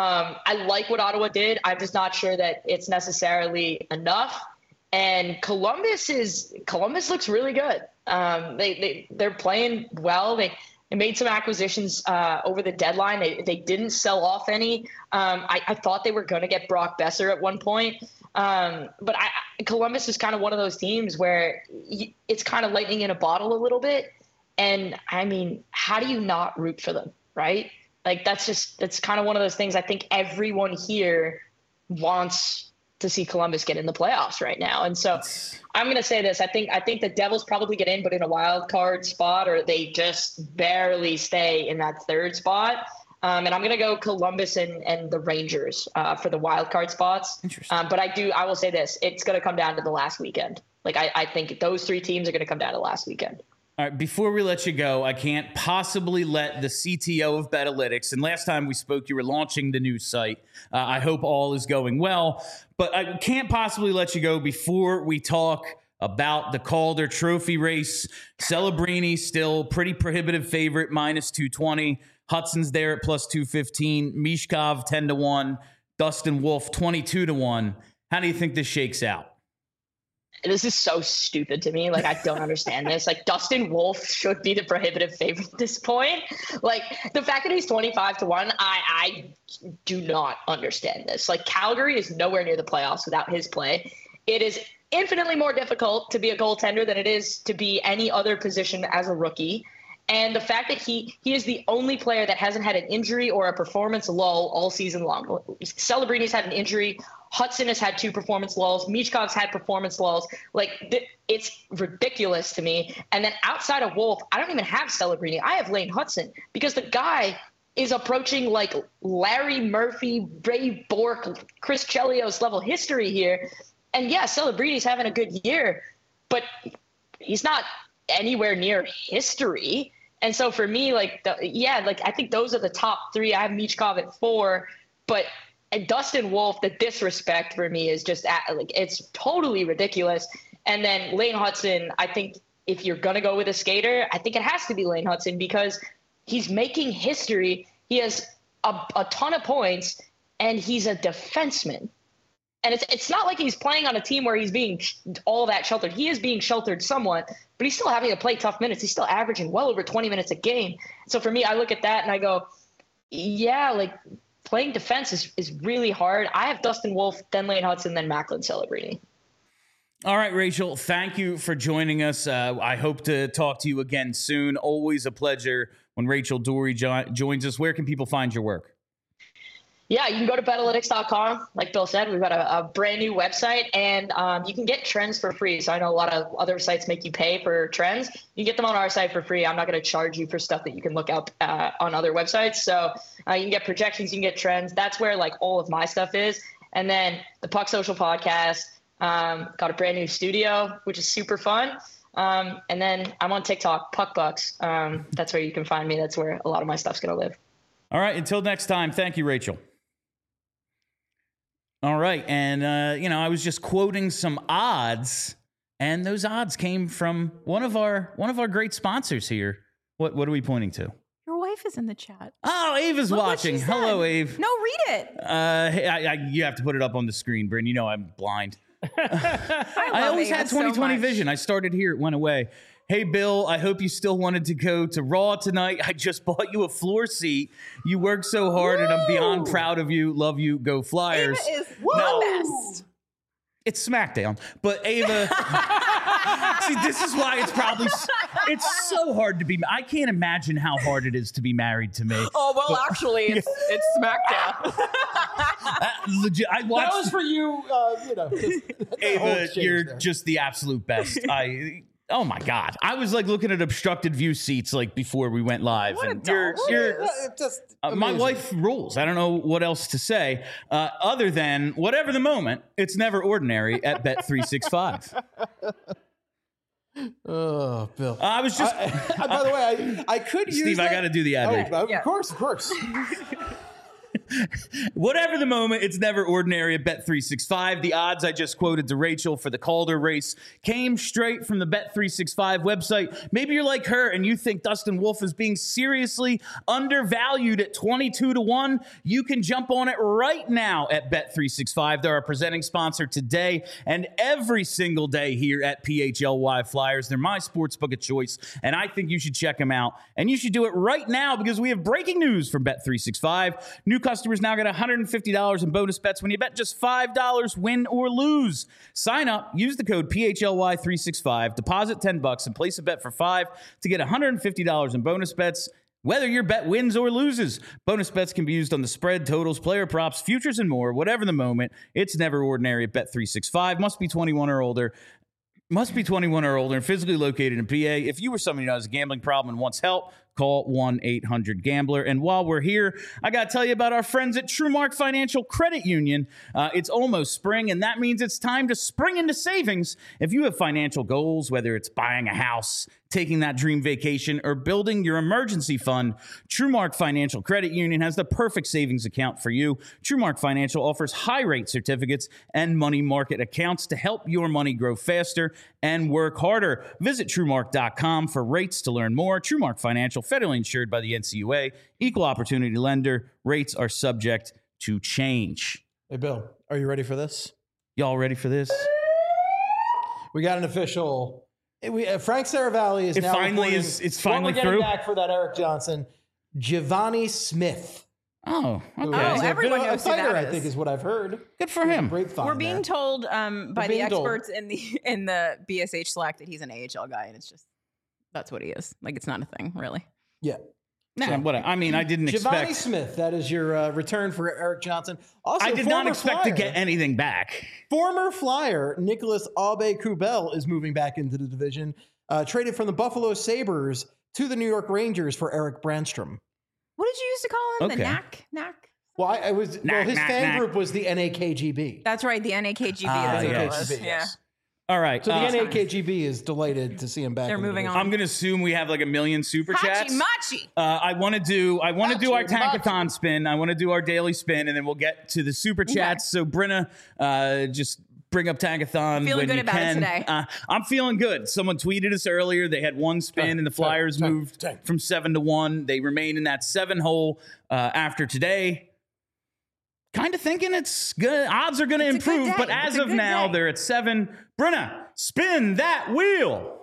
I like what Ottawa did. I'm just not sure that it's necessarily enough. And Columbus looks really good. They're playing well. They made some acquisitions over the deadline. They didn't sell off any. I thought they were going to get Brock Besser at one point. But Columbus is kind of one of those teams where it's kind of lightning in a bottle a little bit. And I mean, how do you not root for them, right? Like it's kind of one of those things. I think everyone here wants to see Columbus get in the playoffs right now. And so I'm going to say this. I think the Devils probably get in, but in a wild card spot, or they just barely stay in that third spot. And I'm going to go Columbus and the Rangers for the wild card spots. Interesting. But I will say this, it's going to come down to the last weekend. Like I think those three teams are going to come down to the last weekend. All right, before we let you go, I can't possibly let the CTO of Betalytics, and last time we spoke, you were launching the new site. I hope all is going well, but I can't possibly let you go before we talk about the Calder Trophy race. Celebrini still pretty prohibitive favorite, minus 220. Hudson's there at plus 215. Mishkov 10-1. Dustin Wolf 22-1. How do you think this shakes out? This is so stupid to me. Like, I don't understand this. Like, Dustin Wolf should be the prohibitive favorite at this point. Like, the fact that he's 25-1, I do not understand this. Like, Calgary is nowhere near the playoffs without his play. It is infinitely more difficult to be a goaltender than it is to be any other position as a rookie. And the fact that he is the only player that hasn't had an injury or a performance lull all season long. Celebrini's had an injury. Hudson has had 2 performance lulls. Michkov's had performance lulls. Like, it's ridiculous to me. And then outside of Wolf, I don't even have Celebrini. I have Lane Hudson because the guy is approaching like Larry Murphy, Ray Bourque, Chris Chelios level history here. And yeah, Celebrini's having a good year, but he's not anywhere near history. And so for me, I think those are the top 3. I have Michkov at 4, but Dustin Wolf, the disrespect for me is just it's totally ridiculous. And then Lane Hudson, I think if you're going to go with a skater, I think it has to be Lane Hudson because he's making history. He has a ton of points and he's a defenseman. And it's not like he's playing on a team where he's being all that sheltered. He is being sheltered somewhat, but he's still having to play tough minutes. He's still averaging well over 20 minutes a game. So for me, I look at that and I go, yeah, like playing defense is really hard. I have Dustin Wolf, then Lane Hudson, then Macklin Celebrini. All right, Rachel, thank you for joining us. I hope to talk to you again soon. Always a pleasure when Rachel Doerrie joins us. Where can people find your work? Yeah, you can go to Betalytics.com. Like Bill said, we've got a brand new website, and you can get trends for free. So I know a lot of other sites make you pay for trends. You get them on our site for free. I'm not going to charge you for stuff that you can look up on other websites. So you can get projections, you can get trends. That's where like all of my stuff is. And then the Puck Social podcast, got a brand new studio, which is super fun. And then I'm on TikTok, Puck Bucks. That's where you can find me. That's where a lot of my stuff's going to live. All right, until next time, thank you, Rachel. All right, and I was just quoting some odds, and those odds came from one of our great sponsors here. What are we pointing to? Your wife is in the chat. Oh, Ava's Look what watching. she said. Hello, Ave. No, read it. You have to put it up on the screen, Bryn. You know I'm blind. I I always Ava had so 20/20 much. vision. I started here, it went away. Hey, Bill, I hope you still wanted to go to Raw tonight. I just bought you a floor seat. You worked so hard, and I'm beyond proud of you. Love you. Go Flyers. Ava is Now- the best. It's SmackDown. But Ava, see, this is why it's so hard to be. I can't imagine how hard it is to be married to me. Oh, well, actually, it's SmackDown. Legit, I watched. That was for you, just Ava, you're just the absolute best. Oh my God. I was like looking at obstructed view seats like before we went live. What a And doll. you're just my amazing. wife rules. I don't know what else to say other than whatever the moment, it's never ordinary at Bet365. Oh, Bill. I was just, by the way, I could use Steve, I that- got to do the ad read. Of Yeah. course. Whatever the moment, it's never ordinary at Bet365. The odds I just quoted to Rachel for the Calder race came straight from the Bet365 website. Maybe you're like her and you think Dustin Wolf is being seriously undervalued at 22-1. You can jump on it right now at Bet365. They're our presenting sponsor today and every single day here at PHLY Flyers. They're my sportsbook of choice, and I think you should check them out. And you should do it right now because we have breaking news from Bet365. New customers now get $150 in bonus bets when you bet just $5, win or lose. Sign up, use the code PHLY365, deposit $10 and place a bet for $5 to get $150 in bonus bets, whether your bet wins or loses. Bonus bets can be used on the spread, totals, player props, futures, and more. Whatever the moment, it's never ordinary at Bet365. Must be 21 or older. Must be 21 or older and physically located in PA. If you or somebody who has a gambling problem and wants help, call 1-800-GAMBLER. And while we're here, I got to tell you about our friends at TrueMark Financial Credit Union. It's almost spring, and that means it's time to spring into savings. If you have financial goals, whether it's buying a house, taking that dream vacation, or building your emergency fund, TrueMark Financial Credit Union has the perfect savings account for you. TrueMark Financial offers high-rate certificates and money market accounts to help your money grow faster and work harder. Visit TrueMark.com for rates to learn more. TrueMark Financial, federally insured by the NCUA, equal opportunity lender. Rates are subject to change. Hey, Bill, are you ready for this? Y'all ready for this? We got an official. Frank Saravalli is It now finally reporting is- it's what finally we're getting through? back for that Eric Johnson. Giovanni Smith. Oh, Oh, okay. everyone a knows who fighter, that I think, is. is what I've heard. Good for him. Grapevine We're being there. told by the being told. experts in the BSH Slack that he's an AHL guy, and it's just that's what he is. Like, it's not a thing, really. Yeah. Nah, whatever. I mean, I didn't Giovanni expect. Smith, that is your return for Eric Johnson. Also, I did not former expect to Flyer- get anything back. Former Flyer Nicholas Aube-Kubel is moving back into the division, traded from the Buffalo Sabres to the New York Rangers for Eric Brandstrom. What did you used to call him? Okay. The Knack? Well, Knack, his knack, fan knack. group was the NAKGB. That's right, the NAKGB. Ah, that's what it yes. was. NAKGB, Yeah. yes. All right. So the NAKGB is delighted to see him back. They're in the moving division. on. I'm gonna assume we have like a million super chats. Hachi Machi. I want to do our Machi. tankathon spin. I want to do our daily spin, and then we'll get to the super chats. So Brenna, just bring up tankathon Feeling when good you about it can. today. I'm feeling good. Someone tweeted us earlier. They had one spin, and the Flyers moved from 7 to 1. They remain in that 7 hole after today. Kind of thinking it's good. Odds are going to It's a good improve, but day. as It's a of good now, day. they're at 7. Brenna, spin that wheel.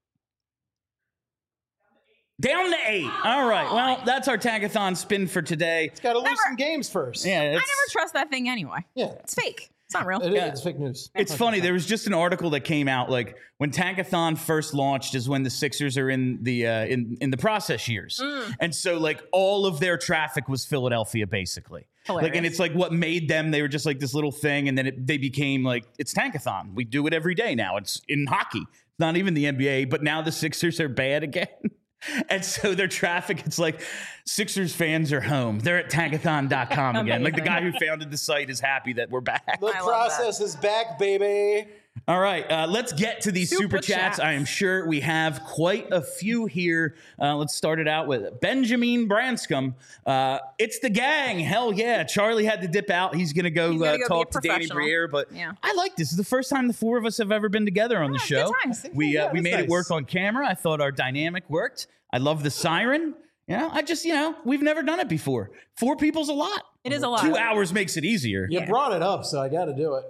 Down to 8. All right. Well, that's our tankathon spin for today. It's got to lose some games first. Yeah, I never trust that thing anyway. Yeah. It's fake. It's not real. It's fake news. It's funny. There was just an article that came out like when Tankathon first launched is when the Sixers are in the in the process years, and so like all of their traffic was Philadelphia basically. Hilarious. Like, and it's like what made them. They were just like this little thing, and then they became like it's Tankathon. We do it every day now. It's in hockey. It's not even the NBA, but now the Sixers are bad again. And so their traffic, it's like Sixers fans are home. They're at tankathon.com again. Like the guy who founded the site is happy that we're back. The process is back, baby. All right, let's get to these super chats. I am sure we have quite a few here. Let's start it out with Benjamin Branscombe. It's the gang. Hell yeah. Charlie had to dip out. He's going to go talk to Danny Briere. But I like this. This is the first time the four of us have ever been together on the show. We made it work on camera. I thought our dynamic worked. I love the siren. We've never done it before. 4 people's a lot. It is a lot. 2 hours makes it easier. You brought it up, so I got to do it.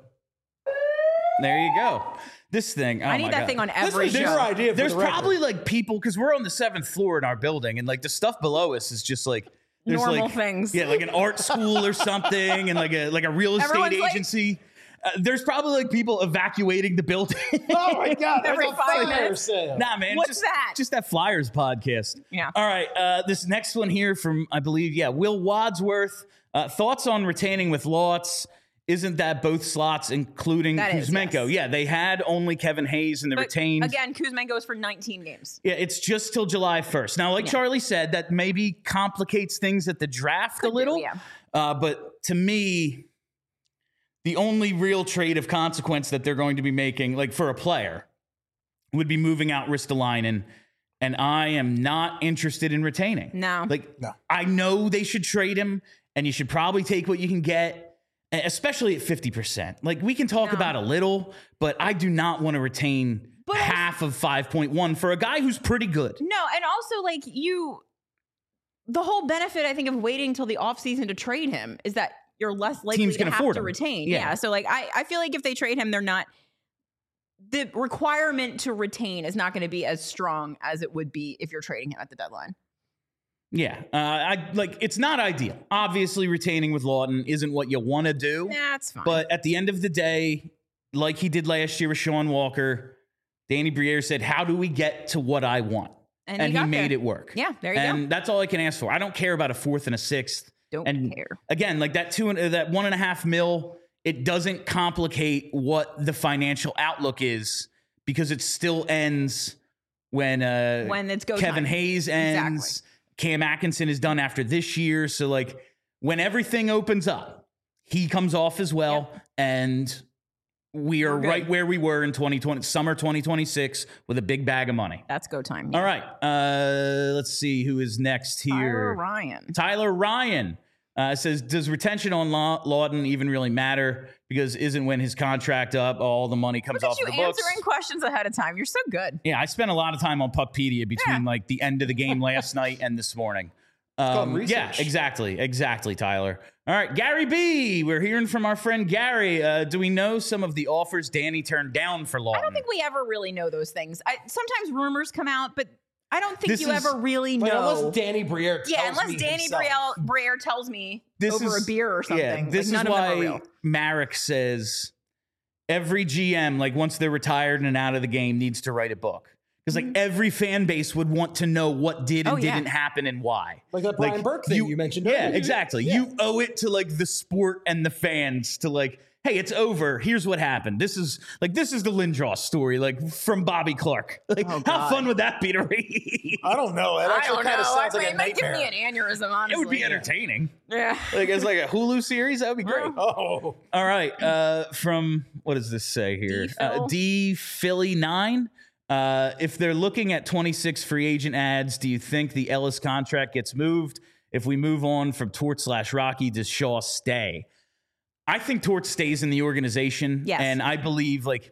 There you go. This thing. Oh I need that thing on every show. Your idea for There's the record. probably like people because we're on the 7th floor in our building, and like the stuff below us is just like there's Normal like, things. Yeah, like an art school or something, and like a real estate Everyone's like- agency. There's probably like people evacuating the building. Oh my God! There's Every a 5 fire minutes. sale. Nah, man. What's that? Just that Flyers podcast. Yeah. All right. This next one here from, I believe, Will Wadsworth. Thoughts on retaining with Lotz. Isn't that both slots, including That is, Kuzmenko? yes. Yeah, they had only Kevin Hayes in the But retained. again, Kuzma goes for 19 games. Yeah, it's just till July 1st. Now, like Charlie said, that maybe complicates things at the draft a little. yeah. But to me, the only real trade of consequence that they're going to be making, like for a player, would be moving out Ristolainen. And I am not interested in retaining. No. I know they should trade him, and you should probably take what you can get. Especially at 50%. Like, we can talk about a little, but I do not want to retain half of 5.1 for a guy who's pretty good. No, and also like the whole benefit I think of waiting till the offseason to trade him is that you're less likely Teams to can have afford to him. retain. Yeah. Yeah. So like I feel like if they trade him, they're not the requirement to retain is not going to be as strong as it would be if you're trading him at the deadline. Yeah, it's not ideal. Obviously, retaining with Lawton isn't what you want to do. That's fine. But at the end of the day, like he did last year with Sean Walker, Danny Briere said, "How do we get to what I want?" And he made it work. Yeah, there you go. And that's all I can ask for. I don't care about a 4th and a 6th. Don't care. Again, like that $1.5 million, it doesn't complicate what the financial outlook is because it still ends when it's go Kevin time. Hayes ends. Exactly. Cam Atkinson is done after this year. So, like, when everything opens up, he comes off as well. Yep. And we are right where we were in 2020, summer 2026, with a big bag of money. That's go time. Yeah. All right. Let's see who is next here. Tyler Ryan says, does retention on Lawton even really matter? Because isn't when his contract up, all the money comes off the books. Look at you answering questions ahead of time. You're so good. Yeah, I spent a lot of time on Puckpedia between like the end of the game last night and this morning. It's called research. Yeah, exactly, Tyler. All right, Gary B. We're hearing from our friend Gary. Do we know some of the offers Danny turned down for Lawton? I don't think we ever really know those things. Sometimes rumors come out, but I don't think you ever really know. Unless Danny Briere tells me unless Danny Briere tells me over a beer or something. Yeah, this like, is why Marek says every GM, like once they're retired and out of the game, needs to write a book. Because like every fan base would want to know what did and didn't happen and why. Like that Brian Burke thing you mentioned earlier. Yeah, exactly. Yeah. You owe it to like the sport and the fans to like, hey, it's over. Here's what happened. This is the Lindros story, like from Bobby Clark. Like, how fun would that be to read? I don't know. It actually kind of sounds like a nightmare. It might give me an aneurysm, honestly. It would be entertaining. Yeah. Like it's like a Hulu series. That would be great. Oh. All right. From what does this say here? D Philly 9. If they're looking at 26 free agent ads, do you think the Ellis contract gets moved? If we move on from Tort/Rocky, does Shaw stay? I think Tort stays in the organization. Yes. And I believe like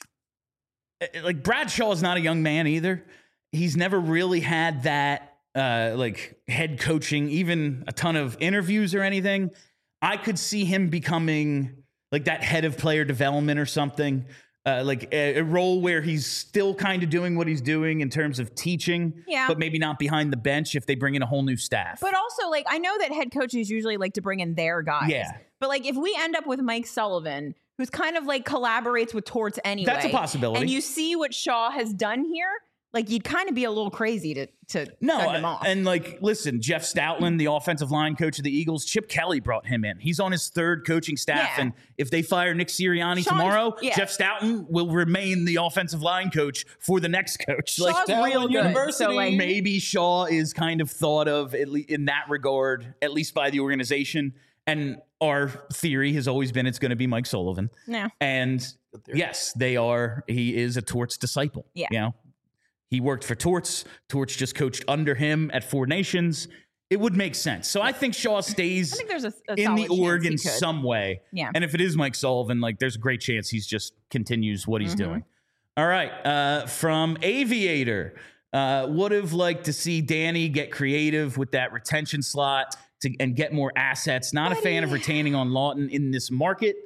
Brad Shaw is not a young man either. He's never really had that like head coaching, even a ton of interviews or anything. I could see him becoming like that head of player development or something. Like a role where he's still kind of doing what he's doing in terms of teaching, but maybe not behind the bench if they bring in a whole new staff. But also, like, I know that head coaches usually like to bring in their guys. Yeah. But like, if we end up with Mike Sullivan, who's kind of like collaborates with Torts anyway. That's a possibility. And you see what Shaw has done here. Like, you'd kind of be a little crazy to send him off. And like, listen, Jeff Stoutland, the offensive line coach of the Eagles, Chip Kelly brought him in. He's on his third coaching staff. Yeah. And if they fire Nick Sirianni tomorrow, Jeff Stoutland will remain the offensive line coach for the next coach. Shaw's real good. So like, maybe Shaw is kind of thought of in that regard, at least by the organization. And our theory has always been it's going to be Mike Sullivan. Yeah. And yes, he is a Torts disciple. Yeah. You know, he worked for Torts. Torts just coached under him at Four Nations. It would make sense. So I think Shaw stays I think there's a in the solid org chance he in could. some way. Yeah. And if it is Mike Sullivan, like there's a great chance he's just continues what he's doing. All right. From Aviator, would have liked to see Danny get creative with that retention slot and get more assets. Not a fan of retaining on Lawton in this market.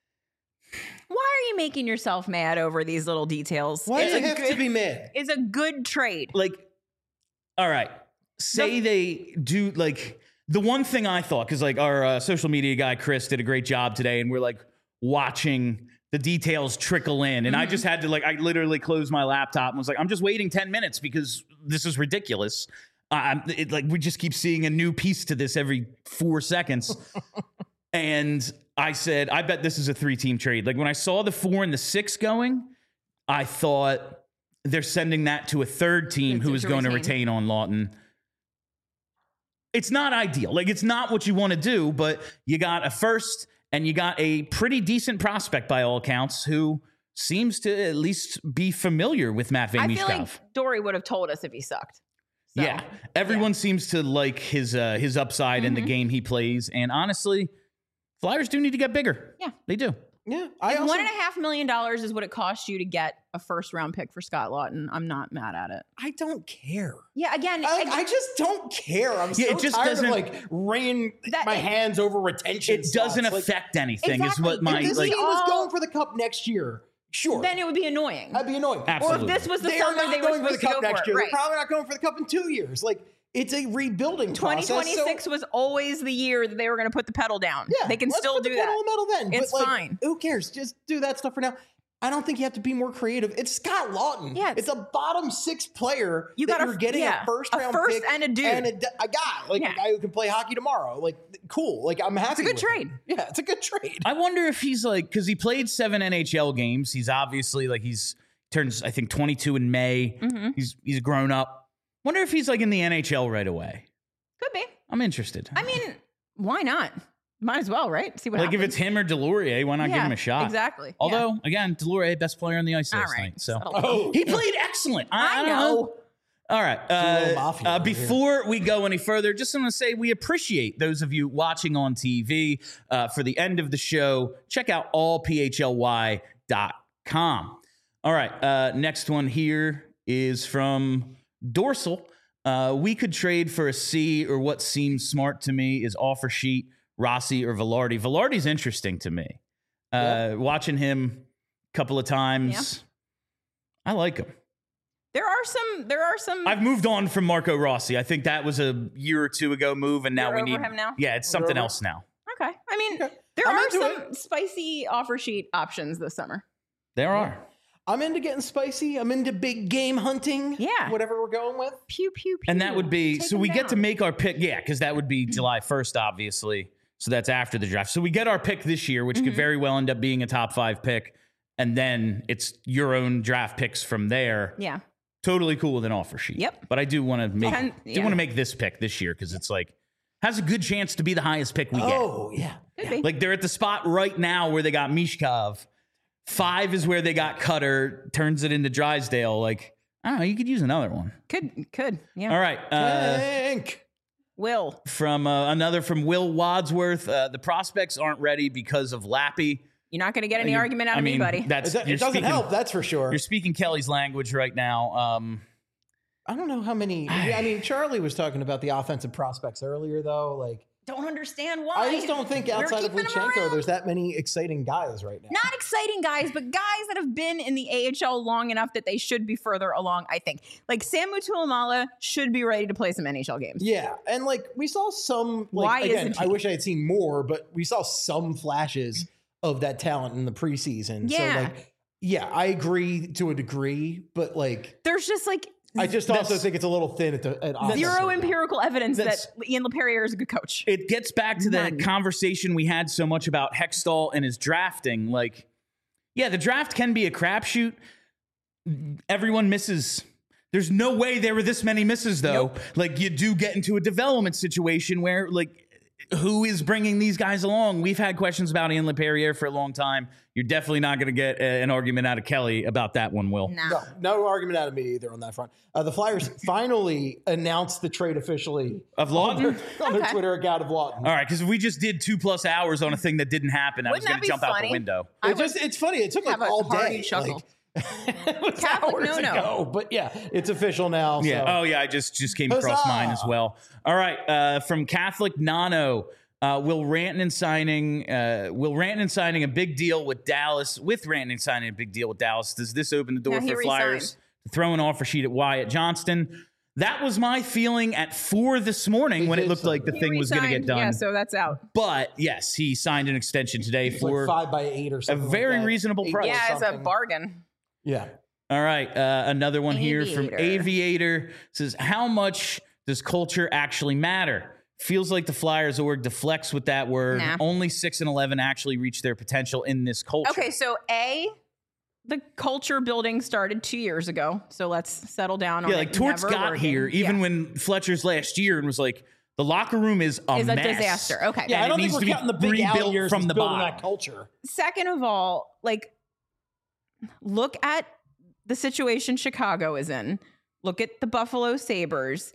Why are you making yourself mad over these little details? Why does It's it a have good- to be mad? It's a good trade. Like, all right, say they do, like, the one thing I thought, because like our social media guy Chris did a great job today, and we're like watching the details trickle in, and I just had to, like, I literally closed my laptop and was like, I'm just waiting 10 minutes because this is ridiculous. Like, we just keep seeing a new piece to this every 4 seconds. And I said, I bet this is a 3-team trade. Like, when I saw the 4 and the 6 going, I thought they're sending that to a third team who is going to retain on Lawton. It's not ideal. Like, it's not what you want to do, but you got a first and you got a pretty decent prospect by all accounts who seems to at least be familiar with Matt I Mishkov. feel like Dory would have told us if he sucked. So, Yeah. Everyone seems to like his upside in the game he plays. And honestly, Flyers do need to get bigger. Yeah. They do. Yeah, I also, $1.5 million is what it costs you to get a first round pick for Scott Lawton. I'm not mad at it. I don't care. Yeah, again, I just don't care. I'm so it just tired doesn't- of like wringing my hands over retention. It doesn't slots. Like, affect anything, is Exactly. what my if this like. team was going for the cup next year, sure, then it would be annoying. I'd be annoying. Absolutely. Or if this was the They are summer not they were going for the supposed to cup go next for year. it. They're probably not going for the cup in 2 years. Like, it's a rebuilding process. 2026 so, was always the year that they were going to put the pedal down. yeah, They can let's still put the do pedal that. on the metal then. It's but, like, fine. Who cares? Just do that stuff for now. I don't think you have to be more creative. It's Scott Lawton. Yeah, it's a bottom 6 player. You that got you're getting a first round pick and a dude. and a guy, like Yeah. a guy who can play hockey tomorrow. Like, cool. Like, I'm happy. a good with it. trade. Yeah, it's a good trade. I wonder if he's like, because he played 7 NHL games. He's obviously like, he's turns, I think, 22 in May. He's grown up. Wonder if he's like in the NHL right away. Could be. I'm interested. I mean, why not? Might as well, right? See what like, happens. if it's him or Delorier, why not give Yeah, him a shot? exactly. Although, again, Delorier, best player on the ice All last right. night. So Oh, he played excellent. I I don't know. All right. little mafia over here. Before we go any further, just want to say we appreciate those of you watching on TV. For the end of the show, check out allphly.com. All right. Next one here is from Dorsal. We could trade for a C, or what seems smart to me is offer sheet, Rossi or Velarde. Velarde's interesting to me. Watching him a couple of times, I like him. There are some. I've moved on from Marco Rossi. I think that was a year or two ago move, and now You're we over need him now? Yeah, it's something over? else now. Okay. I mean, Okay. there I'm are into some spicy offer sheet options this summer. There are. I'm into getting spicy. I'm into big game hunting. Yeah. Whatever we're going with. Pew pew pew. And that would be Take so him we get to down. make our pick. Yeah, because that would be July 1st, obviously. So that's after the draft. So we get our pick this year, which could very well end up being a top 5 pick. And then it's your own draft picks from there. Yeah. Totally cool with an offer sheet. Yep. But I do want to make Yeah. want to make this pick this year because it's like has a good chance to be the highest pick we get. Oh, yeah. Could be. Like they're at the spot right now where they got Mishkov. 5 is where they got Cutter, turns it into Drysdale. Like, I don't know, you could use another one. Could. Yeah. All right. Tank. Will. From another from Will Wadsworth. The prospects aren't ready because of Lappy. You're not going to get any argument out of anybody. That's It you're doesn't speaking, help, that's for sure. You're speaking Kelly's language right now. I don't know how many. I mean, Charlie was talking about the offensive prospects earlier, though. Like, Don't understand why. I just don't think We're outside of keeping him Luchenko, around. there's that many exciting guys right now. Not exciting guys, but guys that have been in the AHL long enough that they should be further along, I think. Like Sam Tuilamala should be ready to play some NHL games. Yeah, and like we saw some. Like, Why again, isn't he? I wish I had seen more, but we saw some flashes of that talent in the preseason. Yeah. So like, yeah, I agree to a degree, but like, There's just like I just also think it's a little thin at offense zero right now. empirical evidence that That's- Ian LePerrier is a good coach. It gets back to the None. conversation we had so much about Hextall and his drafting. Like, yeah, the draft can be a crapshoot. Everyone misses. There's no way there were this many misses, though. Nope. Like, you do get into a development situation where, like, who is bringing these guys along? We've had questions about Ian LePerrier for a long time. You're definitely not going to get an argument out of Kelly about that one, Will. No argument out of me either on that front. The Flyers finally announced the trade officially Of Lawton? on their Twitter account of Lawton. All right, because if we just did 2+ hours on a thing that didn't happen, I was Wouldn't going that to be jump out the funny? window. It's funny. It took like have a all hearty day. chuckle. Like, it was Catholic hours no-no. ago, but yeah, it's official now. Yeah. So. Oh, yeah. I just came across Huzzah! mine as well. All right. From Catholic Nano, will Rantanen signing a big deal with Dallas? With Rantanen signing a big deal with Dallas, does this open the door Yeah, he for Flyers resigned. to throw an offer sheet at Wyatt Johnston? That was my feeling at 4 this morning when it looked like the thing was going to get done. Yeah, so that's out. But yes, he signed an extension today It's for like 5x8 or a something. very like that. reasonable 8 price. or Yeah, it's a something. bargain. Yeah. All right. Another one here from Aviator. Aviator says, how much does culture actually matter? Feels like the Flyers org deflects with that word. Nah. Only 6 and 11 actually reach their potential in this culture. Okay, so the culture building started 2 years ago. So let's settle down on Yeah, it. like Torts Never got working. here even Yeah. when Fletcher's last year and was like, the locker room is a Is a mess. disaster. Okay. Yeah, And I don't it think needs we're to be counting the big out rebuilt years from as the building bottom. that culture. Second of all, like, look at the situation Chicago is in. Look at the Buffalo Sabres.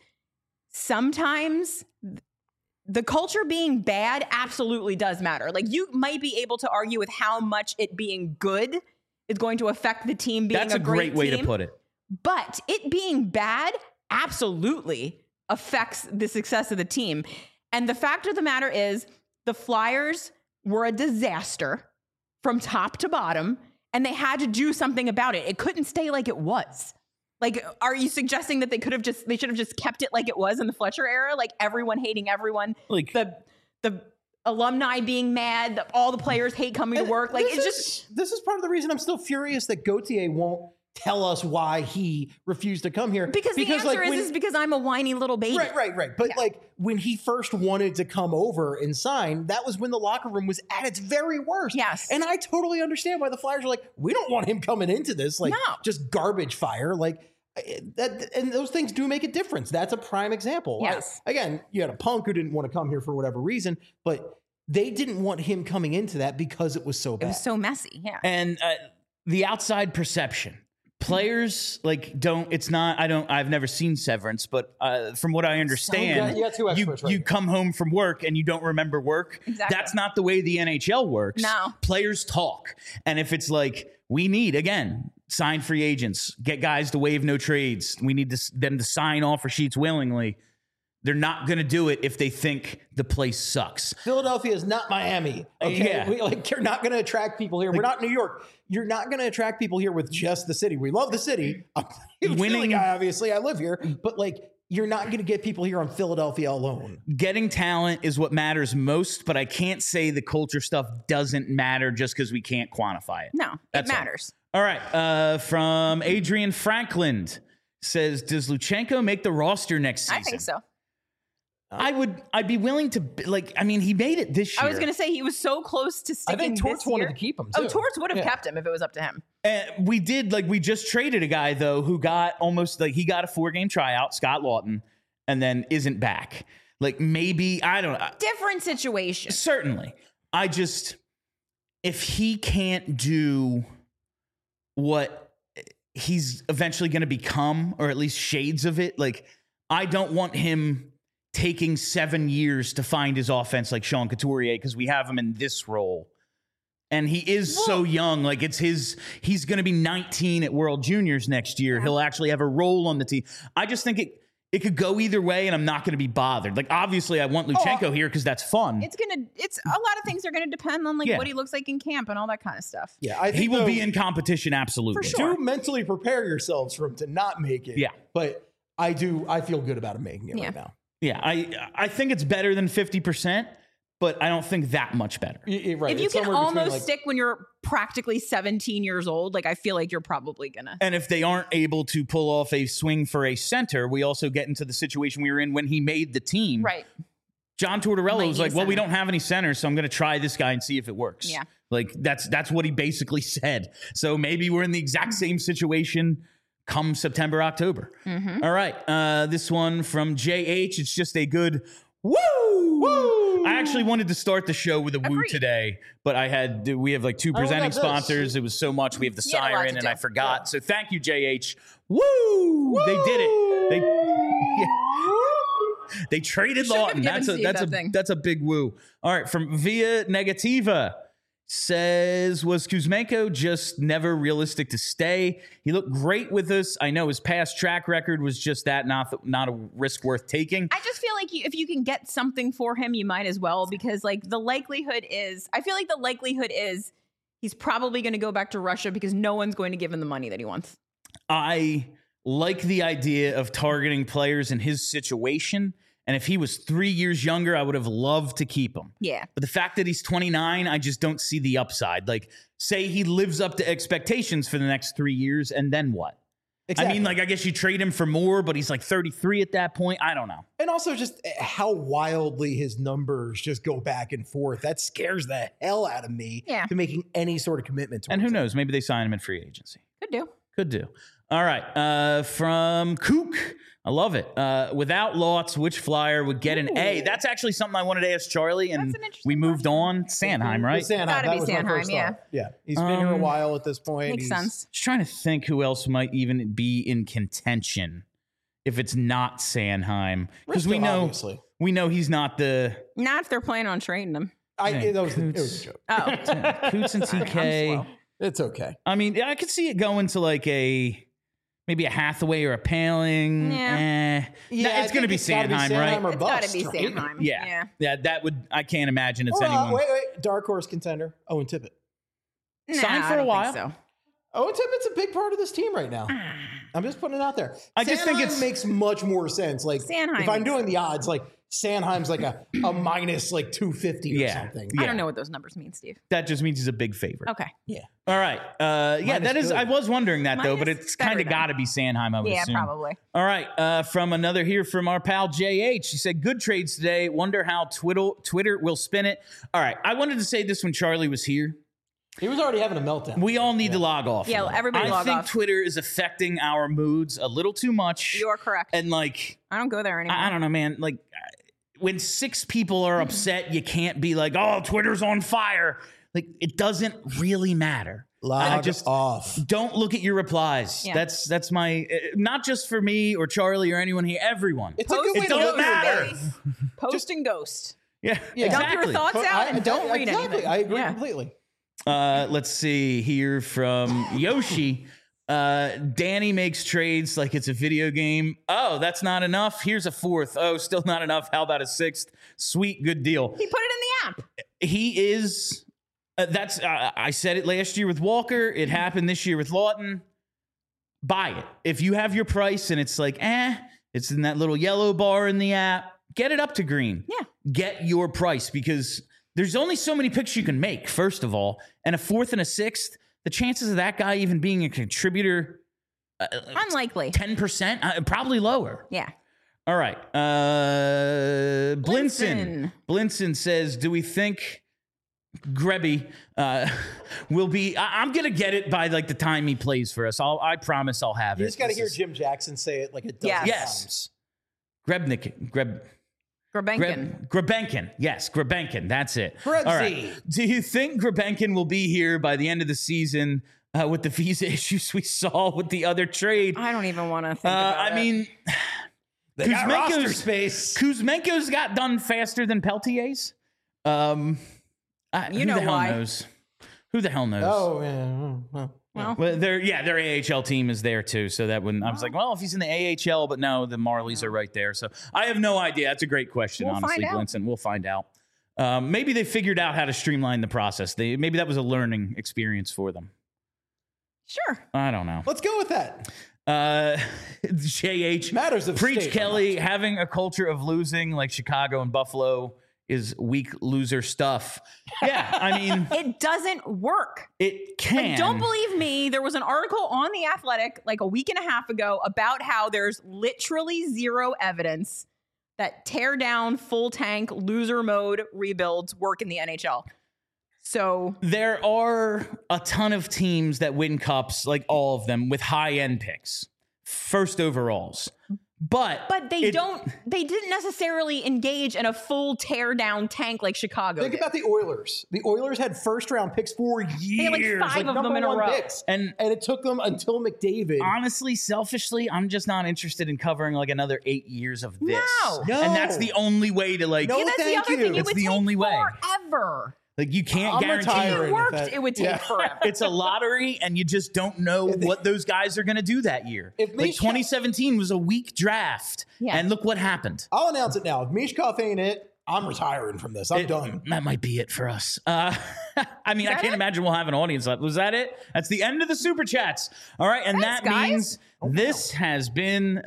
Sometimes the culture being bad absolutely does matter. Like, you might be able to argue with how much it being good is going to affect the team being That's a great great way to team. put it. But it being bad absolutely affects the success of the team. And the fact of the matter is, the Flyers were a disaster from top to bottom, and they had to do something about it. It couldn't stay like it was. Like, are you suggesting that they should have just kept it like it was in the Fletcher era? Like, everyone hating everyone, Like- the alumni being mad, all the players hate coming to work. Like, This is part of the reason I'm still furious that Gauthier won't tell us why he refused to come here. because the answer like, is because I'm a whiny little baby. Right. But like when he first wanted to come over and sign, that was when the locker room was at its very worst. Yes. And I totally understand why the Flyers are like, we don't want him coming into this like No. just garbage fire. Like that, and those things do make a difference. That's a prime example. Yes. Again, you had a Punk who didn't want to come here for whatever reason, but they didn't want him coming into that because it was so It bad. was so messy. Yeah. And the outside perception. Players I've never seen Severance, but from what I understand, You got two experts right you here. come home from work and you don't remember work. Exactly. That's not the way the NHL works. No. Players talk. And if it's like, we need, again, sign free agents, get guys to waive no trades, we need them to sign offer sheets willingly, they're not going to do it if they think the place sucks. Philadelphia is not Miami. Okay, Yeah. You're not going to attract people here. We're not New York. You're not going to attract people here with just the city. We love the city. I'm a Philly Winning- guy, obviously. I live here, but like, you're not going to get people here on Philadelphia alone. Getting talent is what matters most, but I can't say the culture stuff doesn't matter just because we can't quantify it. No, it That's all. matters. All right. From Adrian Franklin says, does Luchenko make the roster next season? I think so. I'd be willing to, he made it this year. I was going to say he was so close to I sticking think Torts this wanted year. to keep him, Oh, too. Torts would have Yeah. kept him if it was up to him. We just traded a guy, though, who got he got a 4-game tryout, Scott Lawton, and then isn't back. Like, maybe, I don't know. Different situation. Certainly. If he can't do what he's eventually going to become, or at least shades of it, like, I don't want him taking 7 years to find his offense like Sean Couturier, because we have him in this role. And he is so young. Like, he's going to be 19 at World Juniors next year. He'll actually have a role on the team. I just think it could go either way, and I'm not going to be bothered. Like, obviously, I want Luchenko here because that's fun. It's a lot of things are gonna depend on like Yeah. what he looks like in camp and all that kind of stuff. Yeah, I think He will though, be in competition, absolutely. For sure. do mentally prepare yourselves for him to not make it. Yeah. But I feel good about him making it Yeah. right now. Yeah, I think it's better than 50%, but I don't think that much better. Right. If you It's can somewhere between, almost like, stick when you're practically 17 years old, like I feel like you're probably gonna. And if they aren't able to pull off a swing for a center, we also get into the situation we were in when he made the team. Right. John Tortorella Might was need like, a well, we center. don't have any centers, so I'm going to try this guy and see if it works. Yeah. Like that's what he basically said. So maybe we're in the exact same situation come September, October. Mm-hmm. All right. This one from JH. It's just a good woo. Woo. I actually wanted to start the show with a woo Agreed. today, but we have like two Oh, presenting that's this. sponsors. It was so much. We have the You had a lot siren to and do. I forgot. So thank you, JH. Woo. They did it. They traded Shouldn't have Lawton. given Steve that thing. That's a big woo. All right, from Via Negativa says, was Kuzmenko just never realistic to stay? He looked great with us. I know his past track record was just that, not a risk worth taking. I just feel like if you can get something for him, you might as well, because like I feel like the likelihood is he's probably going to go back to Russia because no one's going to give him the money that he wants. I like the idea of targeting players in his situation. And if he was 3 years younger, I would have loved to keep him. Yeah. But the fact that he's 29, I just don't see the upside. Like, say he lives up to expectations for the next 3 years, and then what? Exactly. I mean, like, I guess you trade him for more, but he's like 33 at that point. I don't know. And also just how wildly his numbers just go back and forth. That scares the hell out of me Yeah. to making any sort of commitment to And him. who knows? Maybe they sign him in free agency. Could do. Could do. All right. From Kook. I love it. Without Lotz, which flyer would get an A? That's actually something I wanted to ask Charlie, and That's an interesting we moved on. Sanheim, right? Sanheim, Gotta that be was my Sanheim, first yeah. thought. Yeah. He's been here a while at this point. Makes sense. Just trying to think who else might even be in contention if it's not Sanheim, because we Risto, know obviously. he's not the Not if they're planning on trading him. It was a joke. Oh, Coots and TK. slow. It's okay. I mean, I could see it going to like maybe a Hathaway or a Paling. Yeah. It's going to be Sanheim, right? Or it's got to bust, be right? Sanheim. Yeah, that would. I can't imagine it's Or, anyone. wait. Dark horse contender. Owen Tippett. Signed Nah, for I a don't while. think so. Owen Tippett's a big part of this team right now. I'm just putting it out there. I just think Sanheim it's- makes much more sense. Like Sanheim if I'm makes doing the odds, like Sanheim's like a minus like 250 or Yeah. something. Yeah. I don't know what those numbers mean, Steve. That just means he's a big favorite. Okay. Yeah. All right. Yeah, that is. good. I was wondering that though, but Minus it's better kind of than. got to be Sanheim. I would Yeah, assume. probably. All right. From another here from our pal JH. He said, "Good trades today. Wonder how Twitter will spin it." All right. I wanted to say this when Charlie was here. He was already having a meltdown. We all need to log off. Yeah, everybody I log think off. Twitter is affecting our moods a little too much. You're correct. And like, I don't go there anymore. I don't know, man. Like, when 6 people are upset, you can't be like, "Oh, Twitter's on fire." Like, it doesn't really matter. I Log just off. don't look at your replies. Yeah. That's my not just for me or Charlie or anyone here. Everyone. It's a good way It to don't live your matter. life. Post and ghost. Yeah, Yeah. Dump exactly. your thoughts out and don't read exactly. anything. I agree Yeah. completely. Let's see here from Yoshi. Danny makes trades like it's a video game. Oh, that's not enough. Here's a 4th. Oh, still not enough. How about a 6th? Sweet, good deal. He put it in the app. He is. That's. I said it last year with Walker. It happened this year with Lawton. Buy it if you have your price and it's like, it's in that little yellow bar in the app. Get it up to green. Yeah. Get your price because there's only so many picks you can make. First of all, and a 4th and a 6th. The chances of that guy even being a contributor, Unlikely. 10%, probably lower. Yeah. All right. Blinson says, do we think Grebby will be... I'm going to get it by like the time he plays for us. I promise I'll have You it. just got to This hear is- Jim Jackson say it like a dozen Yes. times. Grebenkin. Yes, Grebenkin. That's it. Grebsy. All right. Do you think Grebenkin will be here by the end of the season with the visa issues we saw with the other trade? I don't even want to think about it. I mean, They got roster Kuzmenko's space. Kuzmenko's got done faster than Peltier's. Who know the hell why. knows? Who the hell knows? Oh, yeah. Well, their AHL team is there too, so that when I was like, well, if he's in the AHL, but no, the Marlies are right there. So I have no idea. That's a great question, We'll honestly, find out. Blinson. We'll find out. Maybe they figured out how to streamline the process. Maybe that was a learning experience for them. Sure. I don't know. Let's go with that. JH Matters of preach state, Kelly having a culture of losing like Chicago and Buffalo is weak loser stuff. Yeah, I mean, It doesn't work. it can. Like, don't believe me. There was an article on The Athletic like a week and a half ago about how there's literally zero evidence that tear down, full tank, loser mode rebuilds work in the NHL. So There are a ton of teams that win cups, like all of them, with high-end picks, first overalls. But they didn't necessarily engage in a full tear down tank like Chicago Think did. about the Oilers. The Oilers had first round picks for years. had like 5 of them in a #1 row. picks. And- And it took them until McDavid. honestly, selfishly, I'm just not interested in covering like another 8 years of this. No. And that's the only way to like, No, Yeah, that's the thank other thing. you. It It's would the take only way. forever. like you can't I'm guarantee. retiring. If it worked, that- it would take yeah. forever. It's a lottery, and you just don't know what those guys are going to do that year. If Like Mishka- 2017 was a weak draft, Yeah. and look what happened. I'll announce it now. If Mishkov ain't it, I'm retiring from this. I'm done. That might be it for us. I mean, I that can't it? imagine we'll have an audience left. Was that it? That's the end of the super chats. All right, and Thanks, that guys. means this has been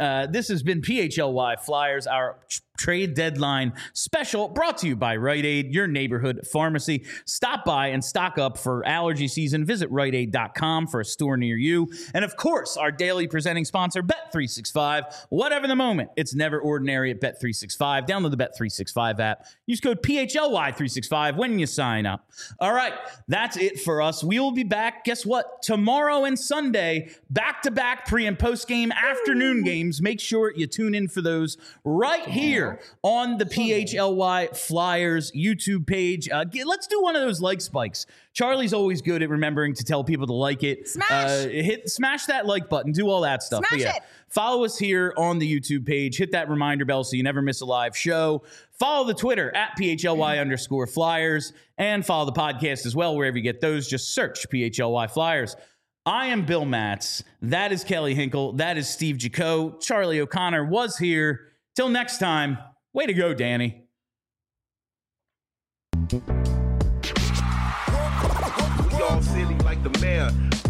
PHLY Flyers, our trade deadline special, brought to you by Rite Aid, your neighborhood pharmacy. Stop by and stock up for allergy season. Visit RiteAid.com for a store near you. And of course, our daily presenting sponsor, Bet365. Whatever the moment, it's never ordinary at Bet365. Download the Bet365 app. Use code PHLY365 when you sign up. All right, that's it for us. We will be back, guess what? Tomorrow and Sunday, back-to-back pre- and post-game afternoon games. Make sure you tune in for those right here on the PHLY Flyers YouTube page. Let's do one of those like spikes. Charlie's always good at remembering to tell people to like it. Smash that like button. Do all that stuff. Smash it. Follow us here on the YouTube page. Hit that reminder bell so you never miss a live show. Follow the Twitter at PHLY_Flyers and follow the podcast as well. Wherever you get those, just search PHLY Flyers. I am Bill Matz. That is Kelly Hinkle. That is Steve Jaco. Charlie O'Connor was here. Till next time, way to go, Danny. We all silly like the mayor.